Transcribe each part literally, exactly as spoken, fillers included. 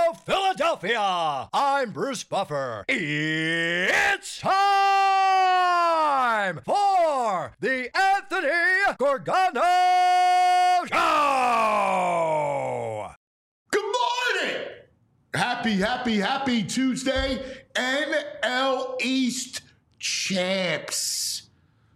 Philadelphia. I'm Bruce Buffer. It's time for the Anthony Gorgano Show. Good morning. Happy, happy, happy Tuesday. N L East champs.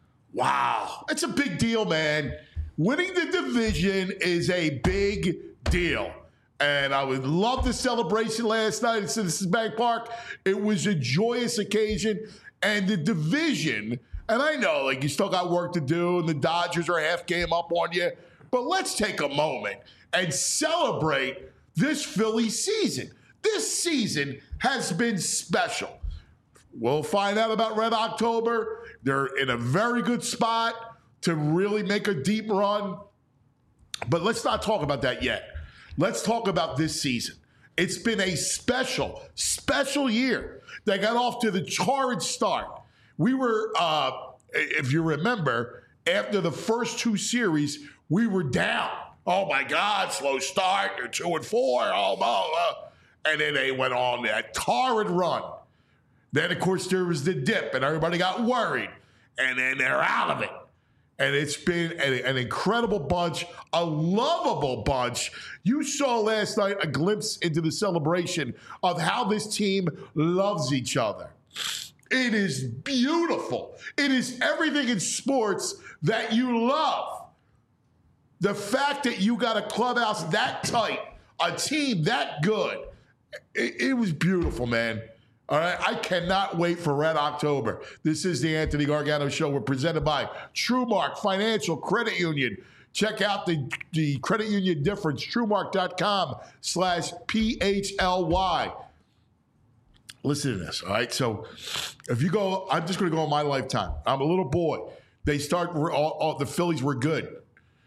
Wow. It's a big deal, man. Winning the division is a big deal. And I would love the celebration last night at Citizens Bank Park. It was a joyous occasion. And the division, and I know, like, you still got work to do, and the Dodgers are a half game up on you. But let's take a moment and celebrate this Philly season. This season has been special. We'll find out about Red October. They're in a very good spot to really make a deep run. But let's not talk about that yet. Let's talk about this season. It's been a special, special year. They got off to the torrid start. We were, uh, if you remember, after the first two series, we were down. Oh, my God, slow start. They're two and four. Oh, oh, uh. And then they went on that torrid run. Then, of course, there was the dip, and everybody got worried. And then they're out of it. And it's been an, an incredible bunch, a lovable bunch. You saw last night a glimpse into the celebration of how this team loves each other. It is beautiful. It is everything in sports that you love. The fact that you got a clubhouse that tight, a team that good, it, it was beautiful, man. All right, I cannot wait for Red October. This is the Anthony Gargano Show. We're presented by TrueMark Financial Credit Union. Check out the, the credit union difference, truemark.com slash P-H-L-Y. Listen to this, all right? So if you go, I'm just going to go on my lifetime. I'm a little boy. They start, all, all, the Phillies were good.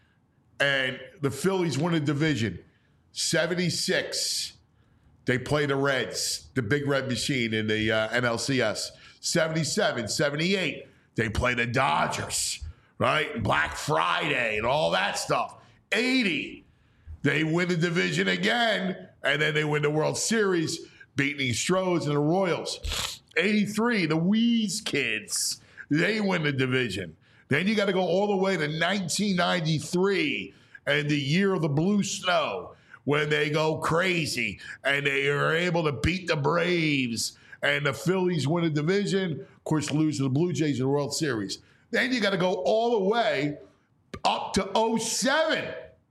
And the Phillies won a division, seventy-six. They play the Reds, the Big Red Machine in the uh, N L C S. seventy-seven, seventy-eight, they play the Dodgers, right? Black Friday and all that stuff. eighty, they win the division again, and then they win the World Series, beating the Astros and the Royals. eighty-three, the Wheeze Kids, they win the division. Then you got to go all the way to nineteen ninety-three and the year of the blue snow, when they go crazy and they are able to beat the Braves and the Phillies win a division, of course, lose to the Blue Jays in the World Series. Then you got to go all the way up to oh seven,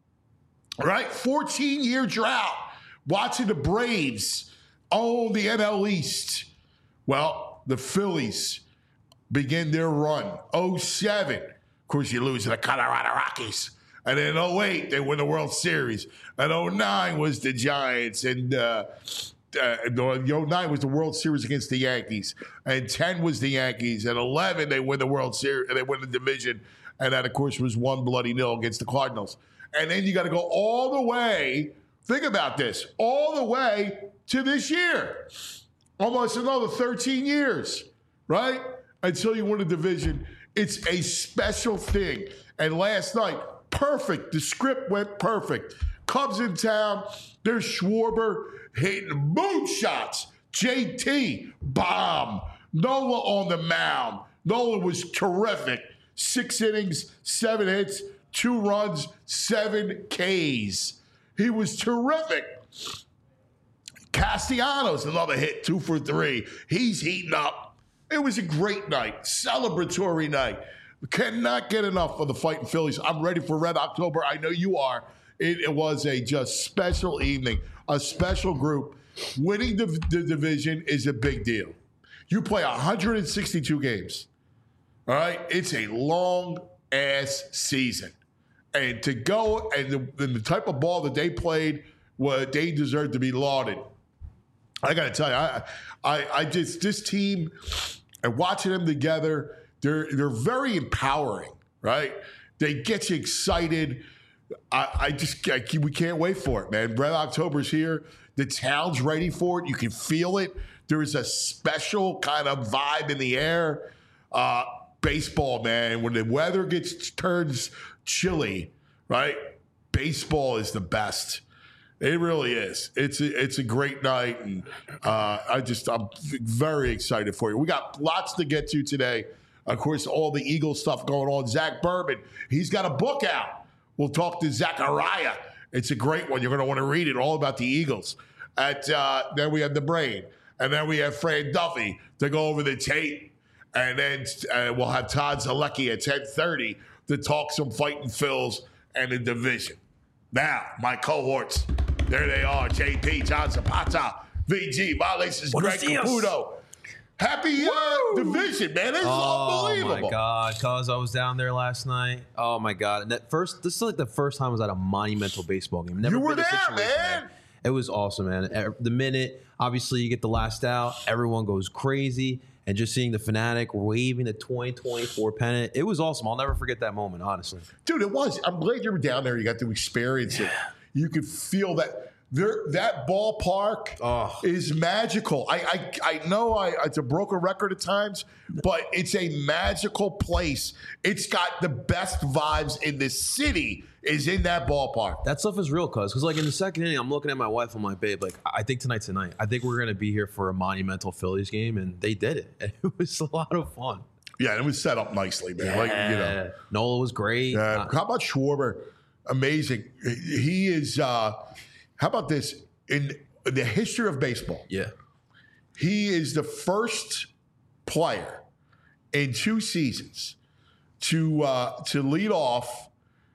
right? fourteen-year drought, watching the Braves own the N L East. Well, the Phillies begin their run, oh seven. Of course, you lose to the Colorado Rockies. And in oh eight, they win the World Series. And oh nine was the Giants. And uh, uh, oh nine was the World Series against the Yankees. And ten was the Yankees. And eleven, they win the World Series. They win the division. And that, of course, was one bloody nil against the Cardinals. And then you got to go all the way, think about this, all the way to this year. Almost another thirteen years, right? Until you win a division. It's a special thing. And last night, perfect. The script went perfect. Cubs in town. There's Schwarber hitting moonshots. J T, bomb. Nola on the mound. Nola was terrific. Six innings, seven hits, two runs, seven Ks. He was terrific. Castellanos, another hit, two for three. He's heating up. It was a great night, celebratory night. Cannot get enough of the Fighting Phillies. I'm ready for Red October. I know you are. It, it was a just special evening, a special group. Winning the, the division is a big deal. You play one hundred sixty-two games. All right? It's a long-ass season. And to go and the, and the type of ball that they played, well, they deserve to be lauded. I got to tell you, I, I, I just, this team, and watching them together, They're they're very empowering, right? They get you excited. I, I just I, we can't wait for it, man. Red October's here. The town's ready for it. You can feel it. There is a special kind of vibe in the air. Uh, baseball, man. When the weather gets turns chilly, right? Baseball is the best. It really is. It's a, it's a great night, and uh, I just I'm very excited for you. We got lots to get to today. Of course, all the Eagles stuff going on. Zach Berman, he's got a book out. We'll talk to Zachariah. It's a great one. You're going to want to read it, all about the Eagles. At uh, then we have the Brain, and then we have Fran Duffy to go over the tape, and then uh, we'll have Todd Zalecki at ten thirty to talk some Fighting Phils and the division. Now, my cohorts. There they are, J P, John Zapata, V G, my this is Greg Caputo. Happy uh, division, man. This is oh, unbelievable. Oh, my God. Cause I was down there last night. Oh, my God. And that first, this is like the first time I was at a monumental baseball game. Never you were been there, man. man. It was awesome, man. The minute, obviously, you get the last out, everyone goes crazy. And just seeing the Fanatic waving the twenty twenty-four pennant, it was awesome. I'll never forget that moment, honestly. Dude, it was. I'm glad you were down there. You got to experience it. You could feel that. There, that ballpark oh. is magical. I, I, I know I, it's a broken record at times, but it's a magical place. It's got the best vibes in the city. Is in that ballpark. That stuff is real, cuz. Because, like, in the second inning, I'm looking at my wife. I'm like, babe, like, I think tonight's the night. I think we're going to be here for a monumental Phillies game. And they did it. And it was a lot of fun. Yeah, it was set up nicely, man. Yeah. Like, you know. Nola was great. Uh, uh, how about Schwarber? Amazing. He is, uh, how about this? In the history of baseball, yeah, he is the first player in two seasons to uh, to lead off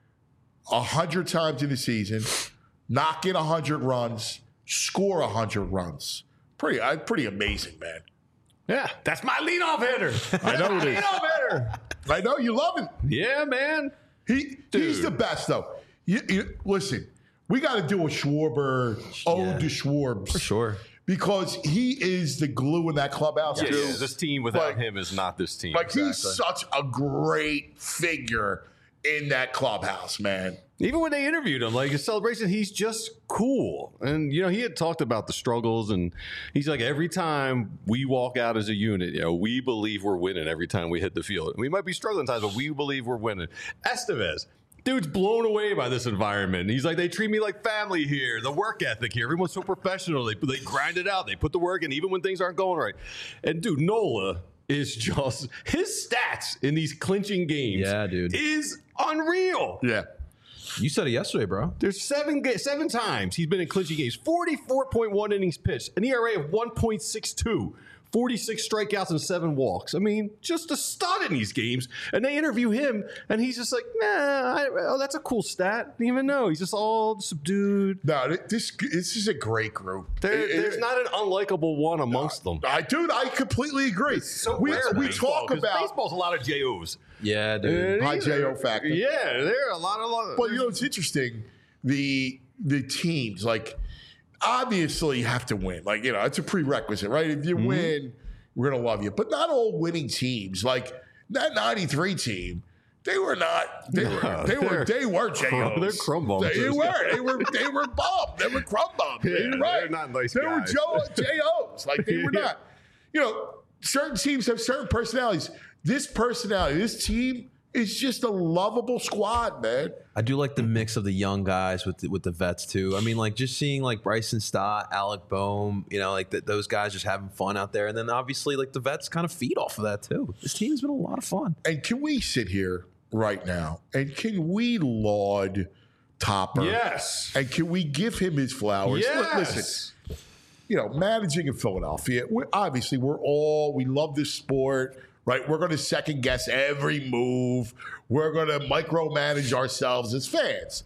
a hundred times in the season, knock in a hundred runs, score a hundred runs. Pretty, uh, pretty amazing, man. Yeah, that's my leadoff hitter. I know it is. Leadoff hitter. I know you love him. Yeah, man. He Dude. he's the best, though. You, you, listen, we got to do a Schwarber ode yeah, to Schwarbs for sure, because he is the glue in that clubhouse. Yeah, too. Yeah, this team without like, him is not this team. Like exactly. He's such a great figure in that clubhouse, man. Even when they interviewed him, like his celebration, he's just cool. And, you know, he had talked about the struggles, and he's like, every time we walk out as a unit, you know, we believe we're winning every time we hit the field. We might be struggling times, but we believe we're winning. Estevez, dude's blown away by this environment. He's like, they treat me like family here. The work ethic here. Everyone's so professional. They, they grind it out. They put the work in, even when things aren't going right. And, dude, Nola is just, his stats in these clinching games yeah, dude. is unreal. Yeah. You said it yesterday, bro. There's seven seven times he's been in clinching games. forty-four point one innings pitched, an E R A of one point six two, forty-six strikeouts and seven walks. I mean, just a stud in these games. And they interview him, and he's just like, nah, I, oh, that's a cool stat. Didn't even know. He's just all subdued. No, this this is a great group. There, it, there's it, not an unlikable one amongst no, them. I, dude, I completely agree. It's so we rare we baseball, talk about baseball's a lot of J Os. Yeah, dude. High J O factor. Yeah, there are a lot of. Lot, but you know, it's interesting. The the teams, like, obviously you have to win. Like, you know, it's a prerequisite, right? If you mm-hmm. win, we're gonna love you. But not all winning teams, like that ninety-three team, they were not. They were. No, they were. They were J Os. They're crumb bums. They were. They were. They were bum. They were crumb bums. Yeah, right. They're not nice they guys. were J Os. Like they were yeah. not. You know, certain teams have certain personalities. This personality, this team is just a lovable squad, man. I do like the mix of the young guys with the, with the vets too. I mean, like just seeing like Bryson Stott, Alec Boehm, you know, like the, those guys just having fun out there, and then obviously like the vets kind of feed off of that too. This team has been a lot of fun. And can we sit here right now and can we laud Topper? Yes. And can we give him his flowers? Yes. Listen, you know, managing in Philadelphia, we're, obviously we're all we love this sport. Right, we're going to second guess every move. We're going to micromanage ourselves as fans.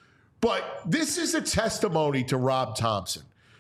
But this is a testimony to Rob Thompson.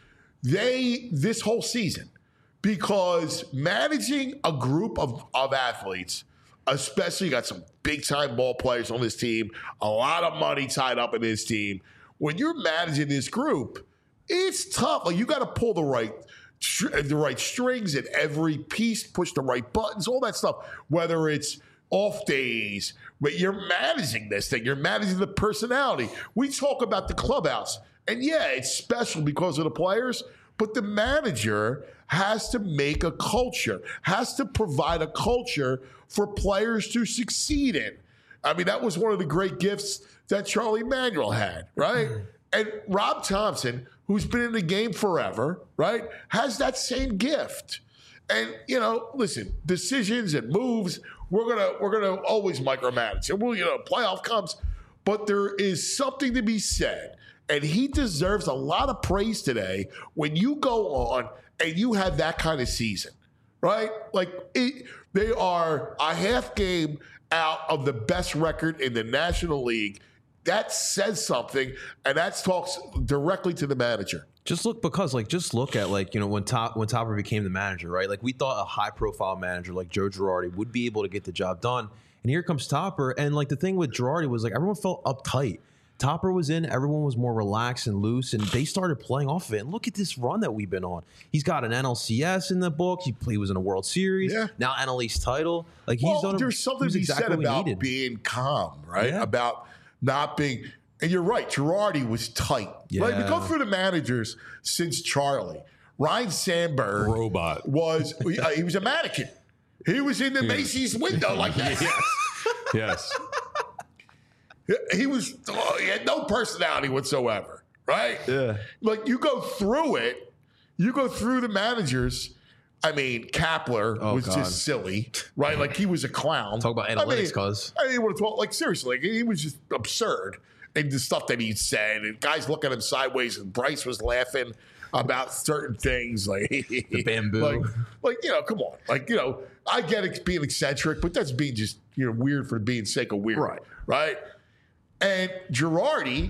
They, this whole season, because managing a group of, of athletes, especially got some big-time ball players on this team, a lot of money tied up in this team. When you're managing this group, it's tough. Like, you got to pull the right the right strings at every piece, push the right buttons, all that stuff, whether it's off days, but you're managing this thing. You're managing the personality. We talk about the clubhouse, and yeah, it's special because of the players, but the manager has to make a culture, has to provide a culture for players to succeed in. I mean, that was one of the great gifts that Charlie Manuel had, right? And Rob Thompson, who's been in the game forever, right, has that same gift. And, you know, listen, decisions and moves, we're gonna we're gonna always micromanage. And we'll, you know, playoff comes, but there is something to be said. And he deserves a lot of praise today when you go on and you have that kind of season, right? Like it, they are a half game out of the best record in the National League. That says something, and that talks directly to the manager. Just look because like just look at like you know when Top when Topper became the manager, right? Like we thought a high profile manager like Joe Girardi would be able to get the job done, and here comes Topper. And like the thing with Girardi was like everyone felt uptight. Topper was in, everyone was more relaxed and loose, and they started playing off of it. And look at this run that we've been on. He's got an N L C S in the book. He, he was in a World Series. Yeah. Now N L East title. Like he's well, done. There's something to be exactly said about being calm, right? Yeah. About not being. And you're right, Girardi was tight. Yeah. Right? We go through the managers since Charlie. Ryne Sandberg robot was uh, he was a mannequin. He was in the yeah. Macy's window like that. Yes. yes. He was oh, he had no personality whatsoever, right? Yeah. Like you go through it, you go through the managers. I mean, Kapler oh, was God. just silly, right? Like he was a clown. Talk about analytics, cuz. I, mean, I didn't want to talk like seriously. Like, he was just absurd. And the stuff that he said, and guys looking at him sideways, and Bryce was laughing about certain things, like the bamboo, like, like you know, come on, like you know, I get it being eccentric, but that's being just you know weird for being sake of weird, right? Right. And Girardi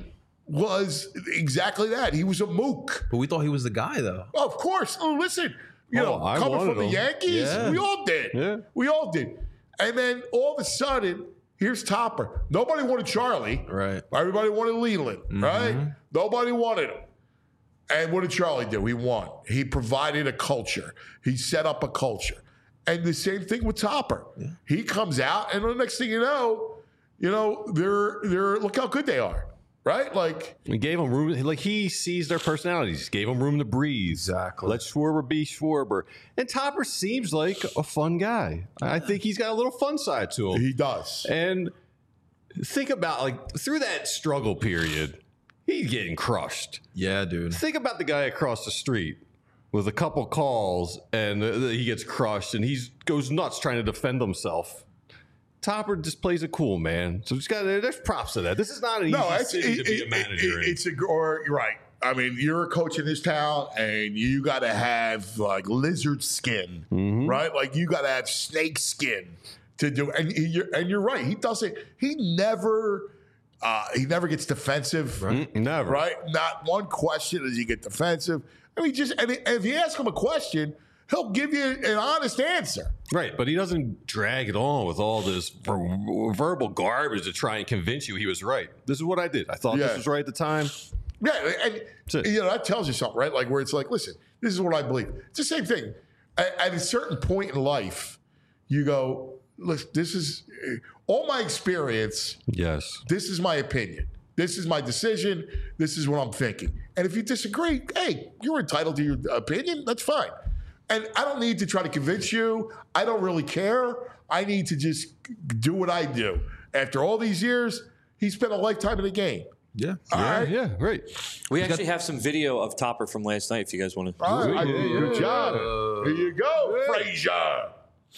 was exactly that. He was a mook. But we thought he was the guy, though. Oh, of course. Oh, listen, you oh, know, I coming from him. the Yankees, yeah. we all did. Yeah. We all did. And then all of a sudden. Here's Topper. Nobody wanted Charlie. Right. Everybody wanted Leland. Mm-hmm. Right? Nobody wanted him. And what did Charlie do? He won. He provided a culture. He set up a culture. And the same thing with Topper. Yeah. He comes out, and the next thing you know, you know, they're they're look how good they are. Right? Like we gave them room. Like he sees their personalities. Gave them room to breathe. Exactly. Let Schwarber be Schwarber. And Topper seems like a fun guy. I think he's got a little fun side to him. He does. And think about like through that struggle period, he's getting crushed. Yeah, dude. Think about the guy across the street with a couple calls, and uh, he gets crushed, and he goes nuts trying to defend himself. Topper just plays it cool, man. So just got there's props to that. This is not an no, easy it's, city it, to be it, a manager. It, it, it's a or you're right. I mean, you're a coach in this town, and you got to have like lizard skin, mm-hmm. right? Like you got to have snake skin to do. And you're and you're right. He doesn't. He never. Uh, he never gets defensive. Right? Never. Right. Not one question does he get defensive. I mean, just and if you ask him a question, he'll give you an honest answer. Right, but he doesn't drag it on with all this ver- verbal garbage to try and convince you he was right. This is what I did. I thought yeah. this was right at the time. Yeah, and you know that tells you something, right? Like where it's like, listen, this is what I believe. It's the same thing. At, at a certain point in life, you go, look, this is all my experience. Yes. This is my opinion. This is my decision. This is what I'm thinking. And if you disagree, hey, you're entitled to your opinion. That's fine. And I don't need to try to convince you. I don't really care. I need to just do what I do. After all these years, he spent a lifetime in the game. Yeah. All yeah, right. yeah, right. We He's actually got- have some video of Topper from last night if you guys want to. All right. Yeah, yeah, Good yeah. job. Here you go, Frazier.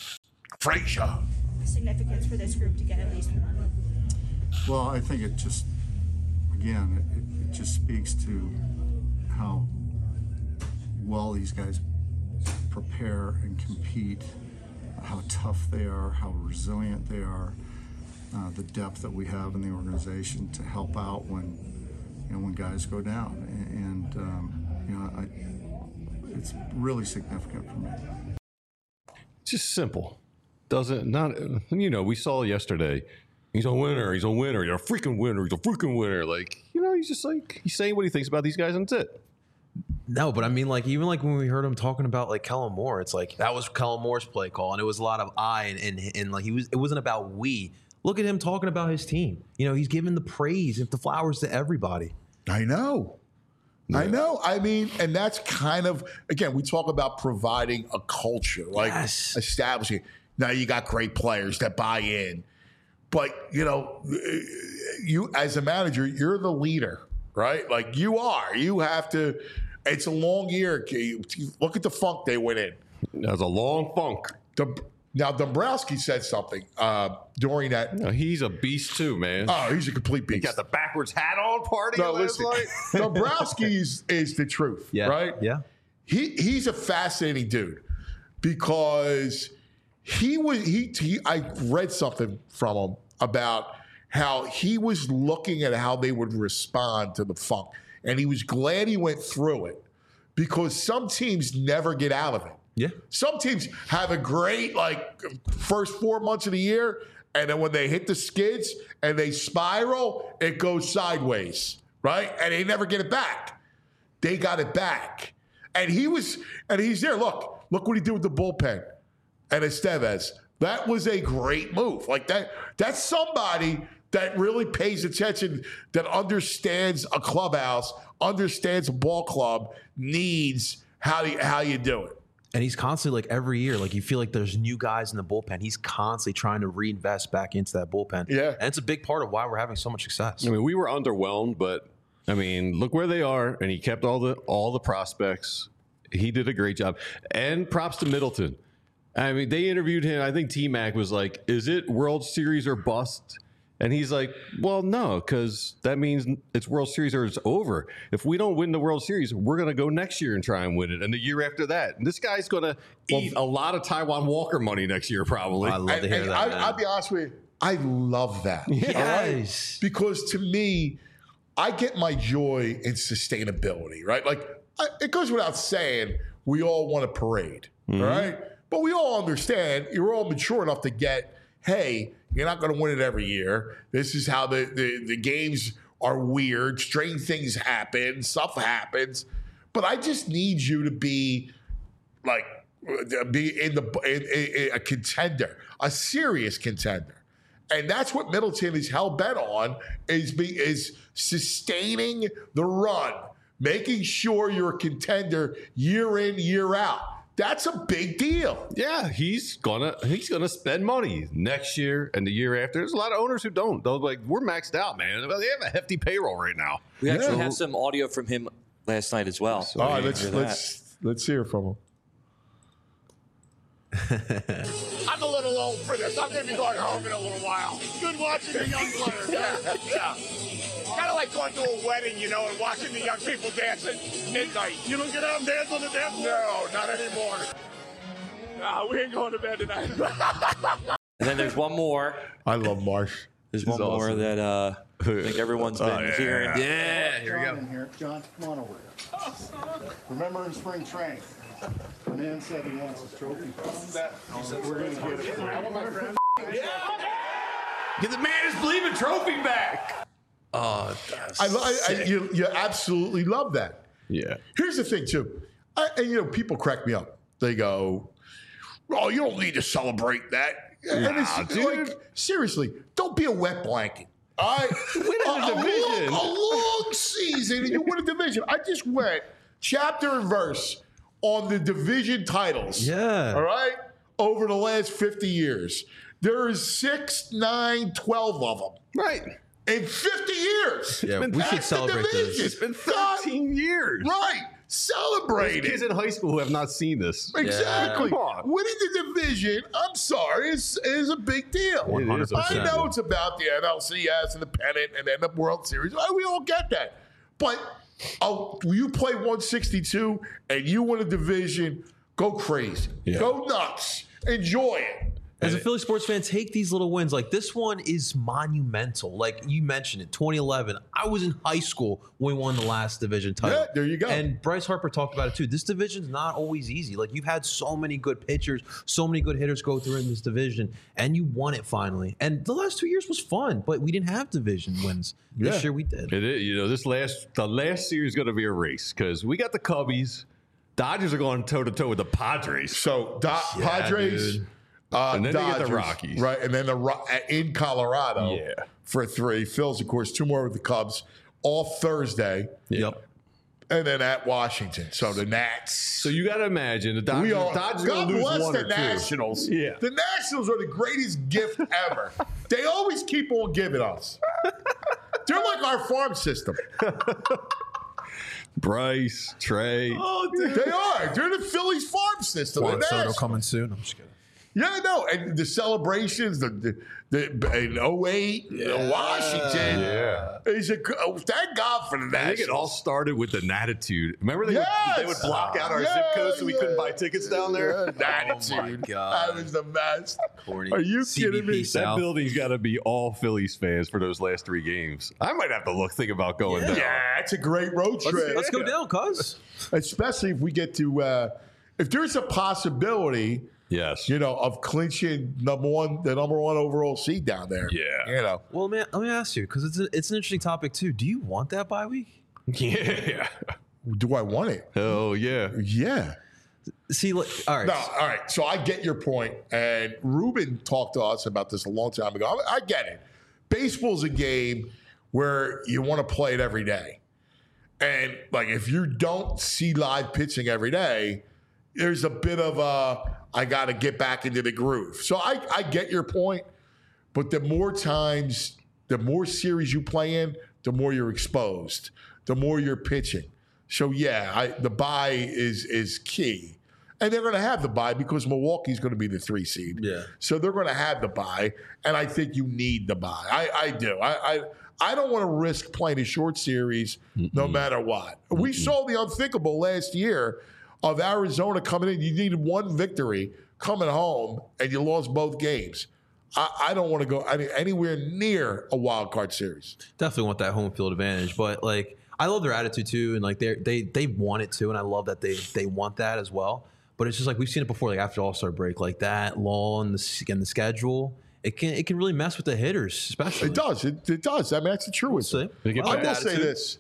Frazier. Significance for this group to get at least one? Well, I think it just, again, it, it just speaks to how well these guys prepare and compete, how tough they are, how resilient they are, uh, the depth that we have in the organization to help out when, you know, when guys go down. And, um, you know, I, it's really significant for me. It's just simple. Doesn't, not, you know, we saw yesterday, he's a winner, he's a winner, you're a freaking winner, he's a freaking winner. Like, you know, he's just like, he's saying what he thinks about these guys, and that's it. No, but I mean, like, even like when we heard him talking about like Kellen Moore, it's like that was Kellen Moore's play call, and it was a lot of I, and, and, and like he was, it wasn't about we. Look at him talking about his team. You know, he's giving the praise and the flowers to everybody. I know. Yeah. I know. I mean, and that's kind of, again, we talk about providing a culture, like yes. establishing. Now you got great players that buy in, but you know, you as a manager, you're the leader, right? Like you are. You have to. It's a long year. Look at the funk they went in. That was a long funk. The, now, Dombrowski said something uh, during that. No, he's a beast too, man. Oh, he's a complete beast. He got the backwards hat on party No, last listen, night. Dombrowski is, is the truth, Yeah. right? Yeah. He he's a fascinating dude because he was he, he I read something from him about how he was looking at how they would respond to the funk, and he was glad he went through it because some teams never get out of it. Yeah. Some teams have a great like first four months of the year, and then when they hit the skids and they spiral, it goes sideways, right? And they never get it back. They got it back. And he was, and he's there. Look, look what he did with the bullpen and Estevez. That was a great move. Like that, that's somebody that really pays attention, that understands a clubhouse, understands a ball club, needs how you, how you do it. And he's constantly, like, every year, like, you feel like there's new guys in the bullpen. He's constantly trying to reinvest back into that bullpen. Yeah. And it's a big part of why we're having so much success. I mean, we were underwhelmed, but I mean, look where they are, and he kept all the all the prospects. He did a great job, and props to Middleton. I mean, they interviewed him. I think T-Mac was like, "Is it World Series or bust?" And he's like, "Well, no, because that means it's World Series or it's over. If we don't win the World Series, we're going to go next year and try and win it, and the year after that. And this guy's going to eat a lot of Taiwan Walker money next year, probably." I love And, to hear and that. I, man. I'll be honest with you, I love that. Yes. all right? Because to me, I get my joy in sustainability, right? Like, I, it goes without saying, we all want a parade, Mm-hmm. all right? But we all understand, you're all mature enough to get, hey, you're not going to win it every year. This is how the, the, the games are weird. Strange things happen. Stuff happens. But I just need you to be like, be in the in, in, in a contender, a serious contender. And that's what Middleton is hell bent on, is be, is sustaining the run, making sure you're a contender year in, year out. That's a big deal. Yeah, he's gonna he's gonna spend money next year and the year after. There's a lot of owners who don't. They're like, we're maxed out, man. They have a hefty payroll right now. We actually Yeah. have some audio from him last night as well. All right, let's Hear that. let's let's hear from him. I'm a little old for this. I'm going to be going home in a little while. Good watching the young players. Yeah, yeah. Kind of like going to a wedding, you know, and watching the young people dance at midnight. You don't get out and dance on the dance floor? No, not anymore. Nah, we ain't going to bed tonight. And then there's one more. I love Marsh. There's one more that uh, I think everyone's been Oh, yeah. hearing. Yeah, here we John go. in here. John, come on over here. Remember in spring training, man said he wants his trophy. We're going to get it. Get the man is believing trophy back. Oh, that's I, lo- I, I you, you absolutely love that. yeah. Here's the thing, too. I, and, you know, people crack me up. They go, "Oh, you don't need to celebrate that." And Nah, it's dude. like, seriously, don't be a wet blanket. All right? Win a a, division. long, a long season, and you win a division. I just went chapter and verse on the division titles. Yeah. All right? Over the last fifty years. There is six, nine, twelve of them. Right. In fifty years. Yeah, Been we should past the celebrate this. division. It's been God, thirteen years. Right. Celebrate There's kids it. in high school who have not seen this. Exactly. Come on. Winning the division, I'm sorry, is, is a big deal. It is a I big know deal. it's about the N L C S and the pennant and then the World Series. We all get that. But oh, you play one sixty-two and you win a division, go crazy. Yeah. Go nuts. Enjoy it. As a Philly sports fan, take these little wins. Like, this one is monumental. Like you mentioned it, twenty eleven. I was in high school when we won the last division title. Yeah, there you go. And Bryce Harper talked about it too. This division's not always easy. Like, you've had so many good pitchers, so many good hitters go through in this division, and you won it finally. And the last two years was fun, but we didn't have division wins. Yeah. This year we did. It is, you know, this last the last series is going to be a race because we got the Cubbies. Dodgers are going toe to toe with the Padres. So, Do- Yeah, Padres. dude. Uh, And then they get the Dodgers, Rockies. Right, and then the Ro- in Colorado Yeah. for three. Phil's, of course, two more with the Cubs, all Thursday, Yep. and then at Washington. So the Nats. So you got to imagine the Dodgers. we all, Dodgers are God going to lose bless one the or two. Nationals. Yeah. The Nationals are the greatest gift ever. They always keep on giving us. They're like our farm system. Bryce, Trey. Oh, dude. They are. They're the Phillies farm system. Juan They're Soto nasty. coming soon. I'm just kidding. Yeah, no, and the celebrations, the the, the in oh eight, Yeah. Washington. Yeah. Is a, oh, thank God for the I think it all Nationals. started with the Natitude. Remember they, Yes! would, they would block out our Yeah, zip code so we yeah. couldn't buy tickets down there? Yeah, Oh, my Natitude. God. That was the best. Corny. Are you C B P kidding me? South. That building's got to be all Phillies fans for those last three games. I might have to look think about going Yeah. down. Yeah, it's a great road Let's, trip. let's go down, cuz. Especially if we get to, uh, if there's a possibility, Yes. you know, of clinching number one, the number one overall seed down there. Yeah. You know. Well, man, let me ask you, because it's, a, it's an interesting topic, too. Do you want that bye week? Yeah. Do I want it? Hell yeah. Yeah. See, look, all right. No, all right. So I get your point, and Ruben talked to us about this a long time ago. I, I get it. Baseball's a game where you want to play it every day, and like if you don't see live pitching every day, there's a bit of a I got to get back into the groove. So I, I get your point, but the more times, the more series you play in, the more you're exposed, the more you're pitching. So yeah, I, the bye is is key, and they're going to have the bye because Milwaukee's going to be the three seed. Yeah. So they're going to have the bye, and I think you need the bye. I, I do. I, I I don't want to risk playing a short series Mm-mm. no matter what. Mm-mm. We saw the unthinkable last year of Arizona coming in. You needed one victory coming home, and you lost both games. I, I don't want to go I mean, anywhere near a wild card series. Definitely want that home field advantage, but like I love their attitude too, and like they they they want it too, and I love that they they want that as well. But it's just like we've seen it before, like after All-Star break, like that lull in the in the schedule, it can it can really mess with the hitters, especially. It does. It, it does. I mean, that's the truism. We'll I will say this.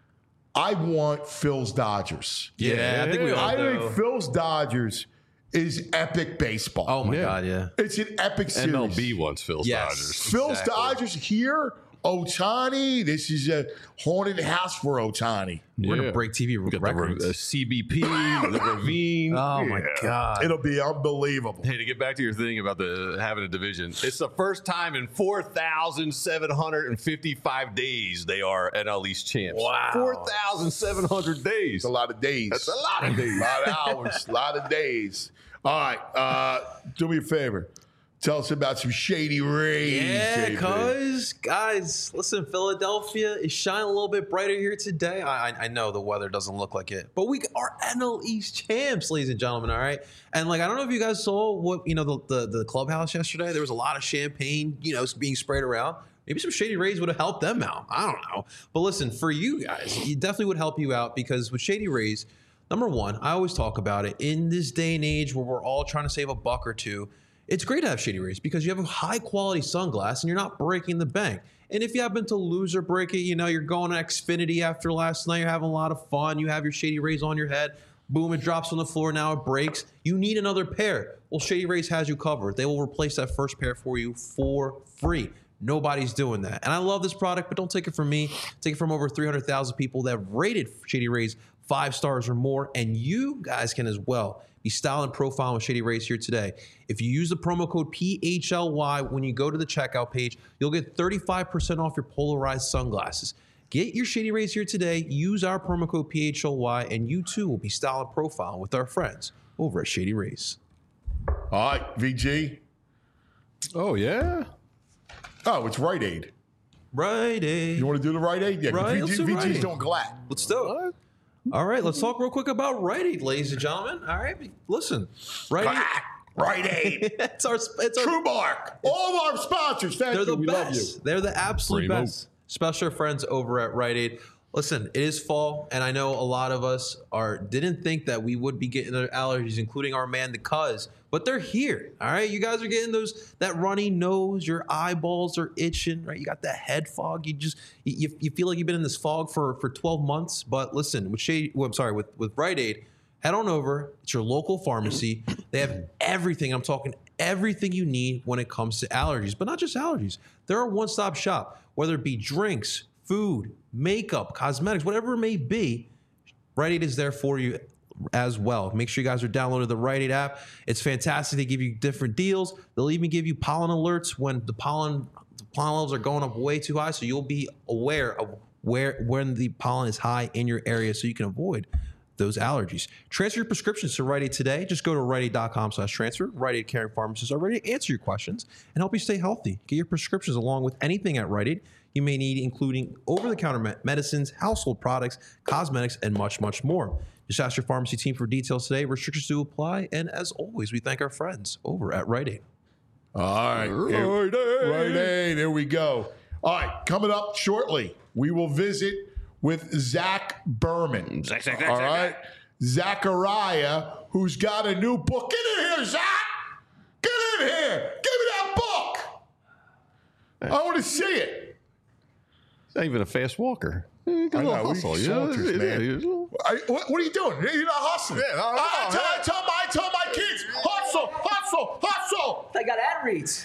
I want Phil's Dodgers. Yeah, yeah, I think we all I do. think Phil's Dodgers is epic baseball. Oh my Yeah. God, yeah. It's an epic series. M L B wants Phil's Yes. Dodgers. Phil's Exactly. Dodgers here. Otani. This is a haunted house for Otani. We're Yeah. gonna break T V We got the records. uh, C B P, the Ravine. Oh my Yeah. God. It'll be unbelievable. Hey, to get back to your thing about the having a division, it's the first time in four thousand seven hundred fifty-five days they are N L East champs. Wow. four thousand seven hundred days. It's a lot of days. That's a lot of days. A lot of hours. A lot of days. All right. Uh, do me a favor. Tell us about some Shady Rays. Yeah, J P. cuz guys, listen, Philadelphia is shining a little bit brighter here today. I, I I know the weather doesn't look like it, but we are N L East champs, ladies and gentlemen. All right, and like I don't know if you guys saw what you know the the, the clubhouse yesterday. There was a lot of champagne, you know, being sprayed around. Maybe some Shady Rays would have helped them out. I don't know, but listen, for you guys, it definitely would help you out because with Shady Rays, number one, I always talk about it in this day and age where we're all trying to save a buck or two. It's great to have Shady Rays because you have a high quality sunglass and you're not breaking the bank. And if you happen to lose or break it, you know, you're going to Xfinity after last night, you're having a lot of fun, you have your Shady Rays on your head, boom, it drops on the floor, now it breaks. You need another pair. Well, Shady Rays has you covered. They will replace that first pair for you for free. Nobody's doing that. And I love this product, but don't take it from me. Take it from over three hundred thousand people that have rated Shady Rays five stars or more. And you guys can as well be style and profile with Shady Rays here today. If you use the promo code P H L Y when you go to the checkout page, you'll get thirty-five percent off your polarized sunglasses. Get your Shady Rays here today. Use our promo code P H L Y, and you too will be style and profile with our friends over at Shady Rays. All right, V G. Oh, yeah? Oh, it's Rite Aid. Rite Aid. You want to do the Rite Aid? Yeah, Right, V G, let's do V G's Rite Aid. doing glad. Let's do it. All right, let's talk real quick about Rite Aid, ladies and gentlemen. All right, listen, Rite Aid. Rite Aid. it's our, it's our, True Mark. All of our sponsors. Thank they're you. the We love you. best. They're the absolute Primo. best. Special friends over at Rite Aid. Listen, it is fall, and I know a lot of us are didn't think that we would be getting their allergies, including our man, the Cuz, but they're here. All right, you guys are getting those that runny nose, your eyeballs are itching, right? You got that head fog. You just you, you feel like you've been in this fog for for twelve months. But listen, with Shady, well, I'm sorry, with with Rite Aid, head on over. It's your local pharmacy. They have everything. I'm talking everything you need when it comes to allergies, but not just allergies. They're a one-stop shop, whether it be drinks, food, makeup, cosmetics, whatever it may be. Rite Aid is there for you. as well. Make sure you guys are downloading the Rite Aid app. It's fantastic. They give you different deals. They'll even give you pollen alerts when the pollen the pollen levels are going up way too high, so you'll be aware of where when the pollen is high in your area, so you can avoid those allergies. Transfer your prescriptions to Rite Aid today. Just go to rite aid dot com slash transfer. Rite Aid caring pharmacists are ready to answer your questions and help you stay healthy. Get your prescriptions along with anything at Rite Aid you may need, including over-the-counter me- medicines, household products, cosmetics, and much, much more. Just ask your pharmacy team for details today. Restrictions do apply. And as always, we thank our friends over at Rite Aid. All right. Rite Aid. Rite Aid. There we go. All right. Coming up shortly, we will visit with Zach Berman. Zach, Zach, Zach, All right. Zach. Zachariah, who's got a new book. Get in here, Zach. Get in here. Give me that book. I want to see it. It's not even a fast walker. I know, hustle, we soldiers, man. I, what, what are you doing? You're not hustling. Yeah, I, I, I, tell, I, tell my, I tell my kids, hustle, hustle, hustle. I got ad reads.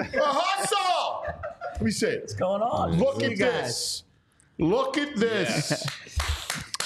Hustle. Let me see it. What's going on? Look at this. Look at this. Yeah.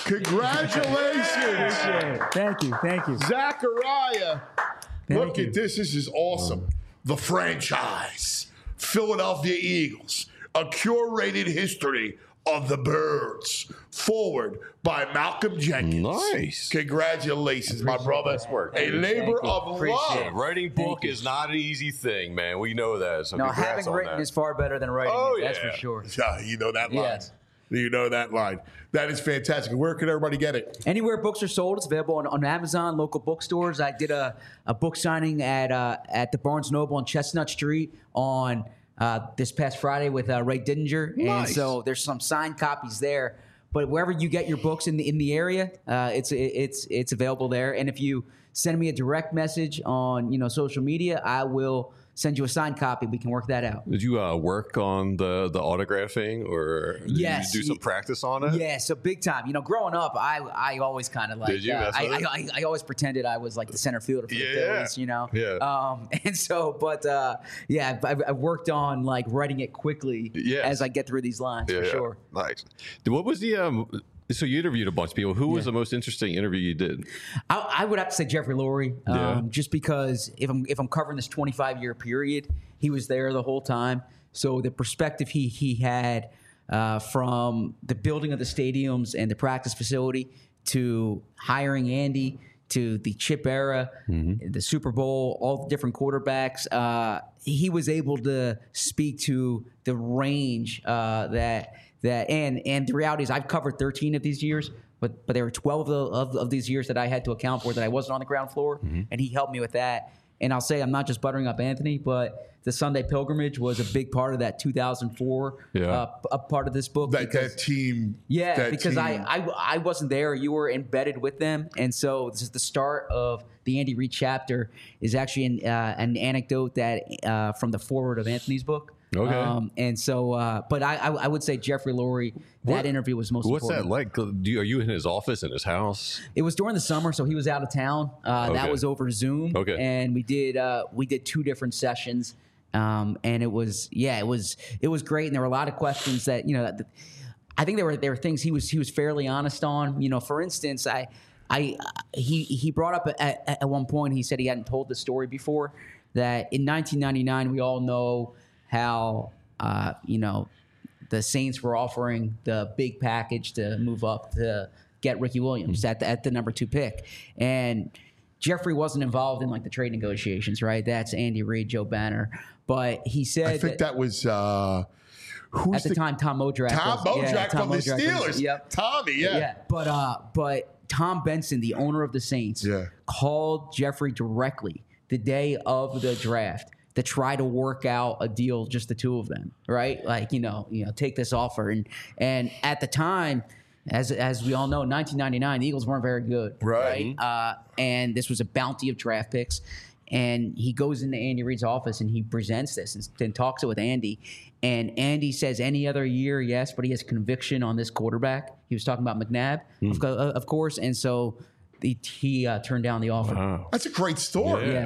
Congratulations. Thank you. Thank you. Zachariah. Thank Look you. at this. This is awesome. The franchise. Philadelphia Eagles. A curated history of the Birds. Forward by Malcolm Jenkins. Nice. Congratulations, my brother. A labor of love. Writing book is not an easy thing, man. We know that. So no, congrats having on written that. is far better than writing Oh, it, that's yeah. for sure. Yeah, you know that line. Yes. You know that line. That is fantastic. Where can everybody get it? Anywhere books are sold, it's available on, on Amazon, local bookstores. I did a, a book signing at uh, at the Barnes Noble on Chestnut Street on uh, this past Friday with uh, Ray Didinger. Nice. And so there's some signed copies there. But wherever you get your books in the in the area, uh, it's it's it's available there. And if you send me a direct message on you know social media, I will send you a signed copy. We can work that out. Did you uh, work on the, the autographing, or did Yes. you do some practice on it? Yeah, so big time. You know, growing up, I I always kind of like Did you uh, mess I, with it? I, I I always pretended I was like the center fielder for Yeah. the Phillies. You know. Yeah. Um, and so, but uh, yeah, I've, I've worked on like writing it quickly Yes. as I get through these lines Yeah, for yeah. sure. Nice. What was the um? So you interviewed a bunch of people. Who was Yeah. the most interesting interview you did? I, I would have to say Jeffrey Lurie, um, Yeah. just because if I'm if I'm covering this twenty-five year period, he was there the whole time. So the perspective he he had uh, from the building of the stadiums and the practice facility to hiring Andy to the chip era, the Super Bowl, all the different quarterbacks, uh, he was able to speak to the range uh, that. That and and the reality is I've covered thirteen of these years, but but there were twelve of, of, of these years that I had to account for that I wasn't on the ground floor, and he helped me with that. And I'll say I'm not just buttering up Anthony, but the Sunday Pilgrimage was a big part of that two thousand four Yeah. uh, a part of this book. That, because, that team. yeah, that because team. I, I I wasn't there. You were embedded with them, and so this is the start of the Andy Reid chapter. Is actually an, uh, an anecdote that uh, from the foreword of Anthony's book. Okay. Um, and so, uh, but I, I I would say Jeffrey Lurie. That What- interview was most What's important. that like? Do you, are you in his office, in his house? It was during the summer, so he was out of town. Uh, That Okay. was over Zoom. Okay. And we did uh, we did two different sessions, um, and it was yeah, it was it was great. And there were a lot of questions that you know, that, I think there were there were things he was he was fairly honest on. You know, for instance, I I he he brought up at, at one point he said he hadn't told the story before that in nineteen ninety-nine we all know how uh, you know. The Saints were offering the big package to move up to get Ricky Williams at the, at the number two pick. And Jeffrey wasn't involved in like the trade negotiations, right? That's Andy Reid, Joe Banner. But he said I think that, was uh, who's at the, time Tom Modrak. Tom was, Modrak yeah, Tom from the Modrak was- Steelers. Yep. Tommy, yeah. Yeah. But uh, but Tom Benson, the owner of the Saints, Yeah. called Jeffrey directly the day of the draft to try to work out a deal, just the two of them, right? Like, you know, you know, take this offer. And and at the time, as as we all know, nineteen ninety-nine, the Eagles weren't very good, Right. right? Uh, and this was a bounty of draft picks. And he goes into Andy Reid's office and he presents this and, and talks it with Andy. And Andy says, any other year, yes, but he has conviction on this quarterback. He was talking about McNabb, of, co- of course. And so he, he uh, turned down the offer. Wow. That's a great story. Yeah.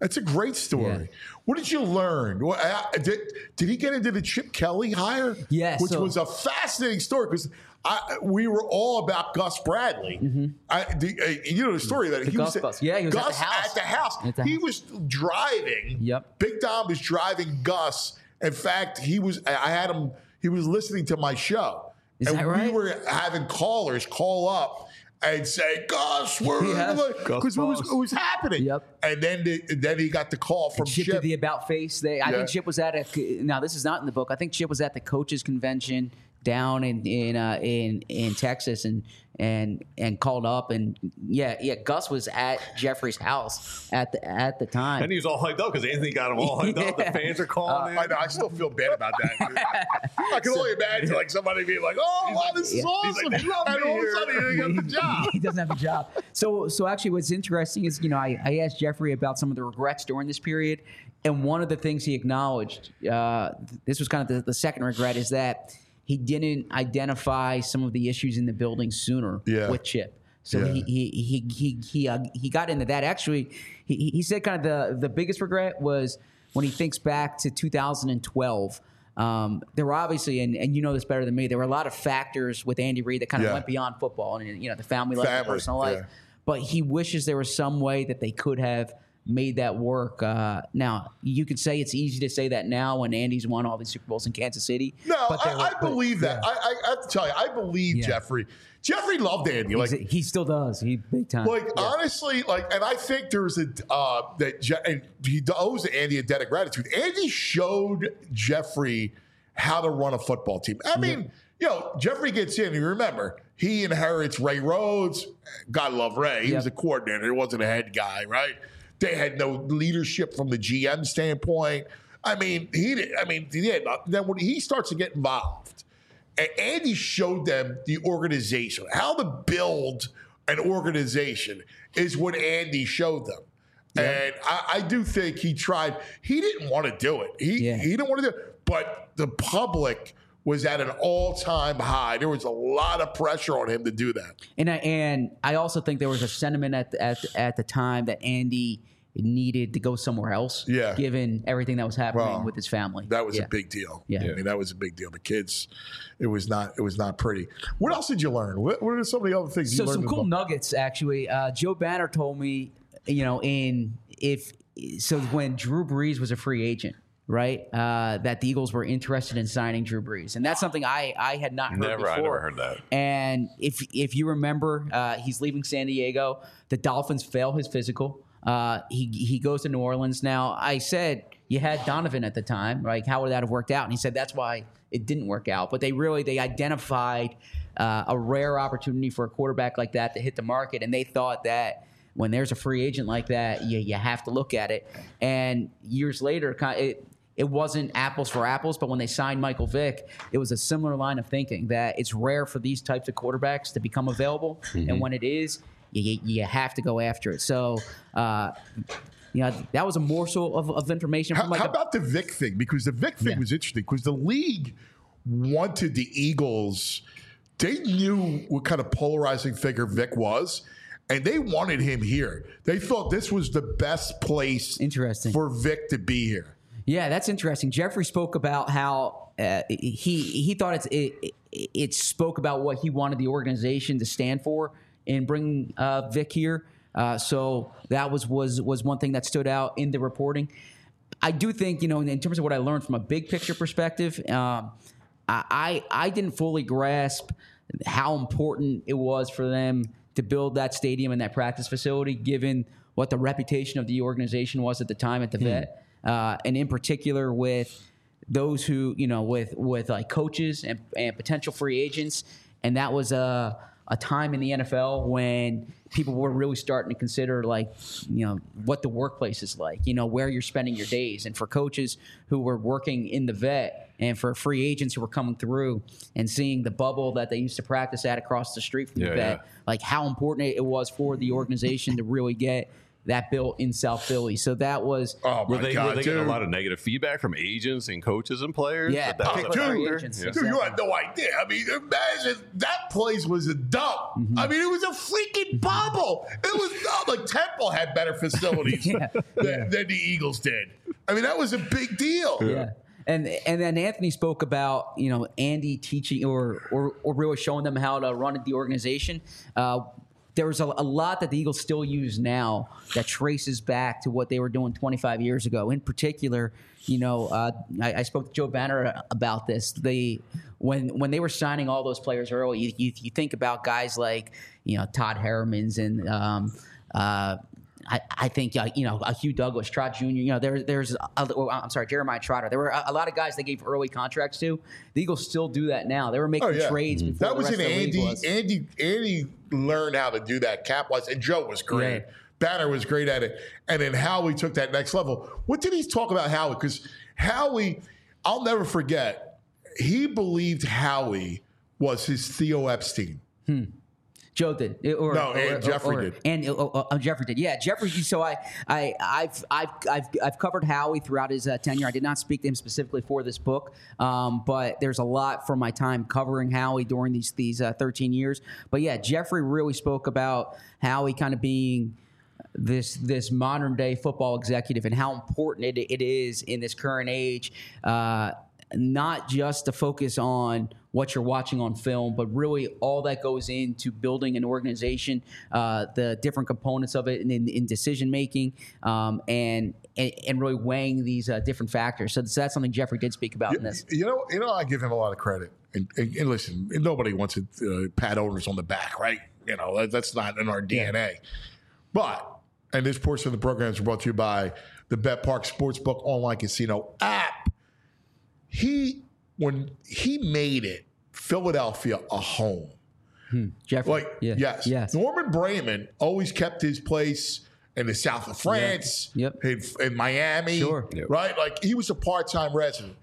That's a great story. Yeah. What did you learn? What, uh, did, did he get into the Chip Kelly hire? Yeah, Which so- was a fascinating story because we were all about Gus Bradley. Mm-hmm. I, the, uh, you know the story that The he Gus was bus. Yeah, he was at Gus the house. At the house. At the he house. was driving. Yep. Big Dom was driving Gus. In fact, he was. I had him. He was listening to my show. Is and that right? we were having callers call up and say, Gus, we're Yeah. because it was, it was happening. Yep. And then the, then he got the call from Chip, Chip. did the about face. They, I Yeah. think Chip was at a. Now this is not in the book. I think Chip was at the coaches convention down in in uh, in in Texas and and and called up and yeah yeah Gus was at Jeffrey's house at the at the time. And he was all hyped up because Anthony got him all hyped up. The Yeah. fans are calling I in. know. I still feel bad about that. I can only imagine like somebody being like, "Oh, wow, this is Yeah. awesome!" He's like, "They love and me all of a here." sudden, he didn't get the job. he doesn't have a job. So, so actually, what's interesting is, you know, I, I asked Jeffrey about some of the regrets during this period, and one of the things he acknowledged, uh, this was kind of the, the second regret, is that he didn't identify some of the issues in the building sooner Yeah. with Chip. So Yeah. he he he he he, uh, he got into that. Actually, he he said kind of the the biggest regret was when he thinks back to two thousand twelve. Um, there were obviously, and, and you know this better than me, there were a lot of factors with Andy Reid that kind of Yeah. went beyond football and, you know, the family life, the Family, personal life. yeah. But he wishes there was some way that they could have made that work. Uh, now, you could say it's easy to say that now when Andy's won all these Super Bowls in Kansas City. No, but there I, were- I but- believe that. yeah. I, I, I have to tell you, I believe Yeah. Jeffrey. Jeffrey loved Andy. Like, He's- he still does. He big time. like Yeah. honestly, like, and I think there's a uh, that Je- and he owes Andy a debt of gratitude. Andy showed Jeffrey how to run a football team. I mean, you know, Jeffrey gets in. You remember, he inherits Ray Rhodes. God love Ray. He Yep. was a coordinator. He wasn't a head guy, right? They had no leadership from the G M standpoint. I mean, he did. I mean, he did. Then when he starts to get involved, and Andy showed them the organization, how to build an organization is what Andy showed them. And I, I do think he tried. He didn't want to do it. He Yeah. he didn't want to do it. But the public was at an all-time high. There was a lot of pressure on him to do that. And I, and I also think there was a sentiment at the, at at the time that Andy needed to go somewhere else. Yeah. Given everything that was happening Well, with his family. That was Yeah. a big deal. Yeah. I mean, that was a big deal. The kids, it was not. It was not pretty. What else did you learn? What, what are some of the other things So you learned? some in the cool book? nuggets actually. Uh, Joe Banner told me, you know, in if so when Drew Brees was a free agent, right? Uh, that the Eagles were interested in signing Drew Brees, and that's something I I had not heard Never, before. I never heard that. And if if you remember, uh, he's leaving San Diego. The Dolphins fail his physical. Uh, he he goes to New Orleans. Now I said you had Donovan at the time, right? How would that have worked out? And he said that's why it didn't work out. But they really they identified uh, a rare opportunity for a quarterback like that to hit the market, and they thought that when there's a free agent like that, you you have to look at it. And years later, kind of, it. It wasn't apples for apples, but when they signed Michael Vick, it was a similar line of thinking that it's rare for these types of quarterbacks to become available, and when it is, you, you have to go after it. So, uh, you know, that was a morsel of, of information. How, From like how a- about the Vic thing? Because the Vic thing Yeah. was interesting because the league wanted the Eagles. They knew what kind of polarizing figure Vic was, and they wanted him here. They thought this was the best place Interesting. for Vic to be here. Yeah, that's interesting. Jeffrey spoke about how uh, he he thought it's, it it spoke about what he wanted the organization to stand for in bringing uh, Vic here. Uh, so that was was was one thing that stood out in the reporting. I do think, you know, in, in terms of what I learned from a big picture perspective, um, I, I I didn't fully grasp how important it was for them to build that stadium and that practice facility, given what the reputation of the organization was at the time at the Vet. Uh, and in particular with those who, you know, with with like coaches and, and potential free agents. And that was a, a time in the N F L when people were really starting to consider, like, you know, what the workplace is like, you know, where you're spending your days. And for coaches who were working in the Vet and for free agents who were coming through and seeing the bubble that they used to practice at across the street from Yeah, the Vet, yeah. like how important it was for the organization to really get that built in South Philly. So that was Oh Were my they, God, were they getting dude. a lot of negative feedback from agents and coaches and players? Yeah, That that was Oh, a dude, factor? agents, Yeah. yeah. dude, you had no idea. I mean, imagine that place was a dump. Mm-hmm. I mean, it was a freaking bubble. It was dumb. Like Temple had better facilities Yeah, than, yeah. than the Eagles did. I mean, that was a big deal. Yeah. And and then Anthony spoke about, you know, Andy teaching or or, or really showing them how to run the organization. Uh, there was a, a lot that the Eagles still use now that traces back to what they were doing twenty-five years ago. In particular, you know, uh, I, I spoke to Joe Banner about this. They when when they were signing all those players early, you, you, you think about guys like, you know, Todd Herremans and um, uh, I, I think uh, you know uh, Hugh Douglas, Trot Junior You know, there, there's a, oh, I'm sorry, Jeremiah Trotter. There were a, a lot of guys they gave early contracts to. The Eagles still do that now. They were making Oh, yeah. trades before That the was rest an of the league Andy. was. Andy. Andy learned how to do that cap wise, and Joe was great. Yeah. Banner was great at it, and then Howie took that next level. What did he talk about Howie? Because Howie, I'll never forget. He believed Howie was his Theo Epstein. Joe did, or, No, or, and or- Jeffrey or- did. and uh, uh, Jeffrey did. Yeah, Jeffrey. So I, I, I've, I've, I've, I've covered Howie throughout his uh, tenure. I did not speak to him specifically for this book, um, but there's a lot from my time covering Howie during these these uh, thirteen years. But yeah, Jeffrey really spoke about Howie kind of being this this modern day football executive and how important it, it is in this current age. Uh, not just to focus on what you're watching on film, but really all that goes into building an organization, uh, the different components of it in, in, in decision making, um, and, and and really weighing these uh, different factors. So, so that's something Jeffrey did speak about in this. You know, you know, I give him a lot of credit. And, and, and listen, nobody wants to uh, pat owners on the back, right? You know, that, that's not in our D N A. But, and this portion of the program is brought to you by the Bet Park Sportsbook online casino app. He, when he made it, Philadelphia a home. Jeffrey, Like, yeah. yes. yes. Norman Brayman always kept his place in the south of France, Yep. in, in Miami, Sure. right? Like, he was a part-time resident.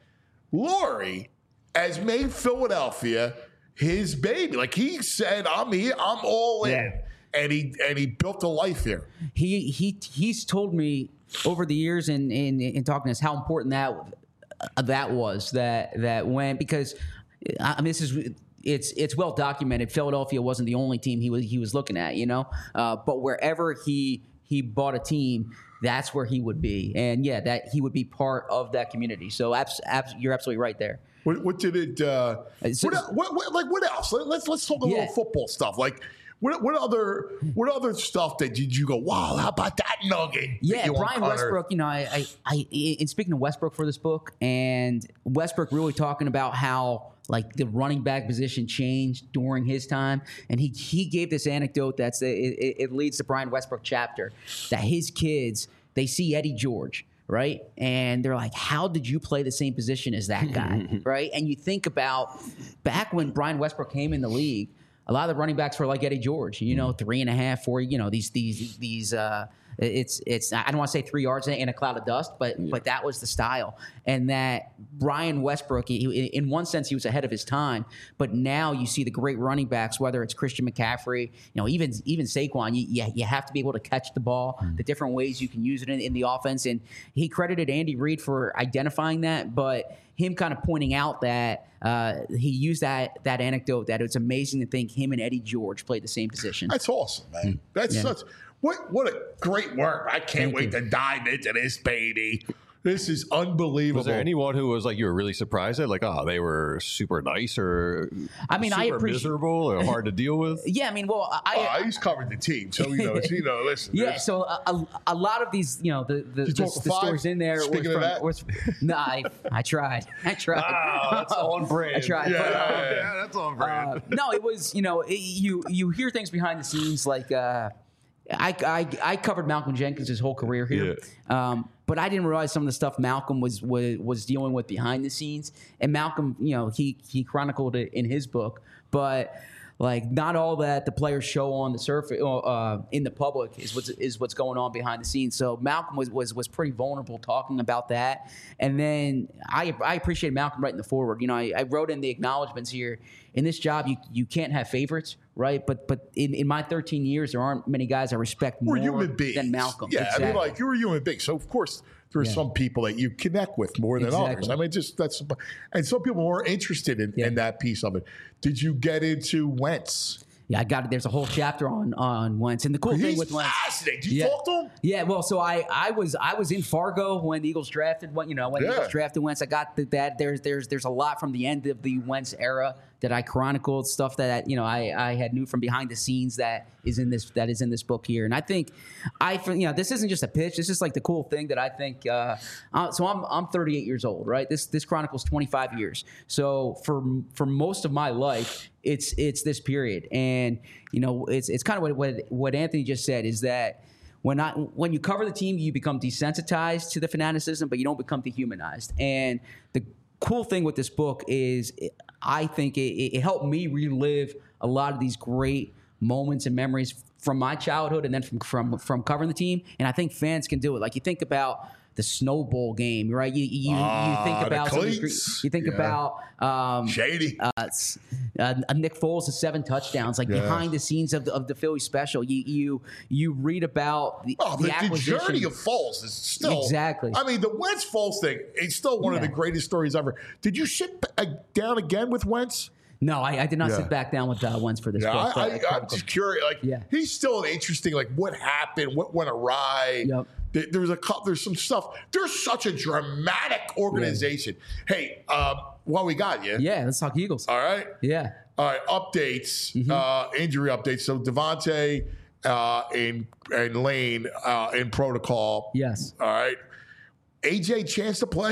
Laurie has made Philadelphia his baby. Like, he said, I'm here, I'm all in. Yeah. And he and he built a life here. He he he's told me over the years in in, in talking to us how important that uh, that was that that when because I mean this is it's it's well documented. Philadelphia wasn't the only team he was he was looking at, you know, uh, but wherever he he bought a team, that's where he would be, and yeah, that he would be part of that community. So abs- abs- you're absolutely right there. What, what did it? Uh, So- what, what, what, like what else? Let- Let's let's talk a Yeah. little football stuff. Like what what other what other stuff that did you go? Wow, how about that nugget? that Yeah, you Brian uncovered? Westbrook. You know, I, I, I, in speaking of Westbrook for this book, and Westbrook really talking about how like the running back position changed during his time, and he he gave this anecdote that's it, it, it leads to Brian Westbrook chapter that his kids they see Eddie George. Right. And they're like, how did you play the same position as that guy? Right. And you think about back when Brian Westbrook came in the league, a lot of the running backs were like Eddie George, you know, three and a half, four, you know, these, these, these, uh, it's, it's, I don't want to say three yards in a cloud of dust, but, but that was the style. And that Brian Westbrook, he, in one sense, he was ahead of his time, but now you see the great running backs, whether it's Christian McCaffrey, you know, even, even Saquon, you, you, you have to be able to catch the ball, the different ways you can use it in, in the offense. And he credited Andy Reid for identifying that, but him kind of pointing out that uh, he used that that anecdote that it's amazing to think him and Eddie George played the same position. That's awesome, man. That's Yeah. such what what a great work. I can't Thank wait you. to dive into this, baby. This is unbelievable. Was there anyone who was like you were really surprised at, like, oh, they were super nice or I mean, I super appreciate- miserable or hard to deal with? Yeah, I mean, well, I, Oh, I he's covered the team, so you know, you know. Listen, yeah. there's- So a, a, a lot of these, you know, the the, you the, talk the to five? stories in there. Speaking was of from, that? was, no, I, I tried. I tried. Oh, that's on brand. I tried. Yeah, but, um, yeah, Yeah, that's on brand. Uh, no, it was, you know, it, you you hear things behind the scenes like uh, I, I I covered Malcolm Jenkins his whole career here, um, but I didn't realize some of the stuff Malcolm was, was was dealing with behind the scenes. And Malcolm, you know, he he chronicled it in his book, but like not all that the players show on the surface uh, in the public is what's is what's going on behind the scenes. So Malcolm was was was pretty vulnerable talking about that. And then I I appreciate Malcolm writing the forward. You know, I, I wrote in the acknowledgments here. in this job, you you can't have favorites, right? But but in, in my thirteen years, there aren't many guys I respect more We're human beings. than Malcolm. Yeah, exactly. I mean, like you're a human being, so of course there are Yeah. some people that you connect with more than Exactly. others. I mean, just that's and some people are interested in, Yeah. in that piece of it. Did you get into Wentz? Yeah, I got it. There's a whole chapter on on Wentz, and the cool thing He's with Wentz. fascinating. Did you Yeah. talk to him? Yeah, well, so I, I was I was in Fargo when the Eagles drafted when you know when the Yeah. Eagles drafted Wentz. I got the, that there's there's there's a lot from the end of the Wentz era that I chronicled, stuff that you know I, I had knew from behind the scenes that is in this that is in this book here. And I think I you know this isn't just a pitch. This is like the cool thing that I think. Uh, uh, so I'm I'm thirty-eight years old, right? This this chronicles twenty-five years. So for for most of my life, it's it's this period, and you know it's it's kind of what what, what Anthony just said is that. When I when you cover the team, you become desensitized to the fanaticism, but you don't become dehumanized. And the cool thing with this book is, I think it, it helped me relive a lot of these great moments and memories from my childhood, and then from from from covering the team. And I think fans can do it. Like you think about the Snow Bowl game, right? You you, Ah, you think the about some of the- cleats. you think Yeah. about um, Shady. uh, s- uh, Nick Foles has seven touchdowns, like Yeah. behind the scenes of the, of the Philly special. You you you read about the, Oh, the, the, the acquisition. journey of Foles is still Exactly. I mean, the Wentz Foles thing is still one of Yeah. the greatest stories ever. Did you sit uh, down again with Wentz? No, I, I did not Yeah. sit back down with uh, Wentz for this Yeah, book. I, but I, I'm just curious. Like, Yeah. he's still an interesting. Like, what happened? What went awry? Yep. There- There's a cou- there's some stuff. There's such a dramatic organization. Hey, um, what we got you? yeah, let's talk Eagles. All right. Yeah. All right. Updates. Mm-hmm. Uh, injury updates. So Devontae uh, and and Lane uh, in protocol. Yes. All right. A J chance to play?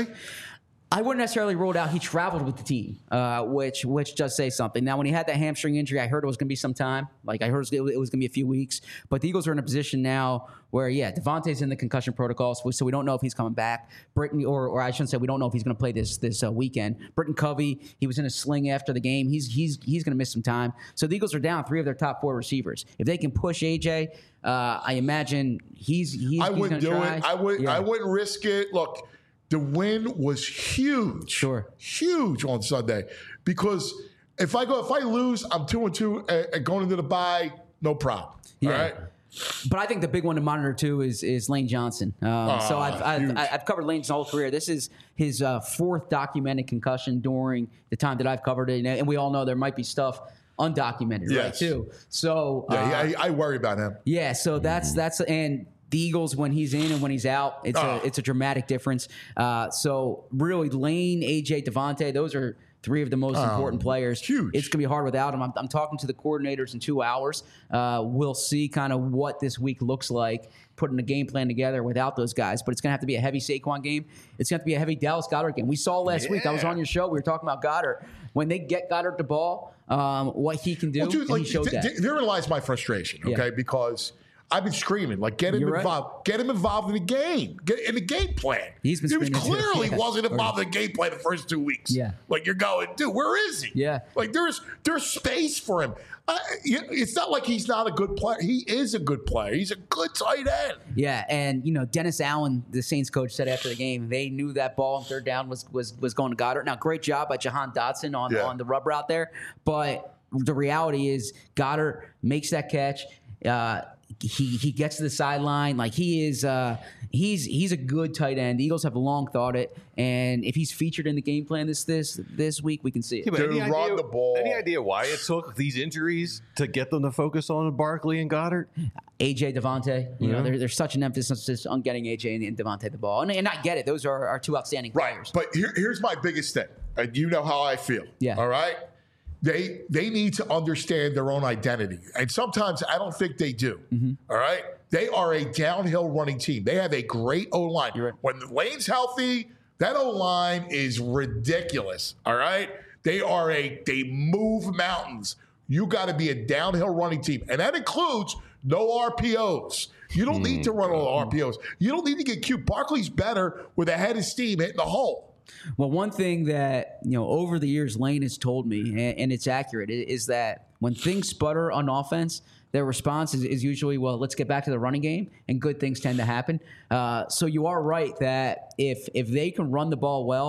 I wouldn't necessarily rule it out. He traveled with the team, uh, which which does say something. Now, when he had that hamstring injury, I heard it was going to be some time. Like I heard it was, it was going to be a few weeks. But the Eagles are in a position now where, yeah, Devontae's in the concussion protocols, so we don't know if he's coming back. Britton, or or I shouldn't say we don't know if he's going to play this this uh, weekend. Britton Covey, he was in a sling after the game. He's he's he's going to miss some time. So the Eagles are down three of their top four receivers. If they can push A J, uh, I imagine he's he's. I he's wouldn't do try. it. I would. Yeah. I wouldn't risk it. Look, the win was huge. Sure. Huge on Sunday because if I go, if I lose, I'm two and two and and going into the bye, no problem. Yeah. All right. But I think the big one to monitor too is is Lane Johnson. Um, so I've Ah, huge. I've, I've covered Lane's whole career. This is his uh, fourth documented concussion during the time that I've covered it, and we all know there might be stuff undocumented, right? Yes. Too. So uh, Yeah, he- I, I worry about him. yeah, so that's that's and the Eagles when he's in and when he's out, it's Oh. a it's a dramatic difference. Uh, so really, Lane, A J, Devontae, those are three of the most important players. huge. It's gonna be hard without him. I'm, I'm talking to the coordinators in two hours. Uh, we'll see kind of what this week looks like, putting a game plan together without those guys. But it's gonna have to be a heavy Saquon game. It's gonna have to be a heavy Dallas Goddard game. We saw last week. I was Yeah. on your show. We were talking about Goddard. When they get Goddard the ball, um, what he can do, Well, dude, and like, he showed th- that. th- therein lies my frustration. Okay, Yeah. because I've been screaming like, get him You're right. involved, get him involved in the game, get in the game plan. He's been he was screaming too. clearly Yeah. wasn't involved in the game plan the first two weeks. Yeah. like you're going, dude, where is he? Yeah. like there's there's space for him. Uh, you- it's not like he's not a good player. He is a good player. He's a good tight end. Yeah, and you know Dennis Allen, the Saints coach, said after the game they knew that ball on third down was was was going to Goddard. Now, great job by Jahan Dotson on Yeah. on the rub route there, but the reality is Goddard makes that catch. Uh, he he gets to the sideline like he is. Uh, he's he's a good tight end. The Eagles have long thought it, and if he's featured in the game plan this this this week, we can see it. Yeah, but Dude, any run idea, the ball. Any idea why it took these injuries to get them to focus on Barkley and Goddard? A J, Devontae, you know, there, there's such an emphasis on getting A J and, and Devontae the ball, and, and I get it; those are our two outstanding Right. players. But here, here's my biggest thing. And you know how I feel. Yeah. All right. They they need to understand their own identity. And sometimes I don't think they do. Mm-hmm. All right. They are a downhill running team. They have a great O line. You're right. When Lane's healthy, that O line is ridiculous. All right. They are a they move mountains. You got to be a downhill running team. And that includes no R P Os. You don't need to run all R P Os. You don't need to get cute. Barkley's better with a head of steam hitting the hole. Well, one thing that, you know, over the years Lane has told me, and, and it's accurate, i- is that when things sputter on offense, their response is, is usually, well, let's get back to the running game, and good things tend to happen. Uh, so you are right that if if they can run the ball well,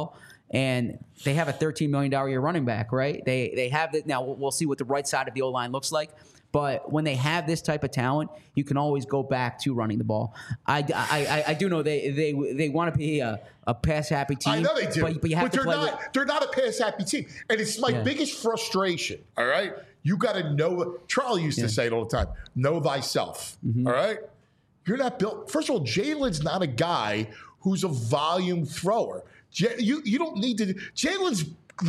and they have a thirteen million dollars a year running back, right? They they have that now. We'll, we'll see what the right side of the O line looks like. But when they have this type of talent, you can always go back to running the ball. I, I, I, I do know they they they want to be a, a pass happy team. I know they do, but, but you have but to they're play not. with, they're not a pass happy team, and it's my Yeah. biggest frustration. All right, you got to know. Charlie used Yeah. to say it all the time: "Know thyself." Mhm. All right, you're not built. First of all, Jalen's not a guy who's a volume thrower. J- you you don't need to. Jalen's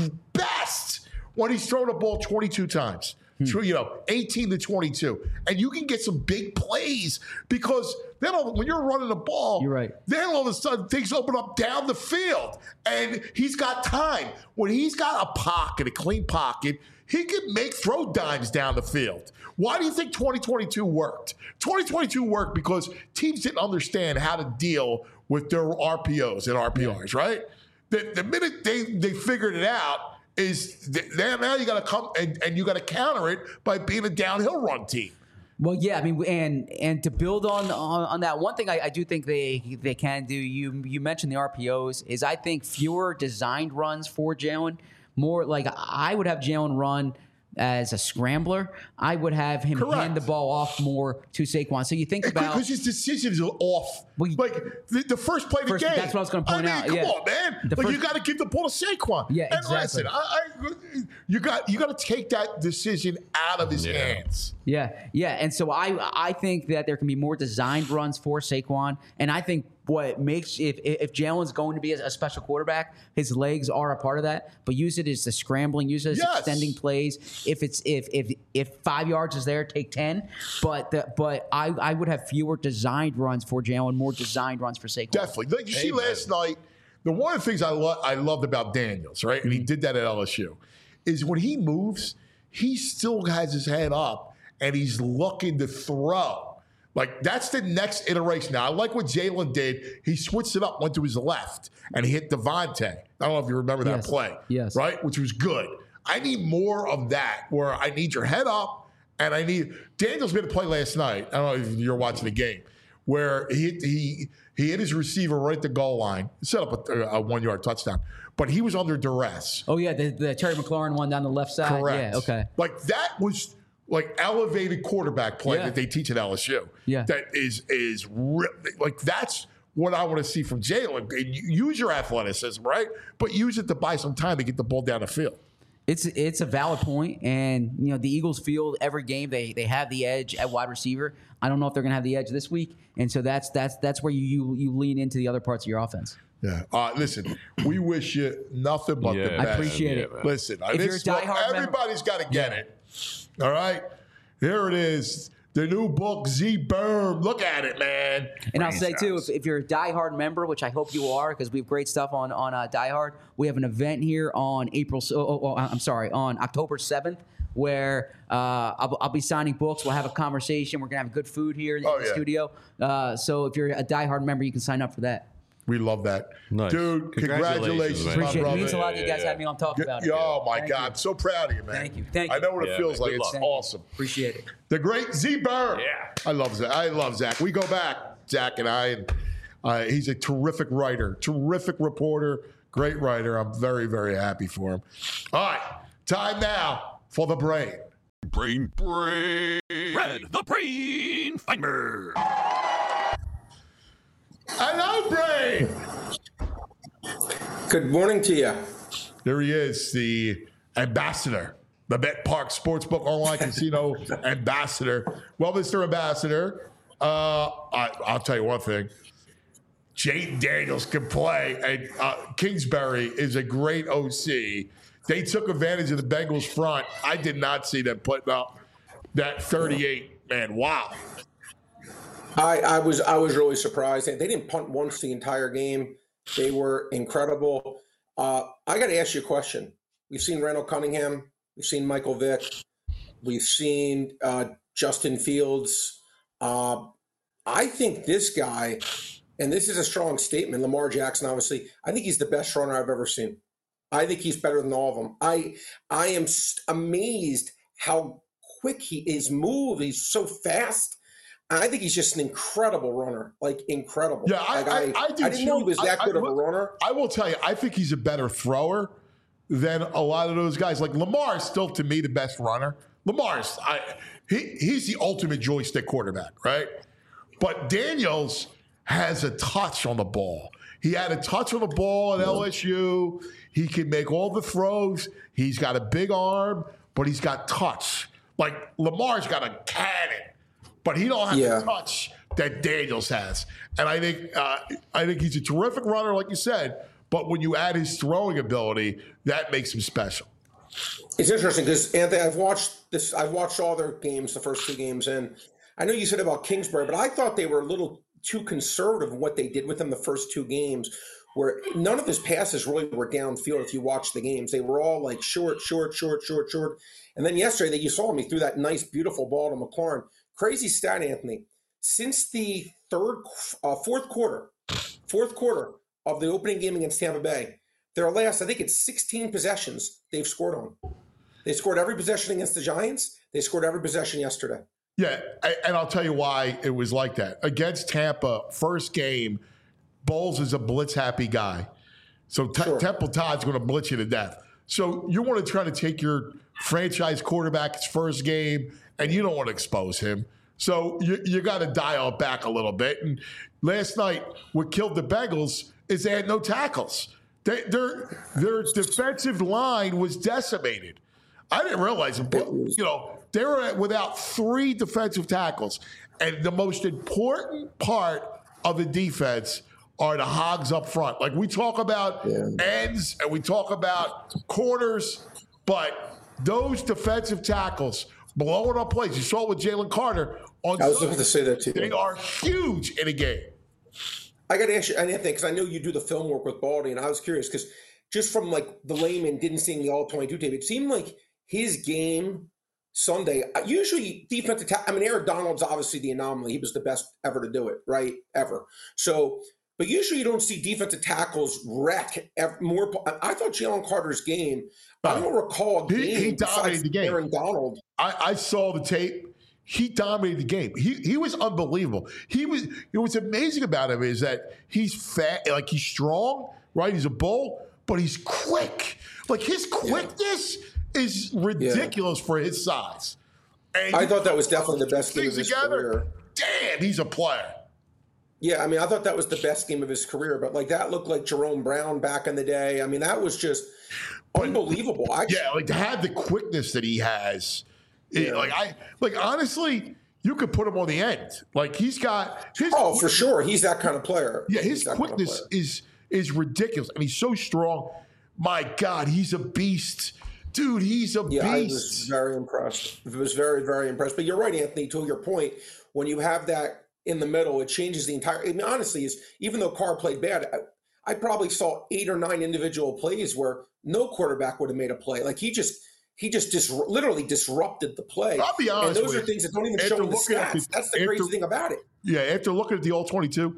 best when he's thrown a ball twenty-two times. So, you know, eighteen to twenty-two. And you can get some big plays because then all, when you're running the ball, You're right. then all of a sudden things open up down the field. And he's got time. When he's got a pocket, a clean pocket, he can make throw dimes down the field. Why do you think twenty twenty-two worked? twenty twenty-two worked because teams didn't understand how to deal with their R P Os and R P Rs, right? The, the minute they, they figured it out, is th- now you got to come and, and you got to counter it by being a downhill run team. Well, yeah, I mean, and and to build on on, on that, one thing I, I do think they they can do. You you mentioned the R P Os. Is I think fewer designed runs for Jalen. More like I would have Jalen run as a scrambler. I would have him Correct. hand the ball off more to Saquon. So you think about because his decisions are off. Well, like the, the first play of the first- game. that's what I was gonna point I mean, out, Come yeah. on, man. The Like first- you got to give the ball to Saquon. Yeah, and exactly. listen, I, I, you got you got to take that decision out of his Yeah. hands. Yeah, yeah, and so I I think that there can be more designed runs for Saquon, and I think what makes if if Jalen's going to be a, a special quarterback, his legs are a part of that. But use it as the scrambling, use it as Yes. extending plays. If it's if if if five yards is there, take ten. But the, but I I would have fewer designed runs for Jalen, more designed runs for Saquon. Definitely. Like you see last night, the one of the things I lo- I loved about Daniels, right, and he did that at L S U, is when he moves, he still has his head up and he's looking to throw. Like that's the next iteration. Now I like what Jalen did. He switched it up, went to his left, and he hit Devontae. I don't know if you remember that Yes. play. Yes. Right, which was good. I need more of that, where I need your head up, and I need Daniels made a play last night. I don't know if you're watching the game, where he he he hit his receiver right at the goal line, set up a, a one yard touchdown, but he was under duress. Oh yeah, the, the Terry McLaurin one down the left side. Correct. Yeah, okay. Like that was like elevated quarterback play Yeah. that they teach at L S U. Yeah. That is is re- like that's what I want to see from Jalen. Use your athleticism, right? But use it to buy some time to get the ball down the field. It's it's a valid point, and you know the Eagles feel every game they they have the edge at wide receiver. I don't know if they're going to have the edge this week, and so that's that's that's where you you, you lean into the other parts of your offense. Yeah. Uh, listen, we wish you nothing but the Yeah, best. I appreciate it. man. Listen, If you're a this- well, diehard member- everybody's got to get it. All right, here it is. The new book, Z Berm. Look at it, man. And I'll say too, if, if you're a diehard member, which I hope you are, because we have great stuff on on uh, diehard. We have an event here on April. Oh, oh, oh, I'm sorry, on October seventh, where uh, I'll, I'll be signing books. We'll have a conversation. We're gonna have good food here in Oh, the yeah. studio. Uh, so if you're a diehard member, you can sign up for that. We love that. Nice. Dude, Congratulations, congratulations, man. my Appreciate it. It brother. means a lot that you Yeah, guys yeah. had me on talk about it. Oh, my Thank God. you. I'm so proud of you, man. Thank you. Thank I you. know what it Yeah, feels man. like. Good It's luck. awesome. Appreciate it. The great Z Berm. Yeah. I love Zach. I love Zach. We go back, Zach and I. And uh, he's a terrific writer, terrific reporter, great writer. I'm very, very happy for him. All right. Time now for the brain. Brain, brain. Red, the brain finder. Hello, brain. Good morning to you. There he is, the ambassador, the Bet Park Sportsbook Online Casino ambassador. Well, Mister Ambassador, uh, I, I'll tell you one thing. Jaden Daniels can play, and uh, Kingsbury is a great O C. They took advantage of the Bengals front. I did not see them putting up that thirty-eight. Man, wow. I, I was I was really surprised. They didn't punt once the entire game. They were incredible. Uh, I got to ask you a question. We've seen Randall Cunningham. We've seen Michael Vick. We've seen uh, Justin Fields. Uh, I think this guy, and this is a strong statement, Lamar Jackson, obviously, I think he's the best runner I've ever seen. I think he's better than all of them. I I am st- amazed how quick he is move. He's so fast. I think he's just an incredible runner, like incredible. Yeah, I, like I, I, I, I didn't too. know he was that I, good I, of a runner. I will tell you, I think he's a better thrower than a lot of those guys. Like Lamar is still, to me, the best runner. Lamar's, I, he, he's the ultimate joystick quarterback, right? But Daniels has a touch on the ball. He had a touch on the ball at L S U. He can make all the throws. He's got a big arm, but he's got touch. Like Lamar's got a cannon, but he don't have Yeah. the touch that Daniels has. And I think uh, I think he's a terrific runner, like you said. But when you add his throwing ability, that makes him special. It's interesting because Anthony, I've watched this. I've watched all their games, the first two games, and I know you said about Kingsbury, but I thought they were a little too conservative in what they did with him the first two games, where none of his passes really were downfield. If you watch the games, they were all like short, short, short, short, short. And then yesterday, that you saw him, he threw that nice, beautiful ball to McLaurin. Crazy stat, Anthony. Since the third, uh, fourth quarter, fourth quarter of the opening game against Tampa Bay, their last, I think it's sixteen possessions they've scored on. They scored every possession against the Giants. They scored every possession yesterday. Yeah, and I'll tell you why it was like that. Against Tampa, first game, Bowles is a blitz-happy guy. So T- sure. Temple Todd's going to blitz you to death. So you want to try to take your franchise quarterback's first game, and you don't want to expose him. So you, you got to dial it back a little bit. And last night, what killed the Bengals is they had no tackles. They, their, their defensive line was decimated. I didn't realize it, but, you know, they were at, without three defensive tackles. And the most important part of the defense are the hogs up front. Like we talk about yeah. ends and we talk about corners, but those defensive tackles blowing up plays. You saw it with Jalen Carter on I was looking to say that too. They are huge in a game. I got to ask you, Anthony, because I know you do the film work with Baldy, and I was curious because just from like the layman didn't see the all twenty-two tape, it seemed like his game Sunday, usually defensive ta- I mean, Aaron Donald's obviously the anomaly. He was the best ever to do it, right? Ever. So, but usually you don't see defensive tackles wreck ever, more. I thought Jalen Carter's game, I don't recall a game he, he dominated the game. Aaron Donald. I, I saw the tape. He dominated the game. He he was unbelievable. He was. You know, what's amazing about him is that he's fat, like he's strong, right? He's a bull, but he's quick. Like his quickness yeah. is ridiculous yeah. for his size. And I thought that was definitely the best game of his together, career. Damn, he's a player. Yeah, I mean, I thought that was the best game of his career, but like that looked like Jerome Brown back in the day. I mean, that was just but, unbelievable. I, yeah, like to have the quickness that he has. Yeah. It, like I like honestly, you could put him on the end. Like he's got his oh for sure, he's that kind of player. Yeah, his quickness kind of is is ridiculous, and he's so strong. My God, he's a beast, dude. He's a yeah, beast. I was very impressed. I was very very impressed. But you're right, Anthony. To your point, when you have that in the middle, it changes the entire. I mean, honestly, is even though Carr played bad, I, I probably saw eight or nine individual plays where no quarterback would have made a play. Like he just. He just dis- literally disrupted the play. I'll be honest and those with are things that don't even show in the stats. The, That's the crazy thing about it. Yeah, after looking at the all twenty-two,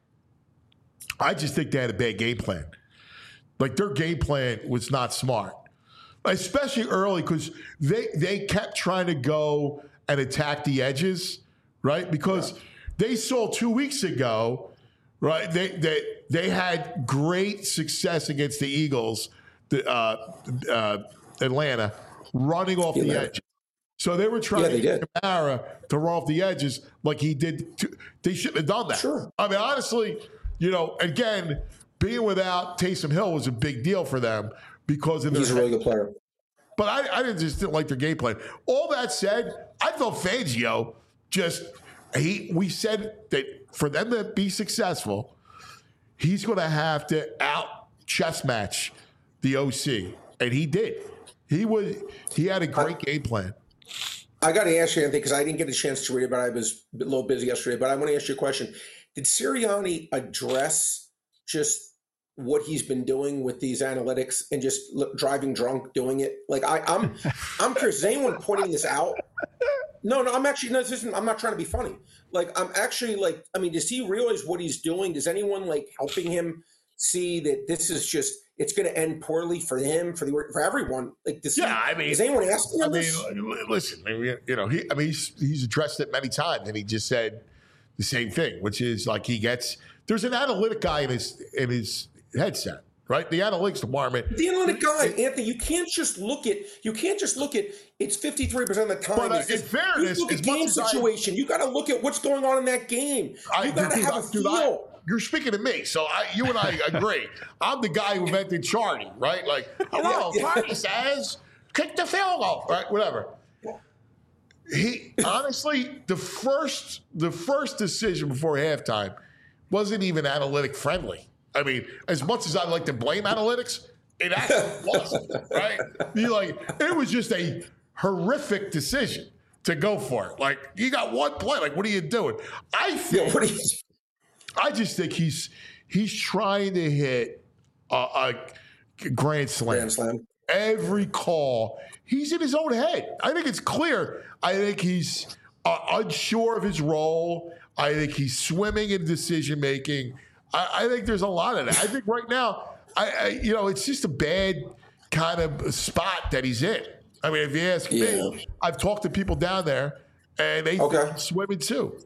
I just think they had a bad game plan. Like their game plan was not smart, especially early because they they kept trying to go and attack the edges, right? Because yeah. they saw two weeks ago, right? They they they had great success against the Eagles, the uh, uh, Atlanta. Running off yeah, the edge. So they were trying yeah, to get Kamara to run off the edges like he did. To, they shouldn't have done that. Sure. I mean, honestly, you know, again, being without Taysom Hill was a big deal for them because of their He's a really good player. But I, I didn't just didn't like their game plan. All that said, I thought Fangio just he. We said that for them to be successful, he's going to have to out chess match the O C, and he did. He was. He had a great I, game plan. I got to ask you, Anthony, because I didn't get a chance to read it, but I was a little busy yesterday. But I want to ask you a question. Did Sirianni address just what he's been doing with these analytics and just driving drunk doing it? Like I, I'm, I'm curious. Is anyone pointing this out? No, no. I'm actually no. This isn't, I'm not trying to be funny. Like I'm actually like. I mean, does he realize what he's doing? Does anyone like helping him see that this is just? it's going to end poorly for him, for the for everyone. Like this. Yeah, I mean, is anyone asking him I this? mean, listen, I mean, you know, he, I mean, he's, he's addressed it many times, and he just said the same thing, which is like he gets. There's an analytic guy in his in his headset, right? The analytics department. The analytic guy, Anthony. You can't just look at. You can't just look at. It's fifty-three percent of the time. But, uh, It's in just- fairness, you look as at much game as I- situation. You got to look at what's going on in that game. I, You got to dude, have I- a dude, feel. I- you're speaking to me, so I, you and I agree. I'm the guy who invented Charlie, right? Like, hello, Yeah. Charlie says, kick the field goal, right? Whatever. He honestly, the first, the first decision before halftime wasn't even analytic friendly. I mean, as much as I like to blame analytics, it actually wasn't, right? You like, it was just a horrific decision to go for it. Like, you got one play. Like, what are you doing? I think. Yeah, what are you- I just think he's he's trying to hit a, a grand slam. Grand slam. Every call, he's in his own head. I think it's clear. I think he's uh, unsure of his role. I think he's swimming in decision making. I, I think there's a lot of that. I think right now, I, I you know, it's just a bad kind of spot that he's in. I mean, if you ask Yeah. me, I've talked to people down there, and they Okay. think he's swimming too.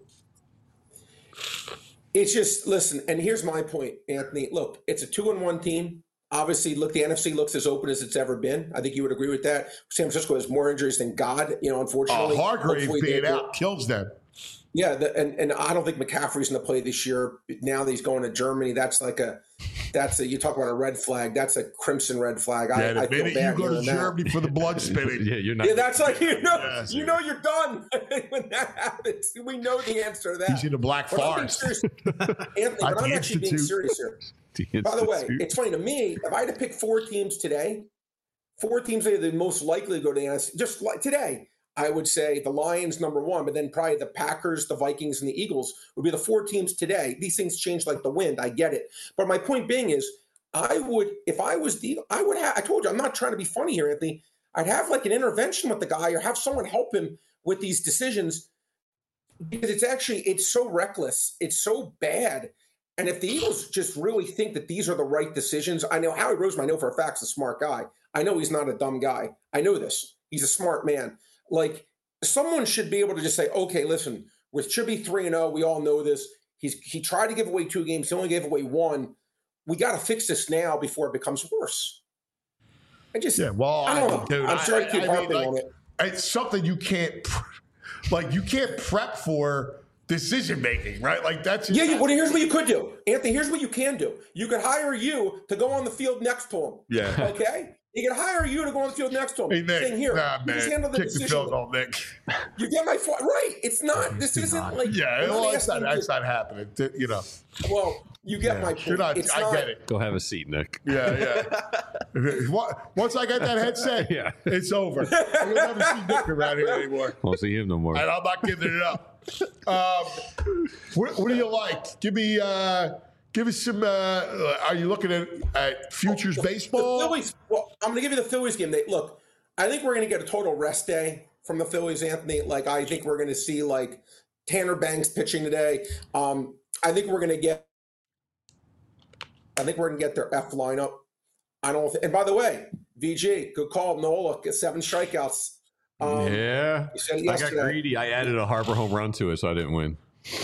It's just listen, and here's my point, Anthony. Look, it's a two and one team. Obviously, look, the N F C looks as open as it's ever been. I think you would agree with that. San Francisco has more injuries than God, you know, unfortunately. Uh, Hargrave Hopefully being they- out kills them. Yeah, the, and and I don't think McCaffrey's going to play this year. Now that he's going to Germany, that's like a that's a you talk about a red flag. That's a crimson red flag. Yeah, I, the I feel minute bad you go to hearing that. Germany for the blood spinning. Yeah, you're not. Yeah, that's like you know, Yes. you know, you're done when that happens. We know the answer to that. He's in the Black But I'm being Forest. serious, Anthony, At but I'm the actually being Institute. serious here. The By the way, Institute. it's funny to me. If I had to pick four teams today, four teams that are the most likely to go to the N F C, just like today, I would say the Lions number one, but then probably the Packers, the Vikings, and the Eagles would be the four teams today. These things change like the wind. I get it, but my point being is, I would if I was the I would have. I told you I'm not trying to be funny here, Anthony. I'd have like an intervention with the guy or have someone help him with these decisions because it's actually it's so reckless, it's so bad. And if the Eagles just really think that these are the right decisions, I know Howie Roseman, I know for a fact, is a smart guy. I know he's not a dumb guy. I know this. He's a smart man. Like, someone should be able to just say, okay, listen, we should be three and oh. We all know this. He's He tried to give away two games. He only gave away one. We got to fix this now before it becomes worse. I just, Yeah, well, I don't know. dude, I'm sorry to keep I mean, harping like, on it. It's something you can't, pr- like, you can't prep for decision making, right? Like, that's Yeah, you, well, here's what you could do. Anthony, here's what you can do. You could hire you to go on the field next to him. Yeah. Okay? You can hire you to go on the field next to him. Hey, Nick, Saying, here, nah, you man, just handle the kick the decision. field goal, Nick. You get my point. Right. It's not, this isn't like. Yeah, we're not well, that's not, asking that's you- not happening. Th- You know, Well, you get my point. you're not, It's I not, get it. Go have a seat, Nick. Yeah, yeah. What- Once I get that headset, Yeah. it's over. You'll never see Nick around here anymore. Won't see him no more. And I'm not giving it up. Um, what, what do you like? Give me, uh, give us some. Uh, are you looking at, at futures The baseball? Phillies, well, I'm going to give you the Phillies game. They, look, I think we're going to get a total rest day from the Phillies, Anthony. Like, I think we're going to see, like, Tanner Banks pitching today. Um, I think we're going to get, I think we're going to get their F lineup. I don't, th- and by the way, V G, good call. Nola, get seven strikeouts. Um, yeah, you said it I got yesterday. greedy. I added a Harper home run to it, so I didn't win.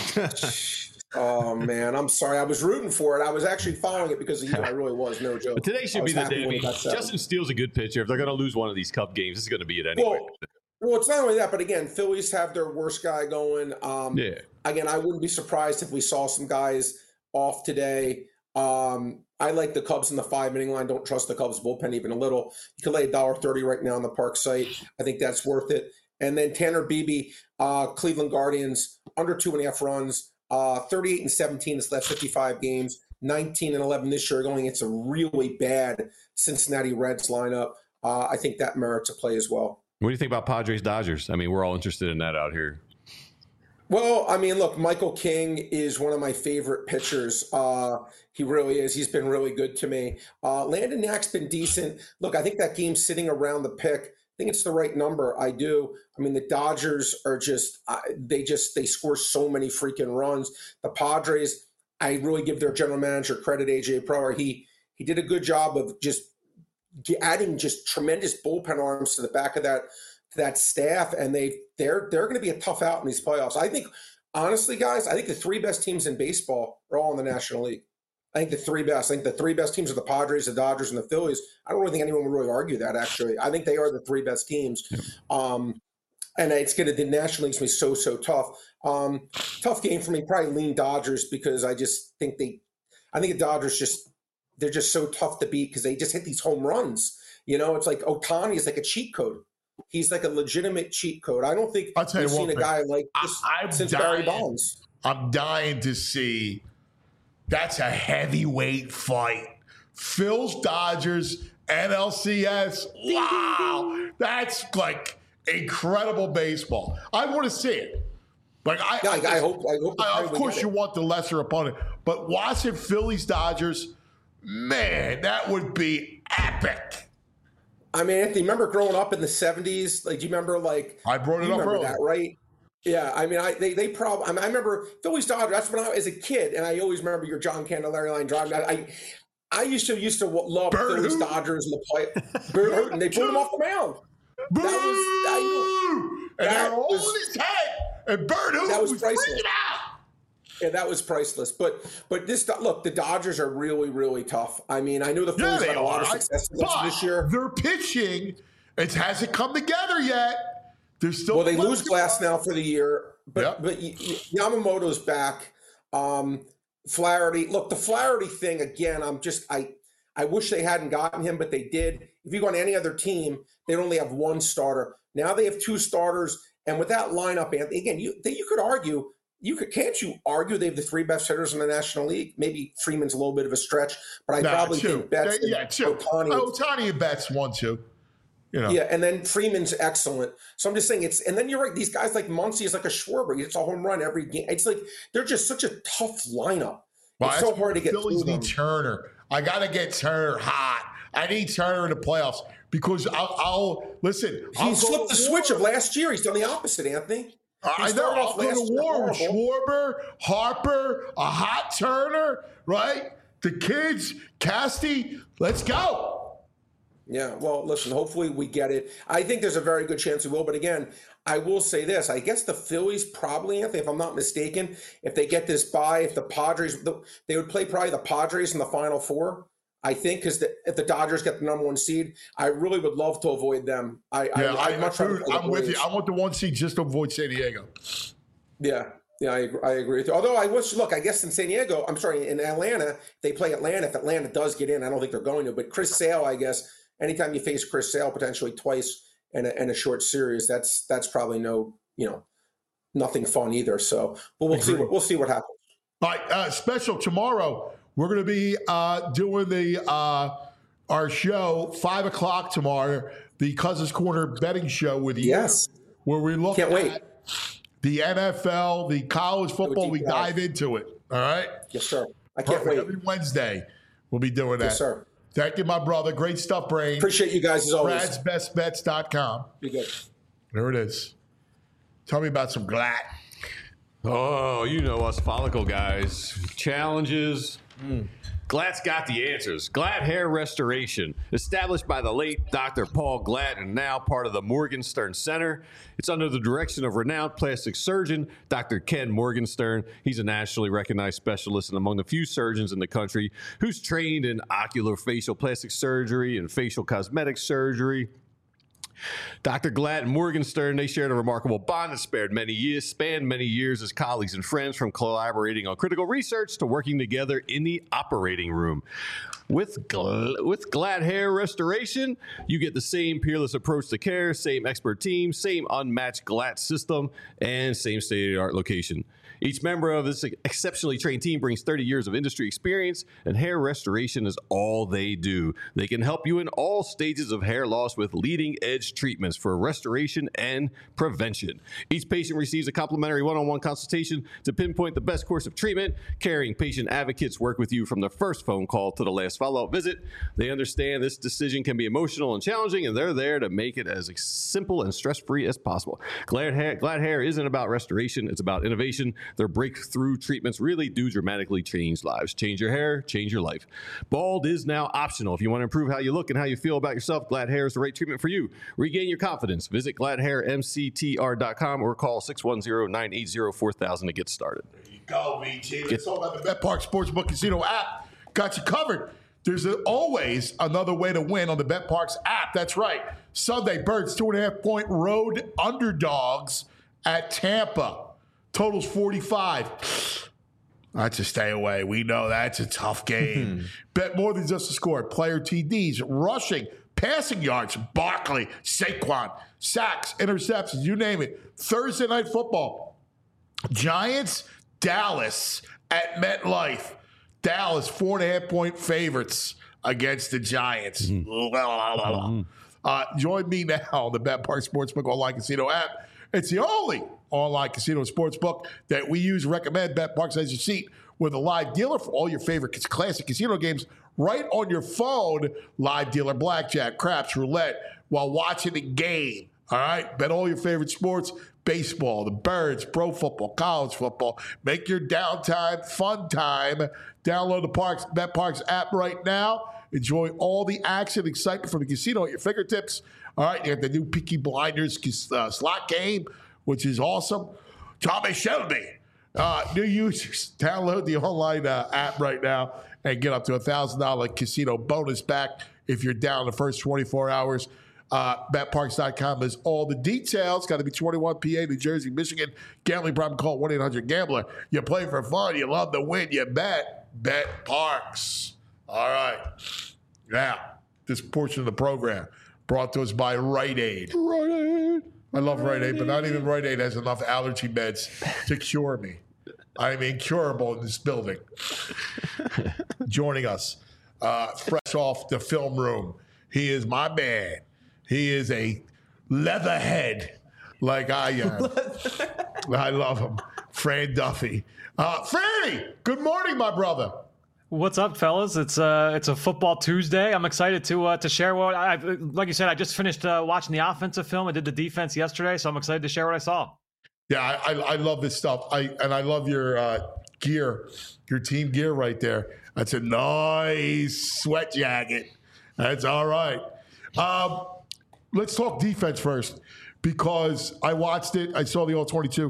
Oh man, I'm sorry. I was rooting for it. I was actually following it because of you. I really was. No joke. But today I should was be the happy day. I when mean, it got seven. Justin Steele's a good pitcher. If they're going to lose one of these Cup games, this is going to be it anyway. Well, well, it's not only that, but again, Phillies have their worst guy going. Um, yeah. Again, I wouldn't be surprised if we saw some guys off today. Um, I like the Cubs in the five inning line. Don't trust the Cubs bullpen even a little. You can lay a dollar thirty right now on the Park site. I think that's worth it. And then Tanner Beebe, uh, Cleveland Guardians, under two and a half runs, uh, thirty-eight and seventeen his last fifty-five games, nineteen and eleven this year, going against a really bad Cincinnati Reds lineup. Uh, I think that merits a play as well. What do you think about Padres Dodgers? I mean, we're all interested in that out here. Well, I mean, look, Michael King is one of my favorite pitchers. Uh, he really is. He's been really good to me. Uh, Landon Knack's been decent. Look, I think that game's sitting around the pick. I think it's the right number. I do. I mean, the Dodgers are just, uh, they just, they score so many freaking runs. The Padres, I really give their general manager credit, A J Preller. He, He did a good job of just adding just tremendous bullpen arms to the back of that to that staff, and they they're they're going to be a tough out in these playoffs. I think, honestly, guys, I think the three best teams in baseball are all in the National League. I think the three best. I think the three best teams are the Padres, the Dodgers, and the Phillies. I don't really think anyone would really argue that. Actually, I think they are the three best teams. Um, and it's going to the National League's going to be so so tough. Um, tough game for me. Probably lean Dodgers because I just think they. I think the Dodgers just they're just so tough to beat because they just hit these home runs. You know, it's like Ohtani is like a cheat code. He's like a legitimate cheat code. I don't think I'll tell you we've seen one a guy like this I'm since dying, Barry Bonds. I'm dying to see. That's a heavyweight fight. Phil's Dodgers, N L C S. Wow. That's like incredible baseball. I want to see it. Like I, Yeah, I- I, I hope- I hope I- of we course, get you it. want the lesser opponent, but watching Phillies Dodgers, man, that would be epic. I mean, Anthony, remember growing up in the seventies? Like, do you remember, like, I brought it you up remember earlier. that, right? Yeah, I mean, I they they probably. I, mean, I remember Phillies Dodgers. That's when I was a kid, and I always remember your John Candelaria line driving. I, I I used to used to love Bert Phillies Hooton. Dodgers in the play. Bert Hooton, they put him off the mound. Boo! That was I knew, and that they're holding was- his head, and Bert Hooton that was was priceless. freaking out. yeah, that was priceless. But but this look, the Dodgers are really really tough. I mean, I know the Yeah, Phillies they had a lot are. of success But this year. their pitching, it hasn't come together yet. They're still Well, they lose Glass now for the year, but Yep. but y- y- Yamamoto's back. Um, Flaherty, look, the Flaherty thing again. I'm just I I wish they hadn't gotten him, but they did. If you go on any other team, they'd only have one starter. Now they have two starters, and with that lineup, Anthony, again, you you could argue. You could can't you argue they have the three best hitters in the National League? Maybe Freeman's a little bit of a stretch, but I Nah, probably two. think Betts, They- yeah, two. Ohtani, Ohtani and Betts one two. You know. yeah, and then Freeman's excellent. So I'm just saying it's, and then you're right. These guys like Muncy is like a Schwarber. He hits a home run every game. It's like they're just such a tough lineup. Well, it's that's so hard to get Phillies through need them. Turner. I got to get Turner hot. I need Turner in the playoffs because I'll, I'll listen. I'll He go flipped to the war. switch of last year. He's done the opposite, Anthony. I He know. started I'll off go last to year war with horrible. Schwarber, Harper, a hot Turner, right? The kids, Casty, let's go. Yeah, well, listen, hopefully we get it. I think there's a very good chance we will. But again, I will say this. I guess the Phillies probably, Anthony, if I'm not mistaken, if they get this bye, if the Padres, the, they would play probably the Padres in the Final Four, I think, because if the Dodgers get the number one seed, I really would love to avoid them. I, Yeah, I, I, I'd much rather dude, play the I'm with you. Braves. I want the one seed just to avoid San Diego. Yeah, yeah, I, agree- I agree with you. Although I wish, look, I guess in San Diego, I'm sorry, in Atlanta, they play Atlanta. If Atlanta does get in, I don't think they're going to. But Chris Sale, I guess, anytime you face Chris Sale potentially twice in a, in a short series, that's that's probably no, you know, nothing fun either. So, but we'll see. What, we'll see what happens. All right, uh, special tomorrow. We're going to be uh, doing the uh, our show five o'clock tomorrow, the Cousins Corner betting show with you. Yes, where we look Can't at wait. the N F L, the college football. deep We dive. dive into it. All right. Yes, sir. I can't Perfect. wait. Every Wednesday, we'll be doing that. Yes, sir. Thank you, my brother. Great stuff, Brain. Appreciate you guys as always. Brad's Best Bets dot com. Be good. There it is. Tell me about some Glatt. Oh, you know us follicle guys. Challenges. Mm. Glatt's got the answers. Glatt Hair Restoration, established by the late Doctor Paul Glatt and now part of the Morgenstern Center. It's under the direction of renowned plastic surgeon Doctor Ken Morgenstern. He's a nationally recognized specialist and among the few surgeons in the country who's trained in ocular facial plastic surgery and facial cosmetic surgery. Doctor Glatt and Morgenstern, they shared a remarkable bond that spared many years, spanned many years as colleagues and friends, from collaborating on critical research to working together in the operating room. With, Gl- with Glatt Hair Restoration, you get the same peerless approach to care, same expert team, same unmatched Glatt system, and same state-of-the-art location. Each member of this exceptionally trained team brings thirty years of industry experience, and hair restoration is all they do. They can help you in all stages of hair loss with leading-edge treatments for restoration and prevention. Each patient receives a complimentary one-on-one consultation to pinpoint the best course of treatment. Caring patient advocates work with you from the first phone call to the last follow-up visit. They understand this decision can be emotional and challenging, and they're there to make it as simple and stress-free as possible. Glad Hair, Glad Hair isn't about restoration. It's about innovation. Their breakthrough treatments really do dramatically change lives. Change your hair, change your life. Bald is now optional. If you want to improve how you look and how you feel about yourself, Glad Hair is the right treatment for you. Regain your confidence. Visit glad hair m c t r dot com or call six one zero, nine eight zero, four thousand to get started. There you go, V G. Let's talk about the BetParx Sportsbook Casino app. Got you covered. There's a, always another way to win on the BetParx app. That's right. Sunday, Birds, two and a half point road underdogs at Tampa. Totals forty-five. That's a stay away. We know that's a tough game. Bet more than just a score. Player T Ds, rushing, passing yards, Barkley, Saquon, sacks, interceptions, you name it. Thursday night football. Giants, Dallas at MetLife. Dallas, four and a half point favorites against the Giants. Mm-hmm. Uh, join me now on the BetParx Sportsbook Online Casino app. It's the only online casino sportsbook that we use. Recommend BetParx as your seat with a live dealer for all your favorite classic casino games right on your phone. Live dealer, blackjack, craps, roulette while watching the game. All right? Bet all your favorite sports. Baseball, the Birds, pro football, college football. Make your downtime fun time. Download the Parks, BetParx app right now. Enjoy all the action and excitement from the casino at your fingertips. All right, you have the new Peaky Blinders uh, slot game, which is awesome. Tommy Shelby. Uh, new users, download the online uh, app right now and get up to a one thousand dollars casino bonus back if you're down the first twenty-four hours. Uh, Bet Parx dot com has all the details. Got to be twenty-one, P A, New Jersey, Michigan. Gambling problem, call one eight hundred gambler. You play for fun. You love to win. You bet. BetParx. All right. Now, this portion of the program brought to us by Rite Aid. Rite Aid. I love Rite Aid, but not even Rite Aid has enough allergy meds to cure me. I'm incurable in this building. Joining us, uh, fresh off the film room, he is my man. He is a leatherhead like I am. I love him. Fran Duffy. Uh, Franny, good morning, my brother. What's up, fellas? It's uh, it's a football Tuesday. I'm excited to uh, to share what I like. You said, I just finished uh, watching the offensive film. I did the defense yesterday, so I'm excited to share what I saw. Yeah, I, I, I love this stuff. I and I love your uh, gear, your team gear right there. That's a nice sweat jacket. That's all right. Um, let's talk defense first because I watched it. I saw the all twenty-two.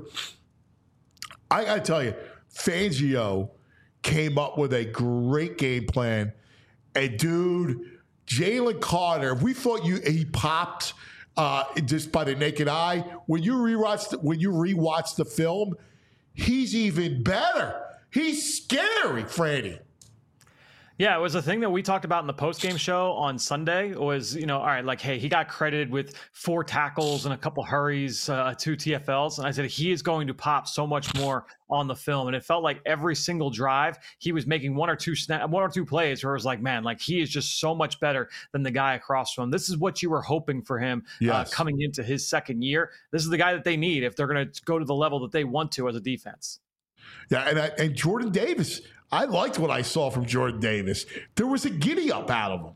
I got to tell you, Fangio came up with a great game plan. And, dude, Jalen Carter, we thought you he popped uh, just by the naked eye. When you rewatch the, when you rewatch the film, he's even better. He's scary, Franny. Yeah, it was a thing that we talked about in the post-game show on Sunday was, you know, all right, like, hey, he got credited with four tackles and a couple hurries, uh, two T F Ls. And I said, he is going to pop so much more on the film. And it felt like every single drive, he was making one or two snap, one or two plays where it was like, man, like he is just so much better than the guy across from him. This is what you were hoping for him yes. uh, coming into his second year. This is the guy that they need if they're going to go to the level that they want to as a defense. Yeah, and, I, and Jordan Davis, I liked what I saw from Jordan Davis. There was a giddy up out of him.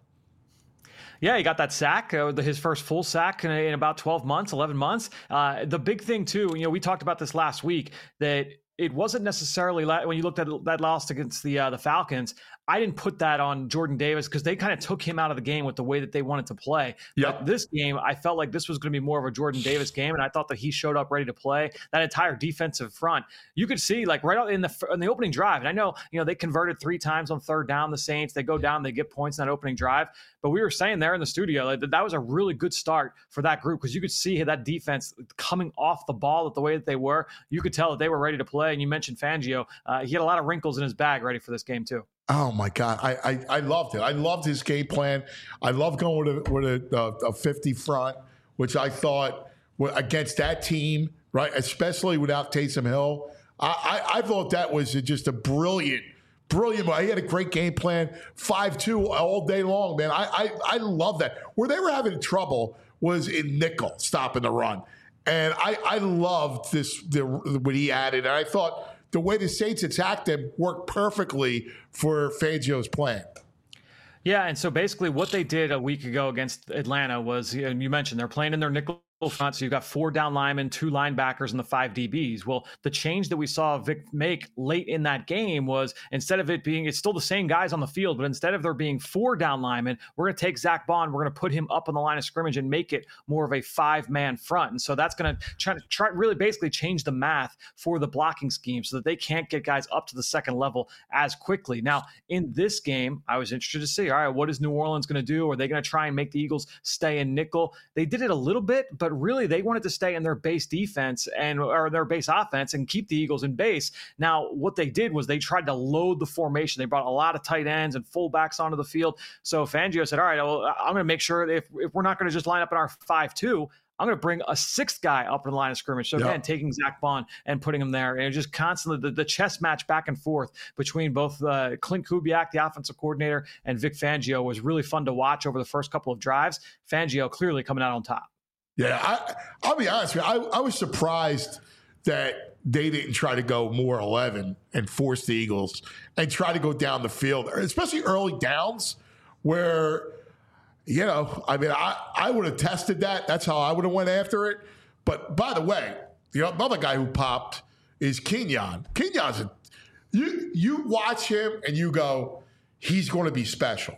Yeah, he got that sack, uh, his first full sack in, in about twelve months, eleven months. Uh, the big thing, too, you know, we talked about this last week, that it wasn't necessarily la- when you looked at that loss against the uh, the Falcons. I didn't put that on Jordan Davis because they kind of took him out of the game with the way that they wanted to play. Yep. But this game, I felt like this was going to be more of a Jordan Davis game, and I thought that he showed up ready to play. That entire defensive front, you could see like right out in the in the opening drive. And I know you know they converted three times on third down. The Saints, they go down, they get points in that opening drive. But we were saying there in the studio like, that that was a really good start for that group because you could see that defense coming off the ball the way that they were. You could tell that they were ready to play. And you mentioned Fangio; uh, he had a lot of wrinkles in his bag ready for this game too. Oh, my God. I, I, I loved it. I loved his game plan. I love going with a, with a, a fifty front, which I thought against that team, right, especially without Taysom Hill. I, I, I thought that was just a brilliant, brilliant. He had a great game plan, five two all day long, man. I, I, I love that. Where they were having trouble was in nickel, stopping the run. And I, I loved this, the, what he added. And I thought the way the Saints attacked him worked perfectly for Fangio's plan. Yeah, and so basically what they did a week ago against Atlanta was, you mentioned, they're playing in their nickel front. So you've got four down linemen, two linebackers, and the five D Bs. Well, the change that we saw Vic make late in that game was instead of it being, it's still the same guys on the field, but instead of there being four down linemen, we're going to take Zach Bond, we're going to put him up on the line of scrimmage and make it more of a five-man front. And so that's going to try to try really basically change the math for the blocking scheme so that they can't get guys up to the second level as quickly. Now, in this game, I was interested to see, all right, what is New Orleans going to do? Are they going to try and make the Eagles stay in nickel? They did it a little bit, but really they wanted to stay in their base defense and or their base offense and keep the Eagles in base. Now, what they did was they tried to load the formation. They brought a lot of tight ends and fullbacks onto the field. So Fangio said, all right, well, I'm going to make sure that if, if we're not going to just line up in our five two, I'm going to bring a sixth guy up in the line of scrimmage. So, again, yep. taking Zach Bond and putting him there. And it just constantly, the, the chess match back and forth between both uh, Clint Kubiak, the offensive coordinator, and Vic Fangio was really fun to watch over the first couple of drives. Fangio clearly coming out on top. Yeah, I, I'll be honest with you. I, I was surprised that they didn't try to go more eleven and force the Eagles and try to go down the field, especially early downs where – You know, I mean, I, I would have tested that. That's how I would have went after it. But by the way, the other guy who popped is Kenyon. Kenyon's a, you you watch him and you go, he's going to be special.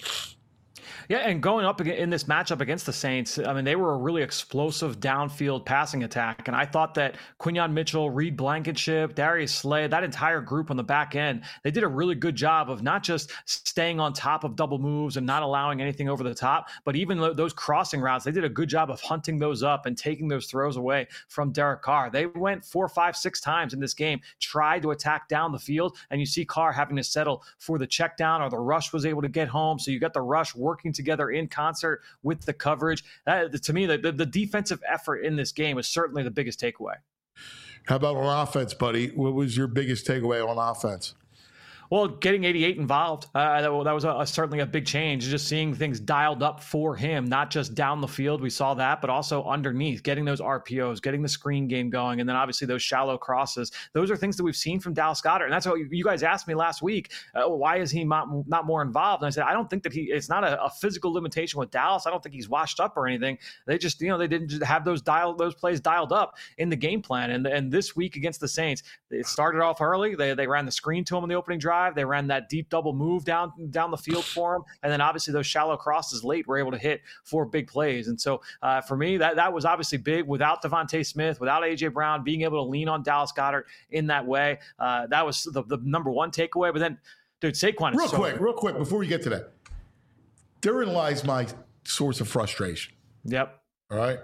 Yeah, and going up in this matchup against the Saints, I mean, they were a really explosive downfield passing attack. And I thought that Quinyon Mitchell, Reed Blankenship, Darius Slay, that entire group on the back end, they did a really good job of not just staying on top of double moves and not allowing anything over the top, but even those crossing routes, they did a good job of hunting those up and taking those throws away from Derek Carr. They went four, five, six times in this game, tried to attack down the field, and you see Carr having to settle for the check down, or the rush was able to get home. So you got the rush working together in concert with the coverage. That, to me, the, the, the defensive effort in this game is certainly the biggest takeaway. How about on offense, buddy? What was your biggest takeaway on offense? Well, getting eighty-eight involved, uh, that, that was a, a, certainly a big change. Just seeing things dialed up for him, not just down the field, we saw that, but also underneath, getting those R P Os, getting the screen game going, and then obviously those shallow crosses. Those are things that we've seen from Dallas Goedert. And that's what you guys asked me last week, uh, why is he not, not more involved? And I said, I don't think that he, it's not a, a physical limitation with Dallas. I don't think he's washed up or anything. They just, you know, they didn't just have those dial, those plays dialed up in the game plan. And, and this week against the Saints, it started off early. They, they ran the screen to him in the opening drive. They ran that deep double move down down the field for him, and then obviously those shallow crosses late were able to hit for big plays. And so uh, for me, that that was obviously big. Without Devontae Smith, without A J Brown, being able to lean on Dallas Goedert in that way, uh, that was the, the number one takeaway. But then, dude, Saquon is real so quick, good. real quick before we get to that, therein lies my source of frustration. Yep. All right,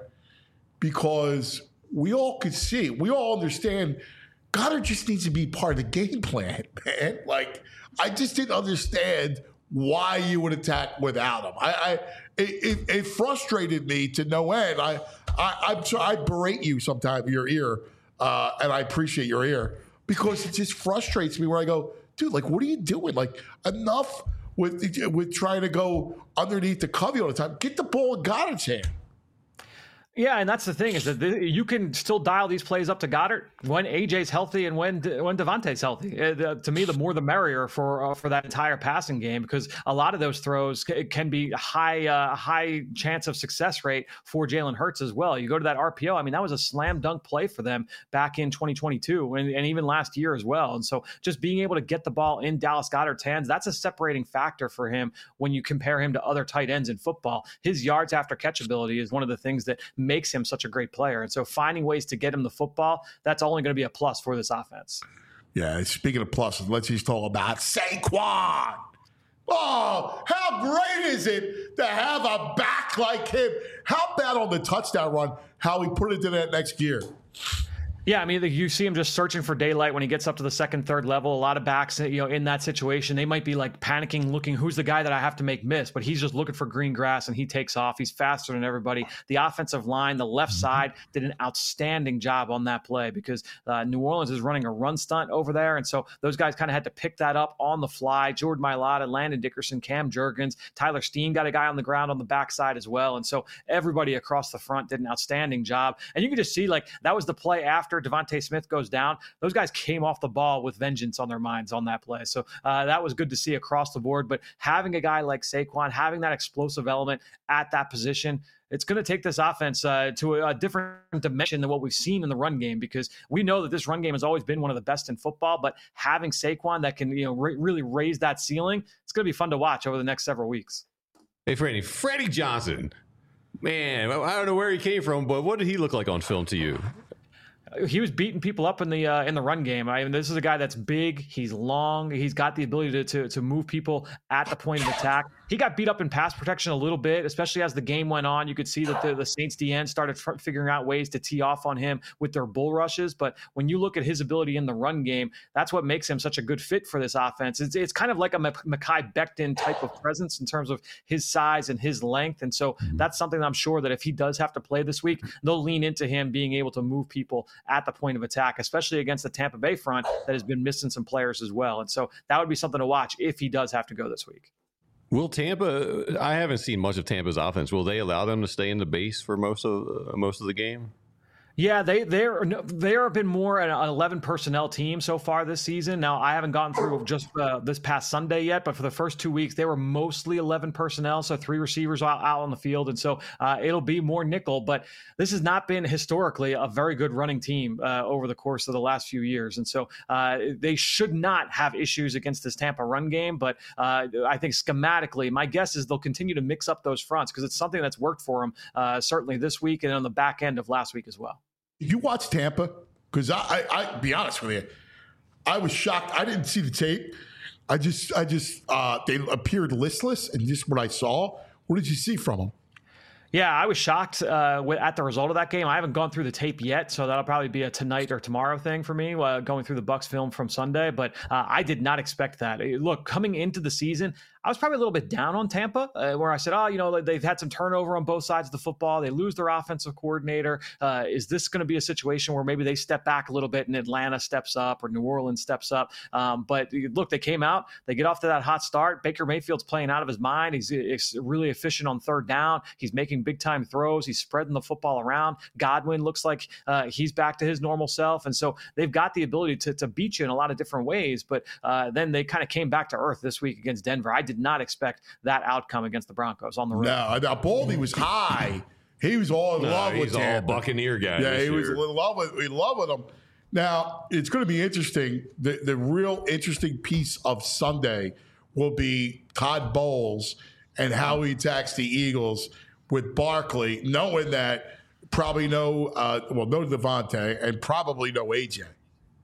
because we all could see, we all understand. Goddard just needs to be part of the game plan, man. Like, I just didn't understand why you would attack without him. I, I it, it, it frustrated me to no end. I, I, I'm so I berate you sometimes your ear, uh, and I appreciate your ear because it just frustrates me. Where I go, dude, like, what are you doing? Like, enough with with trying to go underneath the covey all the time. Get the ball in Goddard's hand. Yeah, and that's the thing is that the, you can still dial these plays up to Goddard when A J's healthy and when when Devontae's healthy. Uh, the, to me, the more the merrier for uh, for that entire passing game, because a lot of those throws c- can be high uh, high chance of success rate for Jalen Hurts as well. You go to that R P O. I mean, that was a slam dunk play for them back in twenty twenty-two and, and even last year as well. And so just being able to get the ball in Dallas Goedert's hands, that's a separating factor for him when you compare him to other tight ends in football. His yards after catch ability is one of the things that makes him such a great player. And so finding ways to get him the football, that's only going to be a plus for this offense. Yeah, speaking of pluses, let's just talk about Saquon. Oh, how great is it to have a back like him? How about on the touchdown run, how he put it to that next gear? Yeah, I mean, you see him just searching for daylight when he gets up to the second, third level. A lot of backs, you know, in that situation, they might be like panicking, looking, who's the guy that I have to make miss? But he's just looking for green grass and he takes off. He's faster than everybody. The offensive line, the left side, did an outstanding job on that play because uh, New Orleans is running a run stunt over there. And so those guys kind of had to pick that up on the fly. Jordan Mailata, Landon Dickerson, Cam Jurgens, Tyler Steen got a guy on the ground on the backside as well. And so everybody across the front did an outstanding job. And you can just see, like, that was the play after after Devontae Smith goes down, those guys came off the ball with vengeance on their minds on that play. So uh, that was good to see across the board. But having a guy like Saquon, having that explosive element at that position, it's going to take this offense uh, to a, a different dimension than what we've seen in the run game, because we know that this run game has always been one of the best in football. But having Saquon that can, you know, re- really raise that ceiling, it's going to be fun to watch over the next several weeks. Hey, Freddie, Freddie Johnson, man, I don't know where he came from, but what did he look like on film to you? He was beating people up in the uh, in the run game. I mean, this is a guy that's big. He's long. He's got the ability to, to to move people at the point of attack. He got beat up in pass protection a little bit, especially as the game went on. You could see that the, the Saints D N started f- figuring out ways to tee off on him with their bull rushes. But when you look at his ability in the run game, that's what makes him such a good fit for this offense. It's, it's kind of like a Mekhi Becton type of presence in terms of his size and his length. And so that's something that I'm sure that if he does have to play this week, they'll lean into him being able to move people at the point of attack, especially against the Tampa Bay front that has been missing some players as well. And so that would be something to watch if he does have to go this week. Will Tampa, I haven't seen much of Tampa's offense. Will they allow them to stay in the base for most of uh, most of the game? Yeah, they they're they have been more an eleven personnel team so far this season. Now, I haven't gotten through just uh, this past Sunday yet, but for the first two weeks, they were mostly eleven personnel, so three receivers out, out on the field, and so uh, it'll be more nickel. But this has not been historically a very good running team uh, over the course of the last few years, and so uh, they should not have issues against this Tampa run game. But uh, I think schematically, my guess is they'll continue to mix up those fronts because it's something that's worked for them uh, certainly this week and on the back end of last week as well. Did you watch Tampa? Because I, I, I, be honest with you, I was shocked. I didn't see the tape. I just, I just, uh, they appeared listless, and just what I saw. What did you see from them? Yeah, I was shocked uh, at the result of that game. I haven't gone through the tape yet, so that'll probably be a tonight or tomorrow thing for me, uh, going through the Bucs film from Sunday. But uh, I did not expect that. Look, coming into the season, I was probably a little bit down on Tampa, uh, where I said, oh, you know, they've had some turnover on both sides of the football. They lose their offensive coordinator. Uh, is this going to be a situation where maybe they step back a little bit and Atlanta steps up or New Orleans steps up? Um, but look, they came out. They get off to that hot start. Baker Mayfield's playing out of his mind. He's, he's really efficient on third down. He's making big-time throws. He's spreading the football around. Godwin looks like uh, he's back to his normal self. And so they've got the ability to, to beat you in a lot of different ways. But uh, then they kind of came back to earth this week against Denver. I did not expect that outcome against the Broncos on the road. No, now Baldy was high. He was all in no, love with He's all Tampa. Buccaneer guy. Yeah, he year. was in love with, in love with him. Now, it's going to be interesting. The, the real interesting piece of Sunday will be Todd Bowles and how he attacks the Eagles with Barkley, knowing that probably no, uh, well, no Devontae and probably no A J.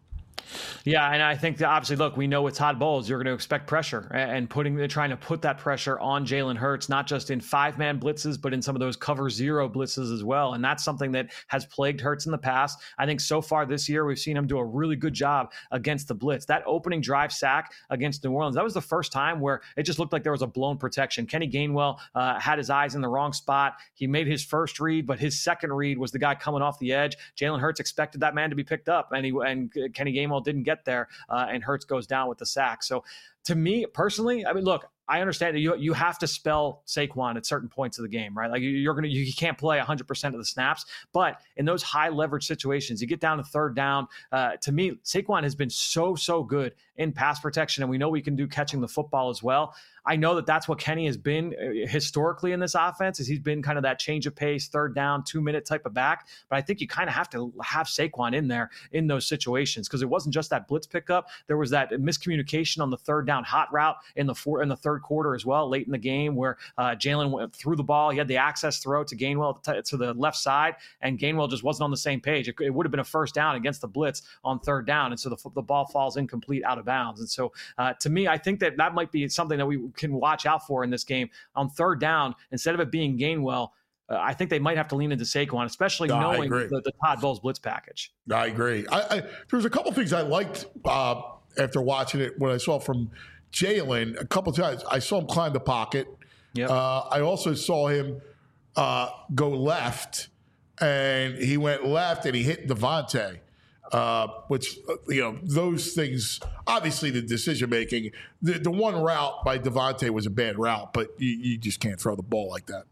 Yeah, and I think that obviously, look, we know with Todd Bowles, you're going to expect pressure and putting, trying to put that pressure on Jalen Hurts, not just in five-man blitzes, but in some of those cover zero blitzes as well. And that's something that has plagued Hurts in the past. I think so far this year, we've seen him do a really good job against the blitz. That opening drive sack against New Orleans, that was the first time where it just looked like there was a blown protection. Kenny Gainwell uh, had his eyes in the wrong spot. He made his first read, but his second read was the guy coming off the edge. Jalen Hurts expected that man to be picked up, and he and Kenny Gainwell didn't get there, uh, and Hurts goes down with the sack. So to me personally, I mean, look, I understand that you you have to spell Saquon at certain points of the game, right? Like you're gonna you can't play one hundred percent of the snaps, but in those high leverage situations, you get down to third down. Uh, to me, Saquon has been so so good in pass protection, and we know we can do catching the football as well. I know that that's what Kenny has been historically in this offense, is he's been kind of that change of pace, third down, two minute type of back. But I think you kind of have to have Saquon in there in those situations, because it wasn't just that blitz pickup. There was that miscommunication on the third down hot route in the four, in the third quarter as well, late in the game, where uh, Jalen went through the ball. He had the access throw to Gainwell to, to the left side, and Gainwell just wasn't on the same page. It, it would have been a first down against the blitz on third down, and so the, the ball falls incomplete out of bounds. And so uh, to me, I think that that might be something that we can watch out for in this game. On third down, instead of it being Gainwell, uh, I think they might have to lean into Saquon, especially no, knowing the, the Todd Bowles blitz package. I agree. I, I, there's a couple things I liked uh, after watching it when I saw from Jalen a couple times. I saw him climb the pocket. Yep. Uh, I also saw him uh, go left, and he went left and he hit Devontae. Uh, which, you know, those things, obviously the decision making, the, the one route by Devontae was a bad route, but you, you just can't throw the ball like that.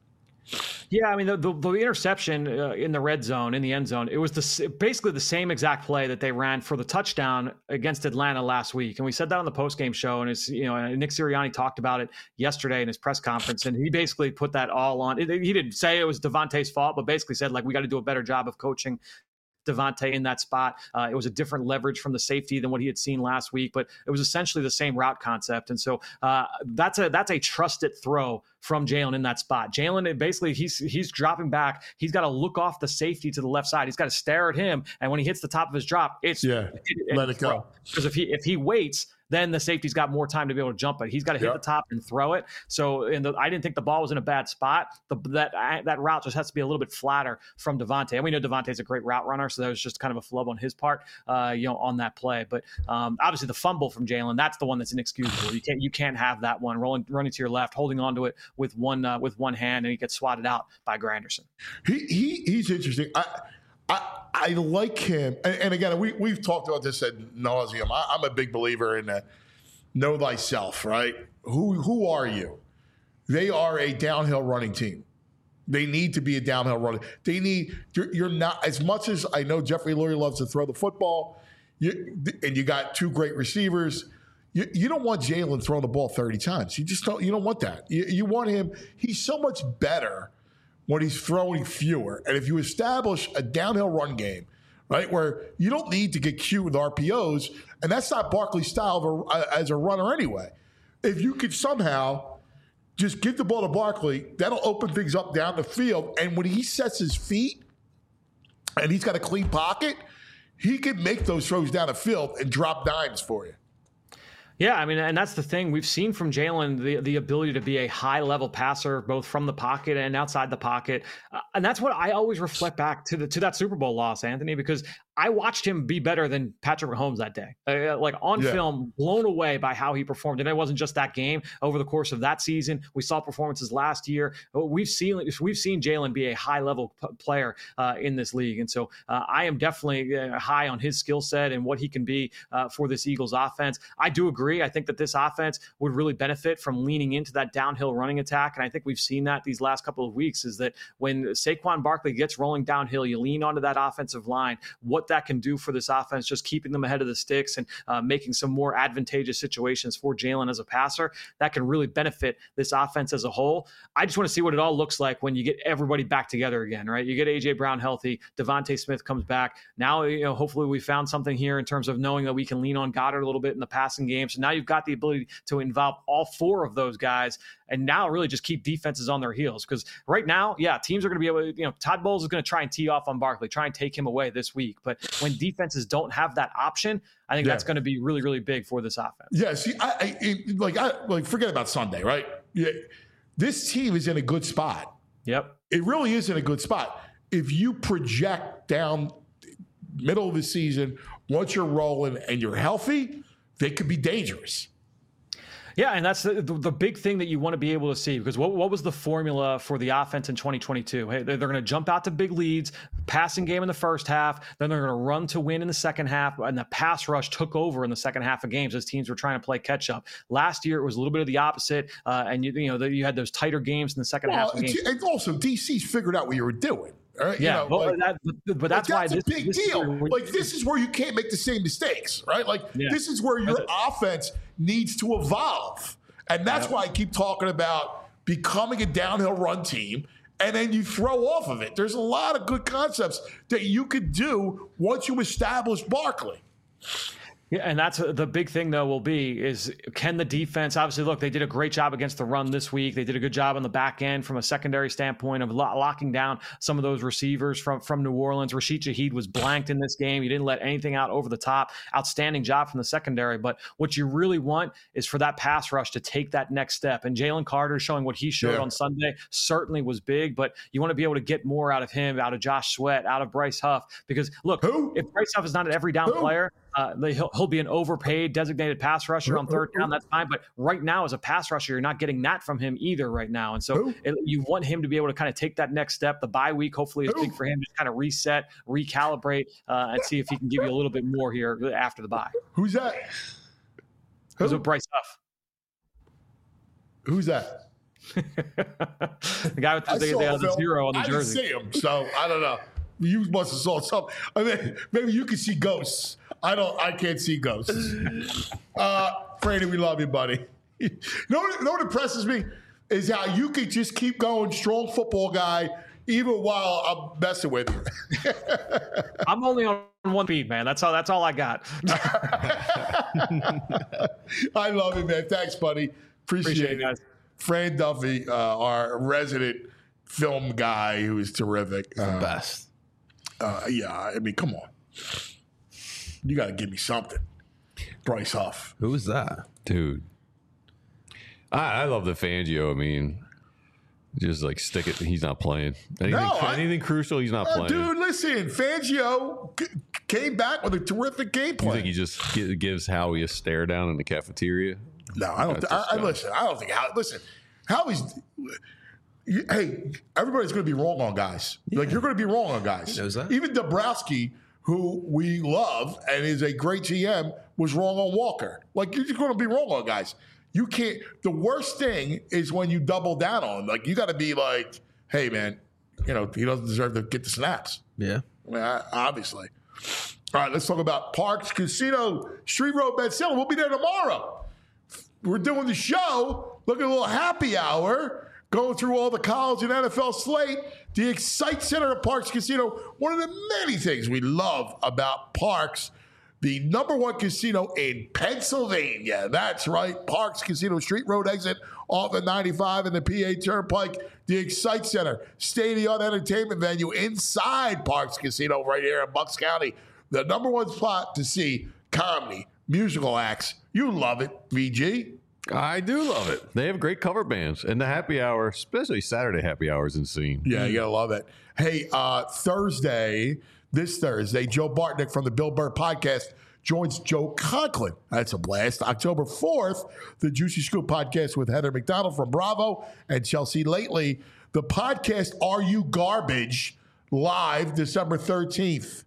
Yeah, I mean, the, the, the interception uh, in the red zone, in the end zone, it was the, basically the same exact play that they ran for the touchdown against Atlanta last week. And we said that on the postgame show. And it's, you know, Nick Sirianni talked about it yesterday in his press conference. And he basically put that all on. It, he didn't say it was Devontae's fault, but basically said, like, we got to do a better job of coaching Devontae in that spot. Uh, it was a different leverage from the safety than what he had seen last week, but it was essentially the same route concept. And so uh, that's a that's a trusted throw from Jalen in that spot. Jalen, basically, he's he's dropping back. He's got to look off the safety to the left side. He's got to stare at him, and when he hits the top of his drop, it's yeah, it, let it go. Because if he if he waits, then the safety's got more time to be able to jump it. He's got to hit yep. the top and throw it. So in the, I didn't think the ball was in a bad spot. The, that that route just has to be a little bit flatter from Devontae. And we know Devontae's a great route runner, so that was just kind of a flub on his part, uh, you know, on that play. But um, obviously the fumble from Jalen, that's the one that's inexcusable. You can't you can't have that one rolling running to your left, holding onto it with one uh, with one hand, and he gets swatted out by Granderson. He he he's interesting. I I, I like him, and, and again, we we've talked about this ad nauseum. I, I'm a big believer in that. Know thyself, right? Who who are you? They are a downhill running team. They need to be a downhill running. They need. You're, you're not as much as I know. Jeffrey Lurie loves to throw the football, you, and you got two great receivers. You, you don't want Jalen throwing the ball thirty times. You just don't. You don't want that. You, you want him. He's so much better when he's throwing fewer. And if you establish a downhill run game, right, where you don't need to get cute with R P Os, and that's not Barkley's style of a, as a runner anyway. If you could somehow just give the ball to Barkley, that'll open things up down the field. And when he sets his feet and he's got a clean pocket, he can make those throws down the field and drop dimes for you. Yeah, I mean, and that's the thing. We've seen from Jalen the, the ability to be a high-level passer, both from the pocket and outside the pocket. Uh, and that's what I always reflect back to the to that Super Bowl loss, Anthony, because I watched him be better than Patrick Mahomes that day. Uh, like on yeah. film, blown away by how he performed. And it wasn't just that game. Over the course of that season, we saw performances last year. We've seen we've seen Jalen be a high-level p- player uh, in this league. And so uh, I am definitely uh, high on his skill set and what he can be uh, for this Eagles offense. I do agree. I think that this offense would really benefit from leaning into that downhill running attack. And I think we've seen that these last couple of weeks is that when Saquon Barkley gets rolling downhill, you lean onto that offensive line. What that can do for this offense, just keeping them ahead of the sticks and uh, making some more advantageous situations for Jalen as a passer, that can really benefit this offense as a whole. I just want to see what it all looks like when you get everybody back together again, right? You get A J Brown healthy, Devontae Smith comes back. Now, you know, hopefully we found something here in terms of knowing that we can lean on Goddard a little bit in the passing game. So now you've got the ability to involve all four of those guys and now really just keep defenses on their heels. Because right now, yeah, teams are going to be able to, you know, Todd Bowles is going to try and tee off on Barkley, try and take him away this week. But when defenses don't have that option, I think yeah. that's going to be really, really big for this offense. Yeah, see, I, I it, like, I like forget about Sunday, right? Yeah, this team is in a good spot. Yep, it really is in a good spot. If you project down middle of the season, once you're rolling and you're healthy, they could be dangerous. Yeah, and that's the, the, the big thing that you want to be able to see, because what, what was the formula for the offense in twenty twenty-two? Hey, they're, they're going to jump out to big leads, passing game in the first half, then they're going to run to win in the second half, and the pass rush took over in the second half of games as teams were trying to play catch up. Last year, it was a little bit of the opposite, uh, and you, you know the, you had those tighter games in the second well, half of games. And also, D C's figured out what you were doing. Right? Yeah, you know, but, like, that, but that's like, why that's this, a big this deal. Is like this is where you can't make the same mistakes, right? Like yeah. this is where your offense needs to evolve, and that's yeah. why I keep talking about becoming a downhill run team, and then you throw off of it. There's a lot of good concepts that you could do once you establish Barkley. Yeah, and that's the big thing, though, will be is can the defense, obviously, look, they did a great job against the run this week. They did a good job on the back end from a secondary standpoint of lo- locking down some of those receivers from, from New Orleans. Rashid Shaheed was blanked in this game. He didn't let anything out over the top. Outstanding job from the secondary. But what you really want is for that pass rush to take that next step. And Jalen Carter showing what he showed yeah. on Sunday certainly was big, but you want to be able to get more out of him, out of Josh Sweat, out of Bryce Huff. Because, look, Who? if Bryce Huff is not an every down Who? player, Uh, he'll, he'll be an overpaid designated pass rusher on third down. That's fine. But right now, as a pass rusher, you're not getting that from him either right now. And so it, you want him to be able to kind of take that next step. The bye week, hopefully, is big for him to kind of reset, recalibrate, uh, and see if he can give you a little bit more here after the bye. Who's that? Who's with Bryce Huff? Who's that? The guy with the, the, saw the, the Phil. zero on the I jersey. didn't see him, so I don't know. You must have saw something. I mean, maybe you can see ghosts. I don't. I can't see ghosts. Uh, Franny, we love you, buddy. You know what, you know what impresses me is how you could just keep going, strong football guy, even while I'm messing with you. I'm only on one feed, man. That's all. That's all I got. I love it, man. Thanks, buddy. Appreciate, Appreciate it. it, guys. Fran Duffy, uh, our resident film guy, who is terrific. The Uh, best. Uh, yeah, I mean, come on. You got to give me something. Bryce Huff. Who was that? Dude. I, I love the Fangio. I mean, just like stick it. He's not playing. Anything, No, I- anything crucial, he's not Uh, playing. dude, listen, Fangio c- came back with a terrific game You plan. think he just gi- gives Howie a stare down in the cafeteria? No, I don't. That's Th- I, I disgusting. listen. I don't think how. Listen, Howie's. You, hey, everybody's going to be wrong on guys. Like you're going to be wrong on guys. He knows that. Even Dabrowski, who we love and is a great G M, was wrong on Walker. Like you're just going to be wrong on guys. You can't. The worst thing is when you double down on him. Like you got to be like, hey man, you know he doesn't deserve to get the snaps. Yeah. I mean, I, obviously. All right, let's talk about Parks Casino, Street Road, Ben Salem. We'll be there tomorrow. We're doing the show. Look at a little happy hour. Going through all the college and N F L slate. The Excite Center at Parks Casino. One of the many things we love about Parks. The number one casino in Pennsylvania. That's right. Parks Casino, Street Road exit off of ninety-five and the P A Turnpike. The Excite Center, state-of-the-art entertainment venue inside Parks Casino right here in Bucks County. The number one spot to see comedy, musical acts. You love it, V G. I do love it. They have great cover bands. And the happy hour, especially Saturday happy hour, is insane. Yeah, you gotta love it. Hey, uh, Thursday, this Thursday, Joe Bartnick from the Bill Burr Podcast joins Joe Conklin. That's a blast. October fourth, the Juicy Scoop Podcast with Heather McDonald from Bravo and Chelsea Lately. The podcast Are You Garbage? Live December thirteenth.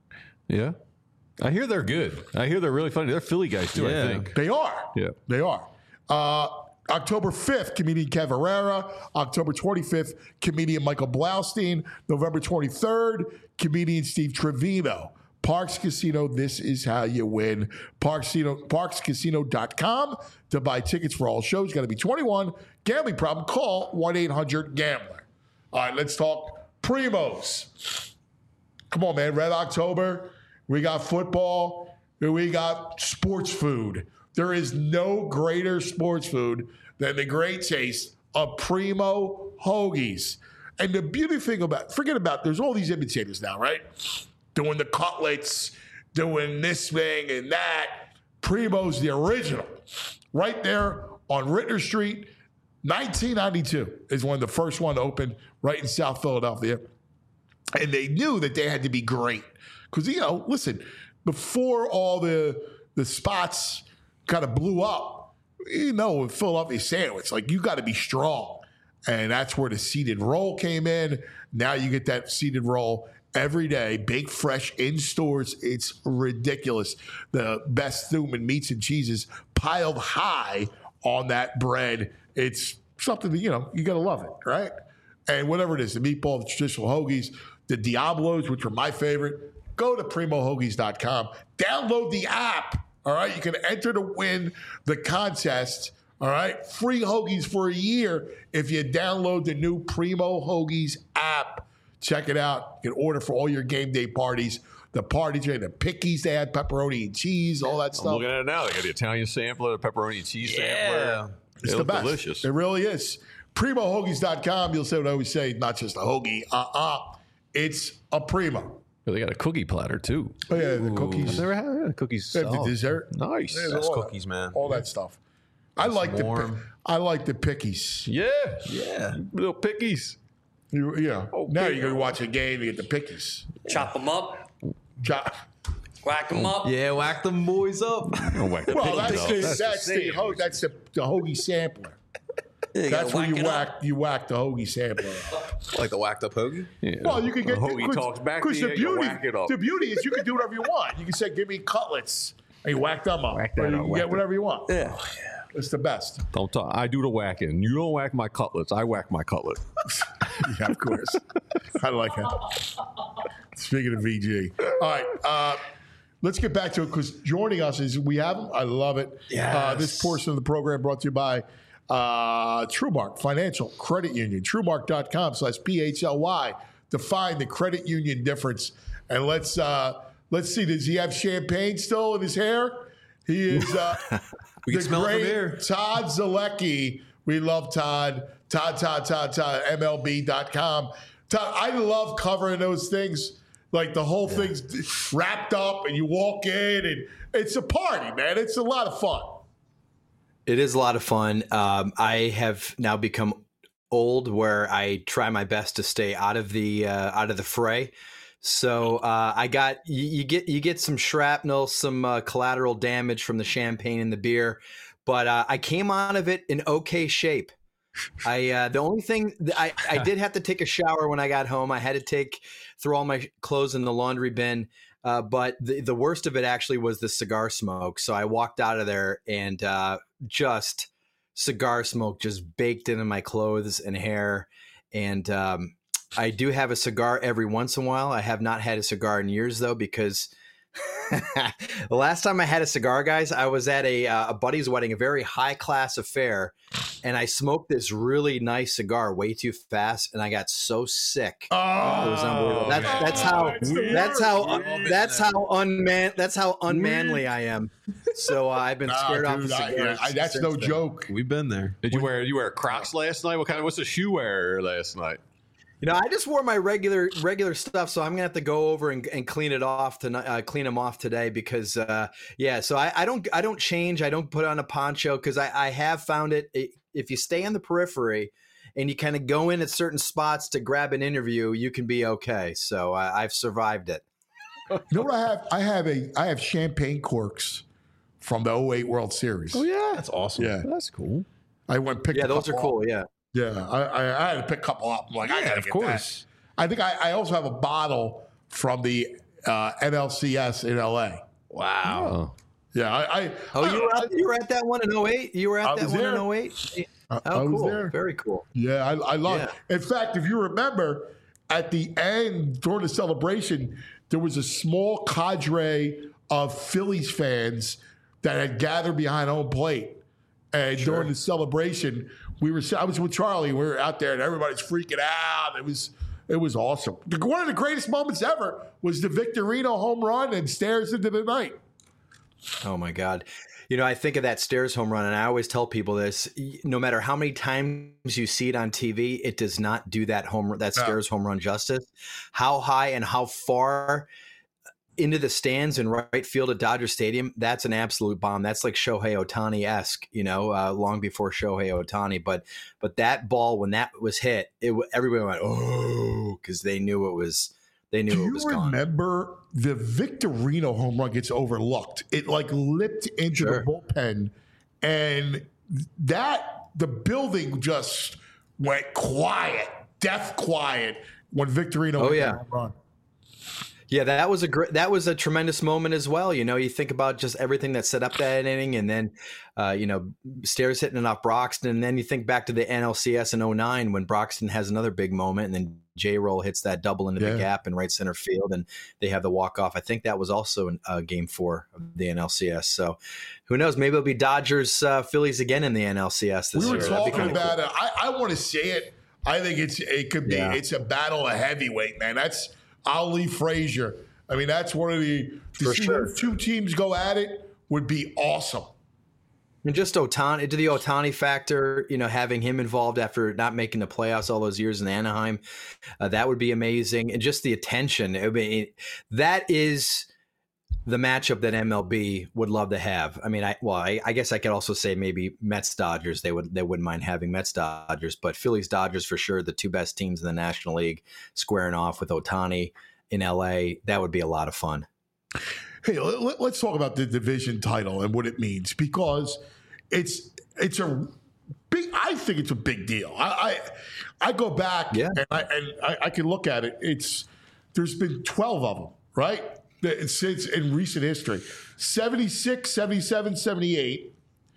Yeah. I hear they're good. I hear they're really funny. They're Philly guys, too, Yeah. I think. They are. Yeah. They are. Uh, October fifth, comedian Kev Herrera. October twenty-fifth, comedian Michael Blaustein. November twenty-third, comedian Steve Trevino. Parks Casino, this is how you win. Parks Casino, parks casino dot com to buy tickets for all shows. Got to be twenty-one. Gambling problem, call one eight hundred gambler. All right, let's talk Primos. Come on, man. Red October. We got football. We got sports food. There is no greater sports food than the great taste of Primo Hoagies. And the beauty thing about, forget about, there's all these imitators now, right? Doing the cutlets, doing this thing and that. Primo's the original. Right there on Ritter Street, nineteen ninety-two is when the first one opened right in South Philadelphia. And they knew that they had to be great. Because, you know, listen, before all the the spots kind of blew up, you know, with Philadelphia sandwich, like you got to be strong. And that's where the seeded roll came in. Now you get that seeded roll every day, big, fresh in stores. It's ridiculous. The best Thuman meats and cheeses piled high on that bread. It's something that, you know, you got to love it, right? And whatever it is, the meatball, the traditional hoagies, the Diablos, which are my favorite, go to primo hoagies dot com. Download the app. All right, you can enter to win the contest. All right, free hoagies for a year if you download the new Primo Hoagies app. Check it out. You can order for all your game day parties. The parties, the pickies, they had pepperoni and cheese, all that I'm stuff. looking at it now. They got the Italian sampler, the pepperoni and cheese sampler. It's They the look best. delicious. It really is. primo hoagies dot com. You'll say what I always say, not just a hoagie. Uh-uh. It's a Primo. They got a cookie platter, too. Oh, yeah, the cookies. I've never had yeah, cookies. They have the solid. dessert. Nice. Yeah, Best all that- cookies, man. All that stuff. I like the warm. pi- I like the pickies. Yeah. Yeah. Little pickies. You, yeah. Oh, now big- you're gonna watch a game. You get the pickies. Chop them up, Chop. whack them up. Yeah, whack them boys up. Don't whack the Well, pickies that's up. the That's that's the, same. ho- that's the, the hoagie sampler. You gotta That's where you it up. whack you whack the hoagie sampler. Like the whacked up hoagie. Yeah. Well, you can get The hoagie cause, talks back to because you, the you beauty whack it up. the beauty is you can do whatever you want. You can say, "Give me cutlets," and you whack them up. Whack that or you up, can whack get that. whatever you want. Yeah. It's the best. Don't talk. I do the whacking. You don't whack my cutlets. I whack my cutlet. Yeah, of course. I like that. Speaking of V G. All right. Uh, let's get back to it because joining us is we have him. I love it. Yes. Uh, this portion of the program brought to you by uh, TrueMark Financial Credit Union. TrueMark.com slash P H L Y. Define the credit union difference. And let's uh, let's see. Does he have champagne still in his hair? He is uh, we can the smell it from great here. Todd Zalecki. We love Todd. Todd, Todd, Todd, Todd, M L B dot com. Todd, I love covering those things. Like the whole yeah. thing's wrapped up and you walk in and it's a party, man. It's a lot of fun. It is a lot of fun. Um, I have now become old where I try my best to stay out of the uh, out of the fray. So uh, I got you, you get you get some shrapnel, some uh, collateral damage from the champagne and the beer, but uh, I came out of it in okay shape. I uh, the only thing that I I did have to take a shower when I got home. I had to take throw all my clothes in the laundry bin. Uh, but the, the worst of it actually was the cigar smoke. So I walked out of there and uh, just cigar smoke just baked into my clothes and hair. And um, I do have a cigar every once in a while. I have not had a cigar in years, though, because the last time I had a cigar, guys, I was at a, uh, a buddy's wedding, a very high class affair. And I smoked this really nice cigar way too fast, and I got so sick. Oh, it was unbelievable. That's that's how that's how that's how unman that's how unmanly I am. So uh, I've been Nah, scared off dude, of I- cigars. I- that's since no then. joke. We've been there. Did you wear you wear Crocs last night? What kind of what's the shoe wear last night? You know, I just wore my regular regular stuff, so I'm gonna have to go over and, and clean it off tonight. Uh, clean them off today because, uh, yeah. So I, I don't I don't change. I don't put on a poncho because I, I have found it, it. If you stay on the periphery and you kind of go in at certain spots to grab an interview, you can be okay. So I, I've survived it. You know what I have? I have a I have champagne corks from the oh eight World Series. Oh yeah, That's awesome. Yeah. that's cool. I went and picked Yeah, a those are couple cool. up. Yeah. Yeah, I, I, I had to pick a couple up. I'm like, I Yeah, gotta of get course. that. I think I, I also have a bottle from the uh, N L C S in L A. Wow. Yeah, I. I Oh, I, you were at, you were at that one in oh eight? You were I at that was one there. in oh eight? I- Oh, I was cool. there. Very cool. Yeah, I, I love Yeah. it. In fact, if you remember, at the end during the celebration, there was a small cadre of Phillies fans that had gathered behind home plate. And during the celebration, we were I was with Charlie. We were out there, and everybody's freaking out. It was it was awesome. The- One of the greatest moments ever was the Victorino home run and Stairs into the night. Oh my God. You know, I think of that Stairs home run, and I always tell people this: no matter how many times you see it on T V, it does not do that home that No. Stairs home run justice. How high and how far into the stands in right field at Dodger Stadium, that's an absolute bomb. That's like Shohei Ohtani-esque, you know, uh, long before Shohei Ohtani. But but that ball, when that was hit, it w- everybody went, oh, because they knew it was they knew Do it you was gone. remember the Victorino home run gets overlooked? It like lipped into Sure. the bullpen, and that the building just went quiet, death quiet when Victorino Oh, hit yeah. that home run. Yeah, that was a great, that was a tremendous moment as well. You know, you think about just everything that set up that inning, and then, uh, you know, Stairs hitting it off Broxton, and then you think back to the N L C S in oh nine when Broxton has another big moment, and then J-Roll hits that double into Yeah. the gap in right center field, and they have the walk off. I think that was also in uh, Game Four of the N L C S. So, who knows? Maybe it'll be Dodgers uh, Phillies again in the N L C S this We were year. That'd be talking kinda about cool. it. I, I want to see it. I think it's it could be Yeah. it's a battle of heavyweight, man. That's Ali Frazier. I mean, that's one of the to For see sure. those two teams go at it would be awesome. And just Otani, to the Otani factor, you know, having him involved after not making the playoffs all those years in Anaheim, uh, that would be amazing. And just the attention, I mean, that is the matchup that M L B would love to have. I mean, I well, I, I guess I could also say maybe Mets Dodgers. They would they wouldn't mind having Mets Dodgers, but Phillies Dodgers for sure, the two best teams in the National League, squaring off with Otani in L A. That would be a lot of fun. Hey, let, let's talk about the division title and what it means, because it's it's a big. I think it's a big deal. I I, I go back Yeah. and I and I, I can look at it. It's there's been twelve of them, right? It's, it's in recent history. seventy-six, seventy-seven, seventy-eight.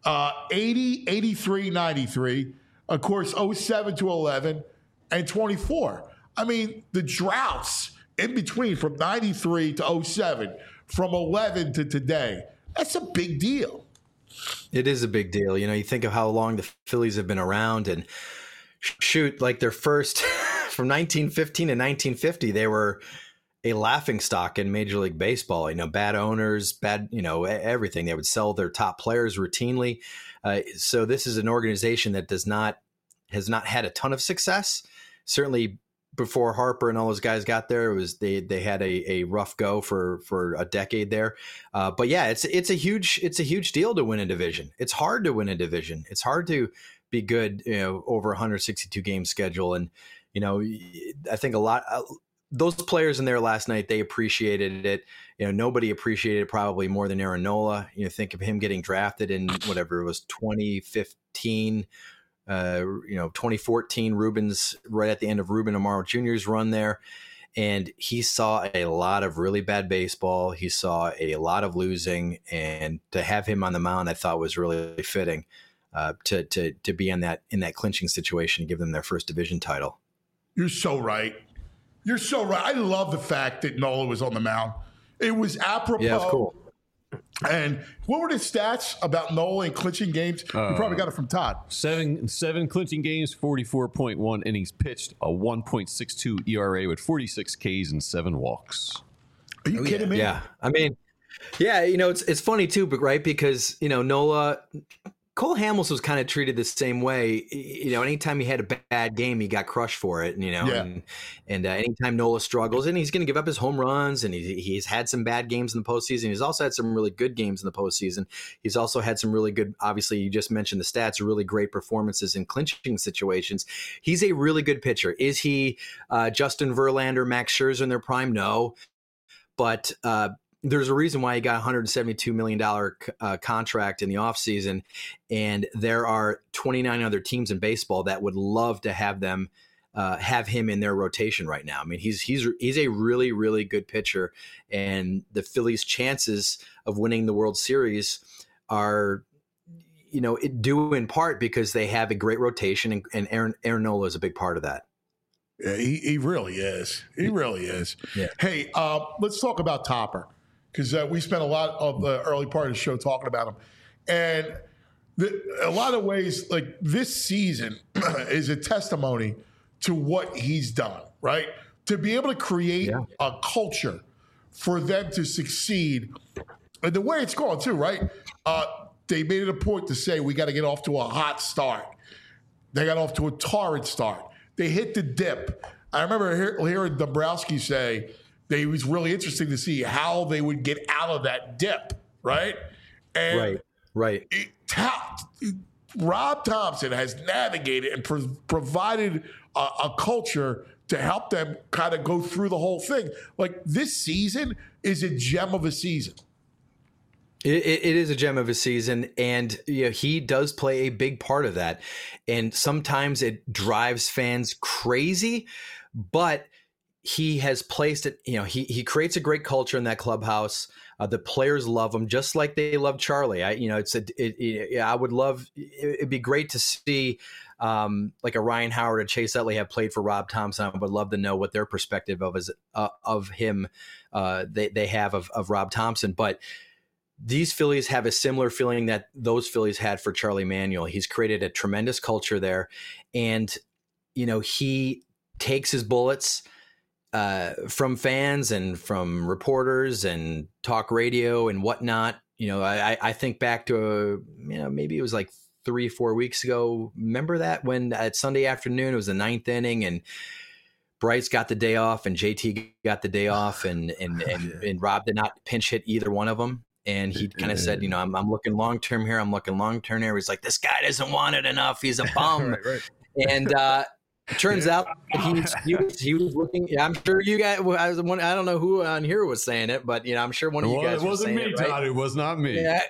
uh, eighty, eighty-three, ninety-three, of course, oh seven to eleven, and twenty-four. I mean, the droughts in between from ninety-three to oh seven, from eleven to today, that's a big deal. It is a big deal. You know, you think of how long the Phillies have been around, and shoot, like their first from nineteen fifteen to nineteen fifty, they were a laughingstock in Major League Baseball. You know, bad owners, bad, you know, everything. They would sell their top players routinely. Uh, so this is an organization that does not has not had a ton of success. Certainly before Harper and all those guys got there, it was they they had a, a rough go for for a decade there. Uh, but yeah, it's it's a huge it's a huge deal to win a division. It's hard to win a division. It's hard to be good, you know, over one hundred sixty-two game schedule. And you know, I think a lot. Uh, Those players in there last night, they appreciated it. You know, nobody appreciated it probably more than Aaron Nola. You know, think of him getting drafted in whatever it was, twenty fifteen, uh, you know, twenty fourteen, Ruben's right at the end of Ruben Amaro Junior's run there. And he saw a lot of really bad baseball. He saw a lot of losing. And to have him on the mound, I thought was really fitting uh, to, to, to be in that, in that clinching situation and give them their first division title. You're so right. You're so right. I love the fact that Nola was on the mound. It was apropos. Yeah, it's cool. And what were the stats about Nola in clinching games? Uh, you probably got it from Todd. Seven seven clinching games, forty-four point one innings pitched, a one point six two E R A with forty-six Ks and seven walks. Are you oh, kidding yeah. me? Yeah. I mean, yeah, you know, it's it's funny too, but right, because, you know, Nola Cole Hamels was kind of treated the same way. You know, anytime he had a bad game, he got crushed for it. You know, yeah. and, and uh, anytime Nola struggles, and he's going to give up his home runs, and he, he's had some bad games in the postseason. He's also had some really good games in the postseason. He's also had some really good, obviously, you just mentioned the stats, really great performances in clinching situations. He's a really good pitcher. Is he uh, Justin Verlander, Max Scherzer in their prime? No. But uh, there's a reason why he got a one hundred seventy-two million dollars uh, contract in the offseason, and there are twenty-nine other teams in baseball that would love to have them uh, have him in their rotation right now. I mean, he's he's he's a really, really good pitcher, and the Phillies' chances of winning the World Series are, you know, it due in part because they have a great rotation, and, and Aaron, Aaron Nola is a big part of that. Yeah, he, he really is. He really is. Yeah. Hey, uh, let's talk about Topper, because uh, we spent a lot of the early part of the show talking about him. And the, a lot of ways, like this season is a testimony to what he's done, right? To be able to create yeah. a culture for them to succeed. And the way it's going, too, right? Uh, they made it a point to say we got to get off to a hot start. They got off to a torrid start. They hit the dip. I remember hear, hearing Dombrowski say that it was really interesting to see how they would get out of that dip, right? And right, right. It, ta- Rob Thompson has navigated and pro- provided a, a culture to help them kind of go through the whole thing. Like this season is a gem of a season. It, it is a gem of a season, and you know, he does play a big part of that. And sometimes it drives fans crazy, but he has placed it, you know, he he creates a great culture in that clubhouse. Uh, the players love him just like they love Charlie. I, you know, it's a, it, it, I would love, it, it'd be great to see um, like a Ryan Howard or Chase Utley have played for Rob Thompson. I would love to know what their perspective of is uh, of him uh, they they have of, of Rob Thompson. But these Phillies have a similar feeling that those Phillies had for Charlie Manuel. He's created a tremendous culture there, and you know, he takes his bullets uh, from fans and from reporters and talk radio and whatnot. You know, I, I think back to a, you know, maybe it was like three, four weeks ago. Remember that when at Sunday afternoon, it was the ninth inning and Bryce got the day off and J T got the day off, and and and, and Rob did not pinch hit either one of them. And he kind of said, you know, I'm, I'm looking long-term here. I'm looking long-term here. He's like, this guy doesn't want it enough. He's a bum. right, right. And uh, it turns out he was, he was, he was looking, yeah, I'm sure you guys, I was one, I don't know who on here was saying it, but, you know, I'm sure one of you guys well, it wasn't was saying me, it, right? Todd. It was not me. Yeah.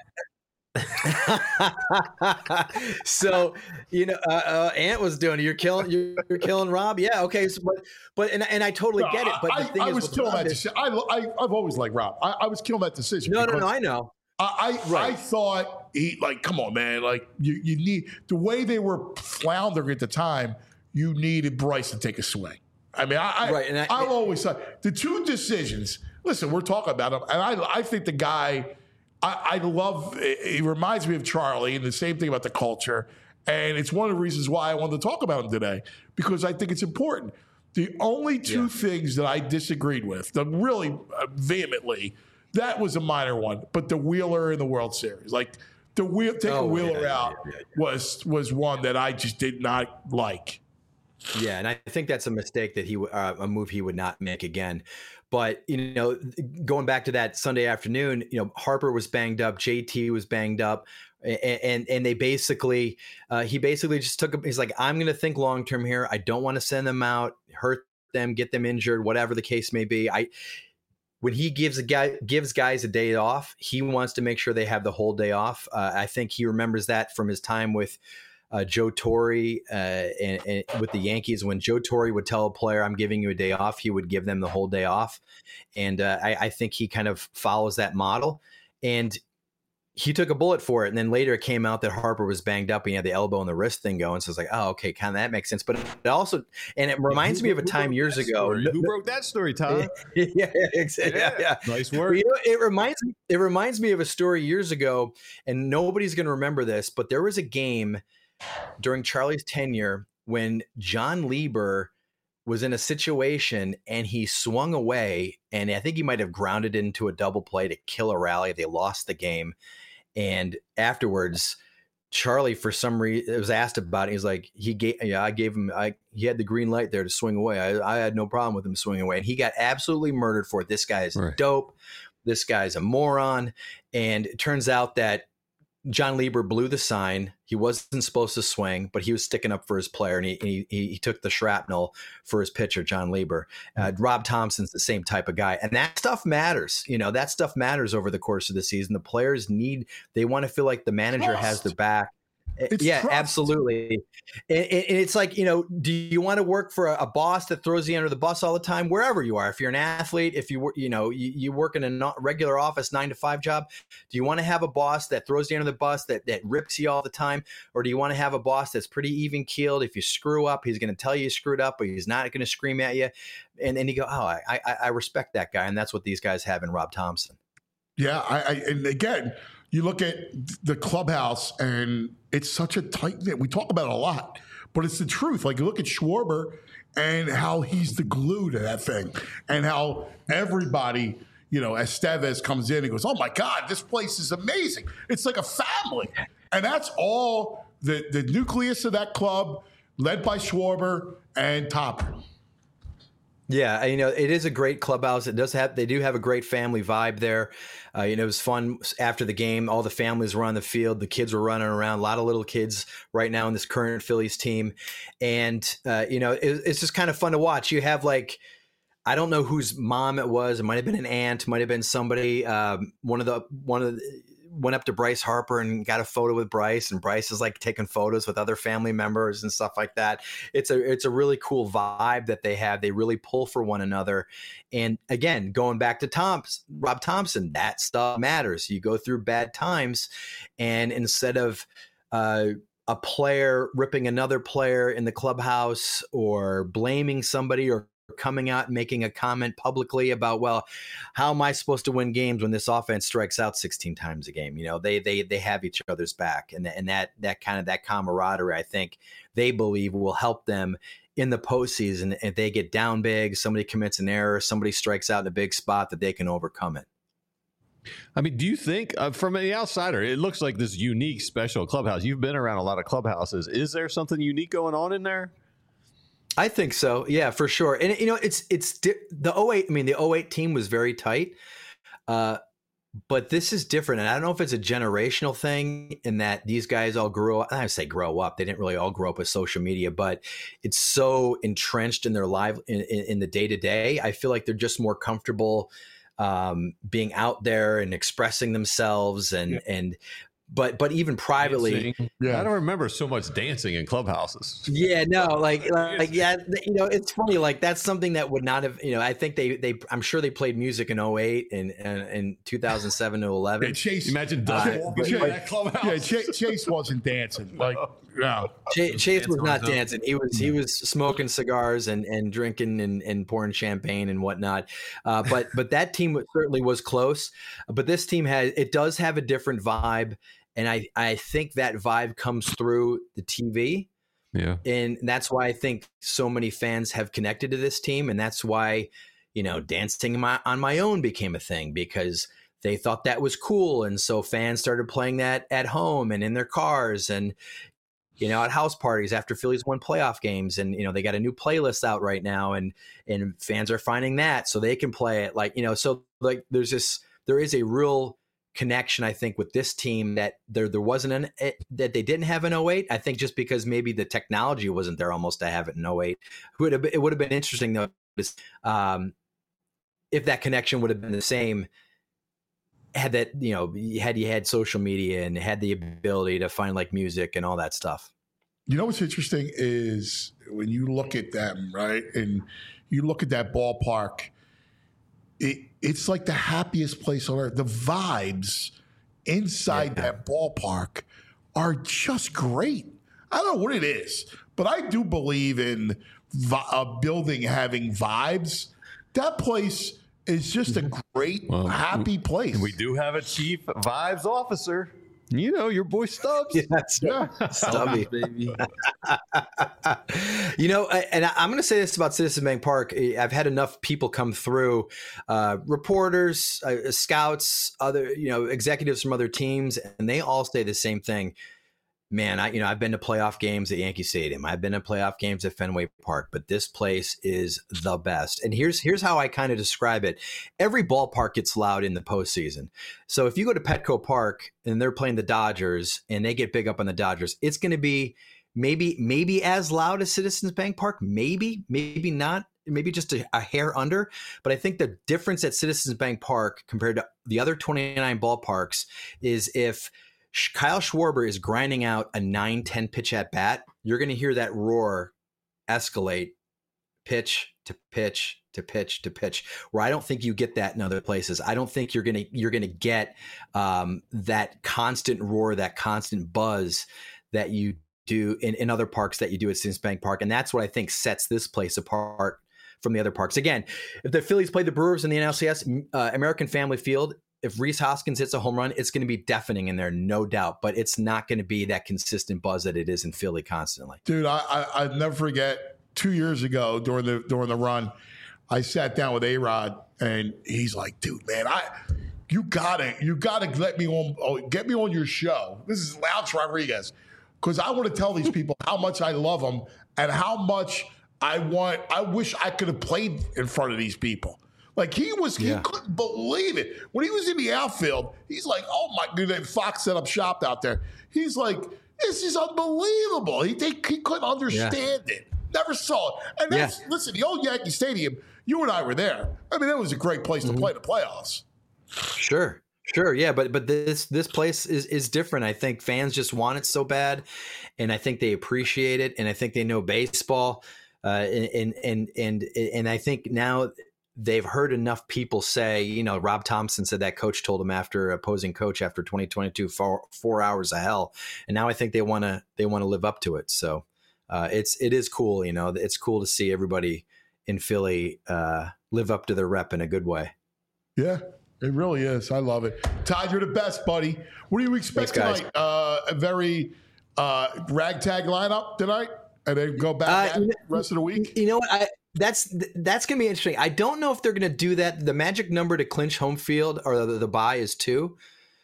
So, you know, uh, uh, Ant was doing it. You're killing, you're, you're killing Rob. Yeah. Okay. So, but, but, and, and I totally no, get it. But I, the thing I is, was killing that is, decision. I, I, I've always liked Rob. I, I was killing that decision. No, no, no. I know. I I, Right. I thought he like, come on, man, like you you need the way they were floundering at the time. You needed Bryce to take a swing. I mean, I, I Right, and I- I've always thought the two decisions. Listen, we're talking about him, and I I think the guy. I, I love. He reminds me of Charlie, and the same thing about the culture. And it's one of the reasons why I wanted to talk about him today, because I think it's important. The only two Yeah. things that I disagreed with, the really uh, vehemently, that was a minor one. But the Wheeler in the World Series, like the wheel, take a Oh, Wheeler yeah, out, yeah, yeah, was was one that I just did not like. Yeah, and I think that's a mistake that he uh, a move he would not make again. But you know, going back to that Sunday afternoon, you know, Harper was banged up, J T was banged up, and and, and they basically uh, he basically just took him. He's like, I'm going to think long term here. I don't want to send them out, hurt them, get them injured, whatever the case may be. I when he gives a guy gives guys a day off, he wants to make sure they have the whole day off. Uh, I think he remembers that from his time with. Uh, Joe Torre uh, and, and with the Yankees, when Joe Torre would tell a player, I'm giving you a day off, he would give them the whole day off. And uh, I, I think he kind of follows that model. And he took a bullet for it. And then later it came out that Harper was banged up and he had the elbow and the wrist thing going. So it's like, oh, okay, kind of that makes sense. But it also, and it reminds Who- me of a who time broke years that ago. story? Who broke that story, Tom? yeah, exactly. Yeah, yeah. Nice But, work. you know, it reminds me. It reminds me of a story years ago, and nobody's going to remember this. But there was a game during Charlie's tenure when John Lieber was in a situation and he swung away, and I think he might have grounded into a double play to kill a rally. They lost the game, and afterwards, Charlie, for some reason, was asked about it. He's like, he gave, yeah, I gave him, I he had the green light there to swing away. I, I had no problem with him swinging away, and he got absolutely murdered for it. This guy is Right. dope. This guy's a moron, and it turns out that John Lieber blew the sign. He wasn't supposed to swing, but he was sticking up for his player, and he he, he took the shrapnel for his pitcher, John Lieber. Uh, Rob Thompson's the same type of guy, and that stuff matters. You know, that stuff matters over the course of the season. The players need, they want to feel like the manager has Trust. their back. It's yeah, trust. absolutely. And, and it's like, you know, do you want to work for a, a boss that throws you under the bus all the time, wherever you are? If you're an athlete, if you wor- you know, you, you work in a not regular office nine to five job, do you want to have a boss that throws you under the bus, that that rips you all the time, or do you want to have a boss that's pretty even keeled? If you screw up, he's going to tell you you screwed up, but he's not going to scream at you. And then you go, oh, I, I I respect that guy, and that's what these guys have in Rob Thompson. Yeah, I, I and again, you look at the clubhouse, and it's such a tight knit. We talk about it a lot, but it's the truth. Like, you look at Schwarber and how he's the glue to that thing, and how everybody, you know, Estevez comes in and goes, "Oh my God, this place is amazing! It's like a family," and that's all the the nucleus of that club, led by Schwarber and Topper. Yeah, you know, it is a great clubhouse. It does have, they do have a great family vibe there. Uh, you know, it was fun after the game. All the families were on the field. The kids were running around. A lot of little kids right now in this current Phillies team. And, uh, you know, it, it's just kind of fun to watch. You have like, I don't know whose mom it was. It might have been an aunt, might have been somebody. Um, one of the, one of the, went up to Bryce Harper and got a photo with Bryce, and Bryce is like taking photos with other family members and stuff like that. It's a it's a really cool vibe that they have. They really pull for one another. And again, going back to Tom's, Rob Thompson, that stuff matters. You go through bad times, and instead of uh, a player ripping another player in the clubhouse or blaming somebody or coming out and making a comment publicly about, well, how am I supposed to win games when this offense strikes out sixteen times a game? You know, they they they have each other's back, and and that that kind of that camaraderie, I think they believe will help them in the postseason. If they get down big, somebody commits an error, somebody strikes out in a big spot, that they can overcome it. I mean, do you think, uh, from the outsider, it looks like this unique, special clubhouse? You've been around a lot of clubhouses. Is there something unique going on in there? I think so. Yeah, for sure. And, you know, it's it's di- the oh eight. I mean, the oh eight team was very tight. Uh, but this is different. And I don't know if it's a generational thing in that these guys all grew up. I say grow up. They didn't really all grow up with social media, but it's so entrenched in their life, in, in, in the day to day. I feel like they're just more comfortable um, being out there and expressing themselves. And, yeah. and but but even privately, yeah. I don't remember so much dancing in clubhouses. Yeah, no, like, like yeah, you know, it's funny. Like that's something that would not have, you know, I think they they I'm sure they played music in oh eight and and in two thousand seven to eleven. Yeah, Chase, imagine Doug uh, walking Chase, in that clubhouse. Yeah, Chase, Chase wasn't dancing. Like, no, Chase, Chase was not dancing. He was he was smoking cigars and and drinking and, and pouring champagne and whatnot. Uh, but but that team certainly was close. But this team has it does have a different vibe. And I, I think that vibe comes through the T V. Yeah. And that's why I think so many fans have connected to this team. And that's why, you know, dancing my, on my own became a thing because they thought that was cool. And so fans started playing that at home and in their cars and, you know, at house parties after Phillies won playoff games. And, you know, they got a new playlist out right now and, and fans are finding that so they can play it like, you know, so like there's this, there is a real connection, I think, with this team that there there wasn't an it, that they didn't have in oh eight. I think just because maybe the technology wasn't there almost to have it in oh eight. It would have been, it would have been interesting though, um, if that connection would have been the same. Had that, you know, had you had social media and had the ability to find like music and all that stuff. You know what's interesting is when you look at them, right, and you look at that ballpark. It, it's like the happiest place on earth. The vibes inside yeah. that ballpark are just great. I don't know what it is, but I do believe in vi- a building having vibes. That place is just a great, well, happy place. We do have a chief vibes officer. You know, your boy Stubbs. Yes, yeah. Stubby, baby. You know, and I'm going to say this about Citizens Bank Park. I've had enough people come through, uh, reporters, uh, scouts, other, you know, executives from other teams, and they all say the same thing. Man, I, you know, I've been to playoff games at Yankee Stadium. I've been to playoff games at Fenway Park, but this place is the best. And here's here's how I kind of describe it. Every ballpark gets loud in the postseason. So if you go to Petco Park and they're playing the Dodgers and they get big up on the Dodgers, it's going to be maybe maybe as loud as Citizens Bank Park, maybe, maybe not, maybe just a, a hair under. But I think the difference at Citizens Bank Park compared to the other twenty-nine ballparks is if Kyle Schwarber is grinding out a nine ten pitch at bat, you're going to hear that roar escalate pitch to pitch to pitch to pitch, where I don't think you get that in other places. I don't think you're going to you're going to get um, that constant roar, that constant buzz that you do in, in other parks that you do at Citizens Bank Park. And that's what I think sets this place apart from the other parks. Again, if the Phillies play the Brewers in the N L C S, uh, American Family Field, if Rhys Hoskins hits a home run, it's going to be deafening in there, no doubt. But it's not going to be that consistent buzz that it is in Philly constantly. Dude, I, I I'll never forget two years ago during the during the run, I sat down with A-Rod and he's like, "Dude, man, I you gotta you gotta let me on oh, get me on your show." This is Louch Rodriguez, because I want to tell these people how much I love them and how much I want. I wish I could have played in front of these people. Like he was, yeah. he couldn't believe it. When he was in the outfield, he's like, oh my God, Fox set up shop out there. He's like, this is unbelievable. He they, he couldn't understand yeah. it. Never saw it. And that's, yeah. listen, the old Yankee Stadium, you and I were there. I mean, it was a great place mm-hmm. to play the playoffs. Sure. Sure, yeah, but but this this place is is different. I think fans just want it so bad, and I think they appreciate it, and I think they know baseball, uh, and and and and I think now they've heard enough people say, you know, Rob Thompson said that coach told him after opposing coach after twenty twenty-two, four, four hours of hell. And now I think they want to, they want to live up to it. So uh, it's, it is cool. You know, it's cool to see everybody in Philly uh, live up to their rep in a good way. Yeah, it really is. I love it. Todd, you're the best, buddy. What do you expect Thanks, tonight? Uh, a very uh, ragtag lineup tonight? And then go back uh, at it the rest of the week? You know what? I, That's that's going to be interesting. I don't know if they're going to do that. The magic number to clinch home field or the, the bye is two.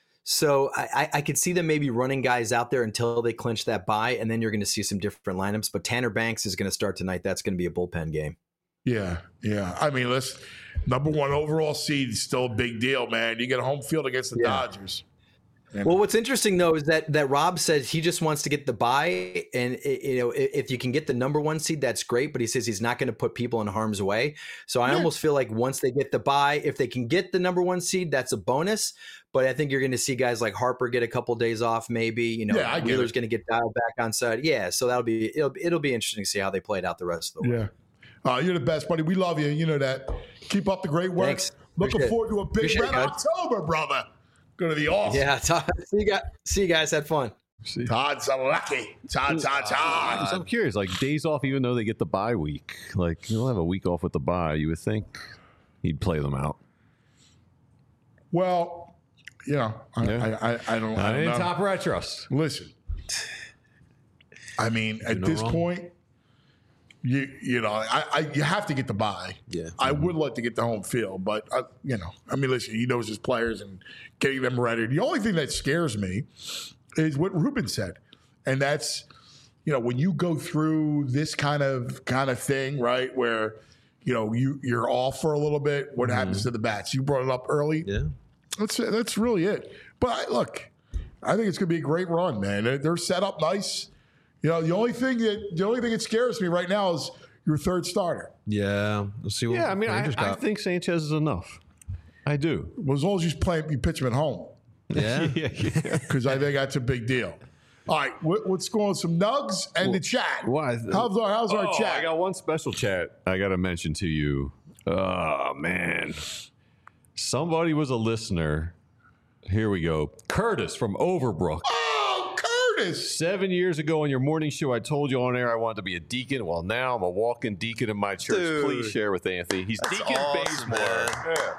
So I, I, I could see them maybe running guys out there until they clinch that bye, and then you're going to see some different lineups. But Tanner Banks is going to start tonight. That's going to be a bullpen game. Yeah, yeah. I mean, let's number one overall seed is still a big deal, man. You get a home field against the yeah. Dodgers. Well, what's interesting though is that that Rob says he just wants to get the bye, and you know if you can get the number one seed, that's great. But he says he's not going to put people in harm's way. So I yeah. almost feel like once they get the bye, if they can get the number one seed, that's a bonus. but I think you're going to see guys like Harper get a couple days off, maybe. You know, Yeah, I get Wheeler's it. going to get dialed back on side. Yeah, so that'll be it'll it'll be interesting to see how they played out the rest of the way. Yeah. Uh, you're the best, buddy. We love you. You know that. Keep up the great work. Thanks. Looking Appreciate forward to a big Appreciate red it, guys. October, brother. Go to the office. Yeah, Todd, see you guys. See you guys. Had fun. Todd's a lucky. Todd, Todd, Todd. So I'm curious, like days off, even though they get the bye week, like he'll have a week off with the bye. You would think he'd play them out. Well, yeah, I, Yeah. I, I, I don't, I I don't ain't know. top where I trust. Listen, I mean, at no this wrong. point, you you know, I, I you have to get the bye. Yeah. I would like to get the home field, but uh, you know, I mean, listen, he knows his players and getting them ready. The only thing that scares me is what Ruben said, and that's, you know, when you go through this kind of kind of thing, right, where you know you you're off for a little bit. What happens to the bats? You brought it up early. Yeah. That's that's really it. But I, look, I think it's going to be a great run, man. They're, they're set up nice. You know, the only thing that the only thing that scares me right now is your third starter. Yeah. We'll see what Yeah, I mean, I, Rangers I got. think Sanchez is enough. I do. Well, as long as you play, you pitch him at home, Yeah. yeah, yeah. because I think that's a big deal. All right, what, let's go on some nugs and the chat. Why? How's our how's our Oh, chat? I got one special chat I got to mention to you. Oh, man. Somebody was a listener. Here we go. Curtis from Overbrook. Oh, Curtis! Seven years ago on your morning show, I told you on air I wanted to be a deacon. Well, now I'm a walking deacon in my church. Dude. Please share with Anthony. He's That's Deacon awesome, Bazemore. man. Yeah.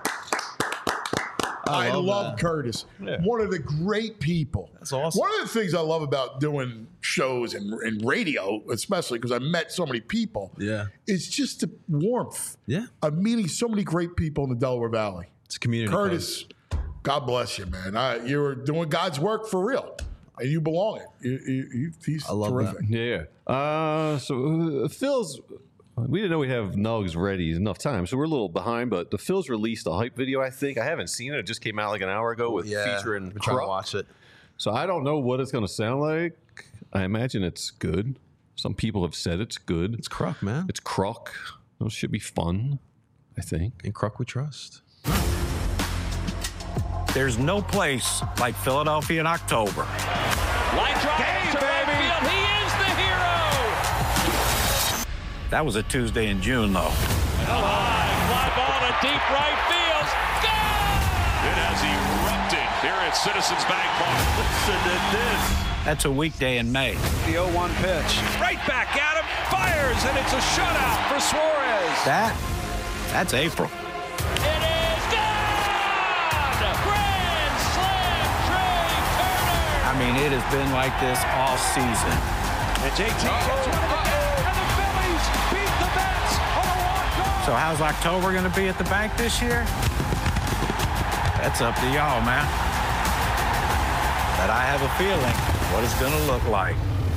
I, I love love, that. Curtis. Yeah. One of the great people. That's awesome. One of the things I love about doing shows and, and radio, especially because I met so many people, Yeah. is just the warmth Yeah. of meeting so many great people in the Delaware Valley. It's a community. Curtis, God bless you, man. I, you're doing God's work for real, and you belong it. You, you, you, he's I love terrific. Yeah. Uh, so uh, Phil's, we didn't know we'd have Nugs ready enough time, so we're a little behind. But the Phil's released a hype video. I think I haven't seen it. It just came out like an hour ago with Yeah. featuring We're trying to Kruk. watch it. So I don't know what it's going to sound like. I imagine it's good. Some people have said it's good. It's Kruk, man. It's Kruk. Those should be fun, I think. In Kruk we trust. There's no place like Philadelphia in October. Line drive to right field. He is the hero. That was a Tuesday in June, though. Hell high, fly ball to deep right field. Go! It has erupted here at Citizens Bank Park. Listen to this. That's a weekday in May. The oh one pitch. Right back at him. Fires, and it's a shutout for Suarez. That, that's April. It is gone! Grand slam, Trey Turner! I mean, it has been like this all season. And J T gets one again, and the Phillies beat the Mets on a walk-off. So how's October going to be at the bank this year? That's up to y'all, man. But I have a feeling what it's going to look like.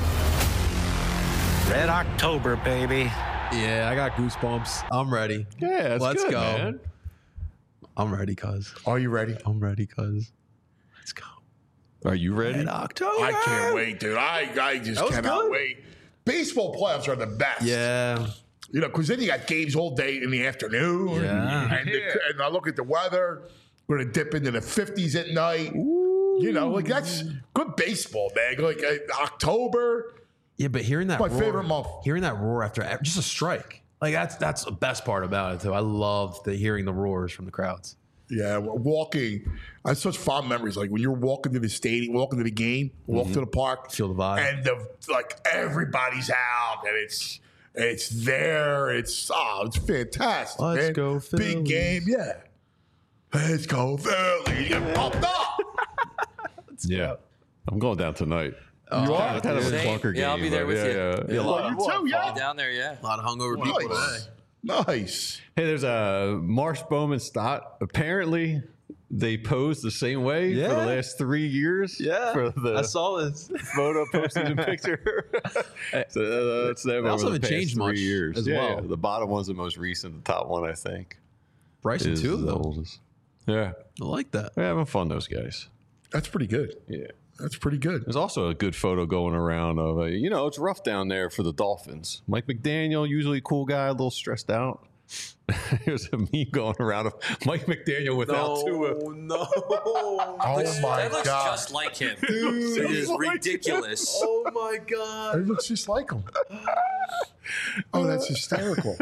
Red October, baby. Yeah, I got goosebumps. I'm ready. Yeah, that's Let's good, go. man. I'm ready, cuz. Are you ready? I'm ready, cuz. Let's go. Are you ready? Red October. I can't wait, dude. I, I just That was cannot good. wait. Baseball playoffs are the best. Yeah. You know, because then you got games all day in the afternoon. Yeah. And, the, and I look at the weather. We're going to dip into the fifties at night. You know, like that's good baseball, man. Like uh, October. Yeah, but hearing that My roar, favorite month. Hearing that roar after just a strike. Like that's that's the best part about it too. I love the hearing the roars from the crowds. Yeah, walking. I have such fond memories. Like when you're walking to the stadium, walking to the game, walk Mm-hmm. to the park, feel the vibe, and the like everybody's out, and it's it's there. It's oh, it's fantastic. Let's man. go Phillies. Big game, yeah. Let's go Phillies. You get pumped up. Yeah. I'm going down tonight. You It's are? kind of, kind of a Same. clunker game. Yeah, I'll be there but with yeah, you. Yeah, Yeah, yeah. a lot You of- too, yeah. Down there, yeah. A lot of hungover people today. Nice. Nice. Hey, there's a Marsh Bowman Stott. Apparently, they posed the same way for Yeah. the last three years. Yeah, for the I saw this. photo postseason picture. so uh, that's them They over also the haven't past changed three much years. as yeah, well. yeah. The bottom one's the most recent. The top one, I think, Bryson is too, the though. oldest. Yeah, I like that. they're having fun. Those guys. That's pretty good. Yeah. That's pretty good. There's also a good photo going around of, uh, you know, it's rough down there for the Dolphins. Mike McDaniel, usually a cool guy, a little stressed out. There's a meme going around of Mike McDaniel without No, Tua. no. Oh my that looks God. just like him. Dude, It is oh my ridiculous. Oh my God. It looks just like him. Oh, that's hysterical.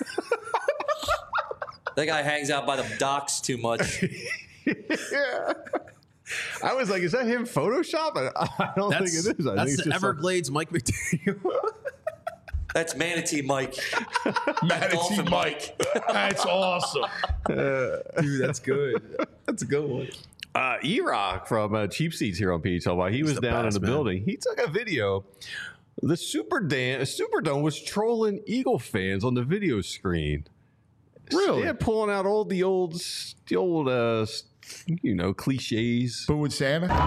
That guy hangs out by the docks too much. Yeah. I was like, is that him Photoshop? I, I don't That's, think it is. I that's think it's the just Everglades Mike McDaniel. That's Manatee Mike. Manatee Dolphin Mike. That's awesome. Dude, that's good. That's a good one. Uh, E-Rock from uh, Cheap Seats here on P H L Y. He He's was the down best, in the man. building. He took a video. The Super Dan- Superdome was trolling Eagle fans on the video screen. Really? Yeah, pulling out all the old, the old, uh, you know, cliches. Booing Santa? Oh,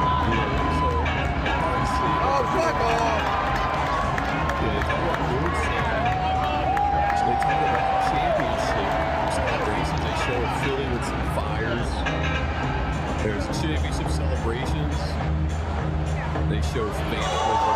fuck off! Yeah, they talk about booing Santa. So they talk about championship celebrations. They show a Philly with some fires. There's championship celebrations. They show vandalism.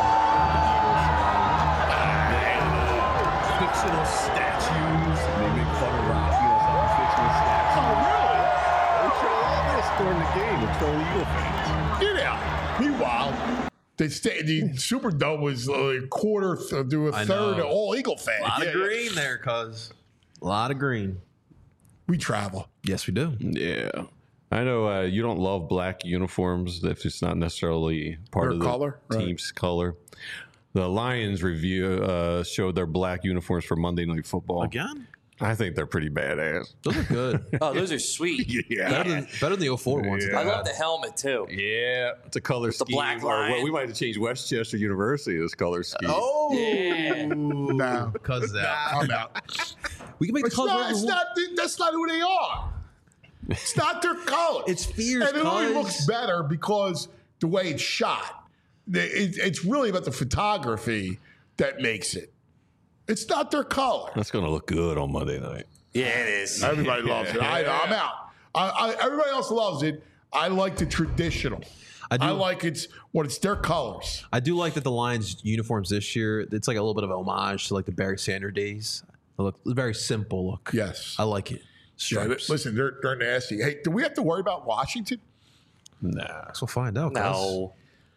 The Eagles. Fictional statues. They make fun of Rocky. That's how fictional statues. Oh, really? They show all this during the game to troll Eagle fans. Get out. Meanwhile, the, sta- the Superdome was a quarter th- to a I third know. of all Eagle fans. A lot Yeah, of green there, cuz. A lot of green. We travel. Yes, we do. Yeah. I know uh, you don't love black uniforms if it's not necessarily part Their of the color? Right. team's color. The Lions review uh, showed their black uniforms for Monday Night Football. Again? I think they're pretty badass. Those are good. Oh, those are sweet. Yeah. Better than, better than the oh four ones. Yeah. I love the helmet too. Yeah, it's a color The scheme. black or what line. we might have to change Westchester University this color scheme. Oh, Yeah. No. because that. I'm out. We can make the It's colors. not, whatever it's we want. not, that's not who they are. It's not their color. It's fierce, And it only cuz. looks better because the way it's shot. The- it- It's really about the photography that makes it. It's not their color. That's going to look good on Monday night. Yeah, it is. Everybody loves it. I, I'm out. I, I, everybody else loves it. I like the traditional. I do. I like it's when it's their colors. I do like that the Lions uniforms this year. It's like a little bit of homage to like the Barry Sanders days. They look very simple look. Yes. I like it. Yeah, Stripes. listen, they're they're nasty. Hey, do we have to worry about Washington? Nah. We'll find out. cuz. No.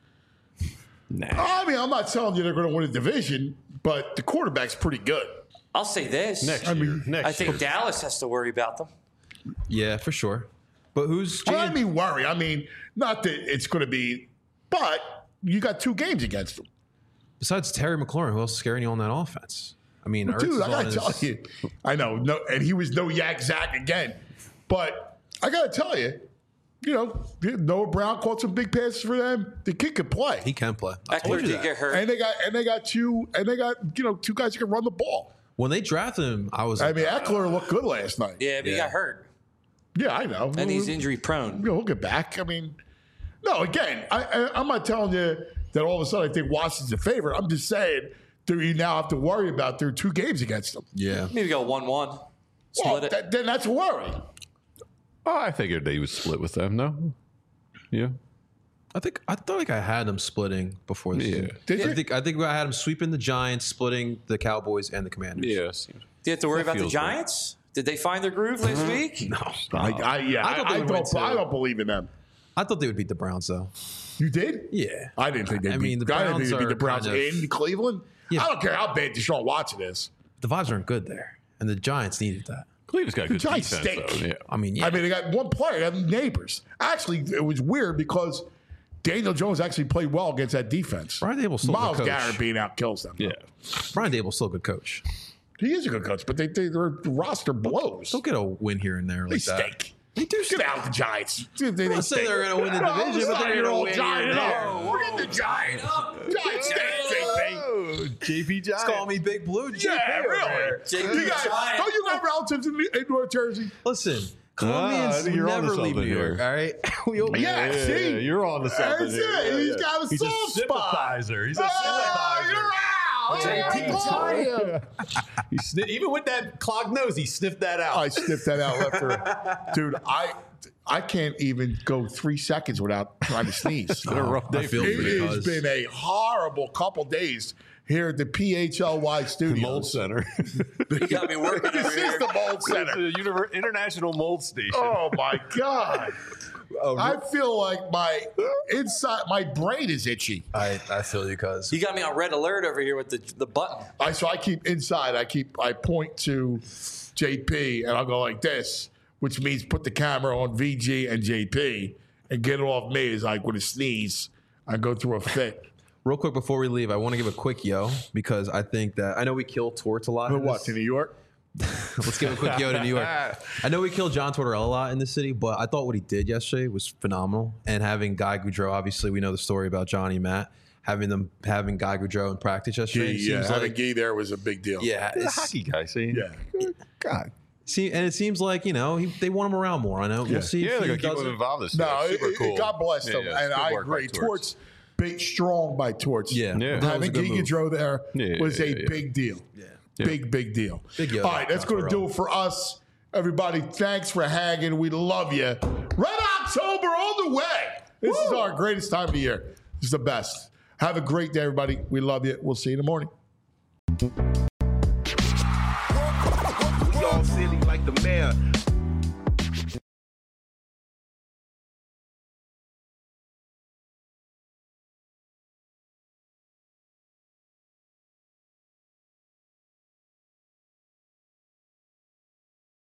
Nah. I mean, I'm not telling you they're going to win a division, but the quarterback's pretty good. I'll say this. Next I year. mean, Next I think year. Dallas has to worry about them. Yeah, for sure. But who's Well, I Jan- mean, worry. I mean, not that it's going to be, but you got two games against them. besides Terry McLaurin? Who else is scaring you on that offense? I mean, Ertz Dude, is I on got to his- tell you, I know, no, and he was no Yak Zach again, but I got to tell you, you know, Noah Brown caught some big passes for them. The kid could play, He can play. I told Eckler you did that. get hurt. and they got and they got two and they got you know two guys who can run the ball. When they drafted him, I was. I like, mean, Eckler looked good last night. Yeah, but he Yeah. got hurt. Yeah, I know, And he's We'll- injury prone. you know, he'll get back. I mean, no, again, I, I, I'm not telling you that all of a sudden I think Washington's a favorite. I'm just saying that you now have to worry about their two games against them. yeah. Maybe go one one. Well, Split it. that, then that's a worry. Oh, I figured they would split with them. No. Yeah. I think I thought like I had them splitting before this. Yeah. season. Did I you? think I think I had them sweeping the Giants, splitting the Cowboys and the Commanders. Yes. Do you have to worry That about the feels right. Giants? Did they find their groove last week? No, I, I, yeah, I I, thought they I, would win, don't, I too. don't believe in them. I thought they would beat the Browns though. You did? Yeah. I didn't think they'd I beat, mean, the I didn't Browns think they'd beat are the Browns kind of- in Cleveland. Yeah. I don't care how bad Deshaun Watson is. The vibes aren't good there, and the Giants needed that. Cleveland's got The good Giants defense, stink. though. Yeah. I mean, yeah. I mean, they got one player, they have neighbors. Actually, it was weird because Daniel Jones actually played well against that defense. Brian Dable's still a Miles good coach. Garrett being out kills them. Yeah. Brian Dable's still a good coach. He is a good coach, but they, they, their roster blows. They'll get a win here and there They like that. stink. They do Get out the Giants. They, they I'm not saying stink. they're gonna win the No, division, but I'm they're saying gonna all win Giant here and up. there. Look at the Giants. Giants stink, J P. Oh, J P Giant. Call me Big Blue. J P Yeah, over really. there. J P You guys, Giant. don't you got relatives in, in North Jersey? Listen, Ah, I Colombians think you're never onto leave New something York. here. All right, we all, Yeah, Yeah, see? yeah, you're on to something. That's here. it. Yeah, He's yeah. got a He's soft a spot. sympathizer. He's a Oh, sympathizer. you're out. J P Oh, He sni- even with that clogged nose, he sniffed that out. I sniffed that out left her. Dude, I I can't even go three seconds without trying to sneeze. been a rough day I feel for It for you has guys. been a horrible couple days here at the P H L Y studios. Mold Center. You got me working This over is here. the Mold Center. The Univer- International Mold Station. Oh my God. I feel like my inside, my brain is itchy. I, I feel you, cuz. You got me on red alert over here with the the button. I so I keep inside. I keep I point to J P and I'll go like this, which means put the camera on V G and J P and get it off me. Is like with a sneeze, I go through a fit. Real quick before we leave, I want to give a quick yo because I think that I know we kill Torts a lot. For in what this- to New York? Let's give a quick yo to New York. I know we killed John Tortorella a lot in the city, but I thought what he did yesterday was phenomenal. And having Guy Goudreau, obviously, we know the story about Johnny Matt. Having them having Guy Goudreau in practice yesterday, Gee, it yeah, seems having like Gee there was a big deal. yeah, He's a it's- hockey guy, see? Yeah. God. See, and it seems like you know he, they want him around more. I know Yeah. we'll see. Yeah, if they're he going to keep does him it. involved this No, year. it, Super it- cool. God bless Yeah, them, yeah, and good I work by agree. Torts. Torts, big, strong by Torts. Yeah. Yeah. That was a Having good Gee move. Goudreau there Yeah, was yeah, a yeah, yeah. big deal. Yeah. Big, big deal. Big yo, All right, that's going to do it for us. Everybody, thanks for hanging. We love you. Red October all the way. This is our greatest time of the year. This is the best. Have a great day, everybody. We love you. We'll see you in the morning. We all silly like the mayor.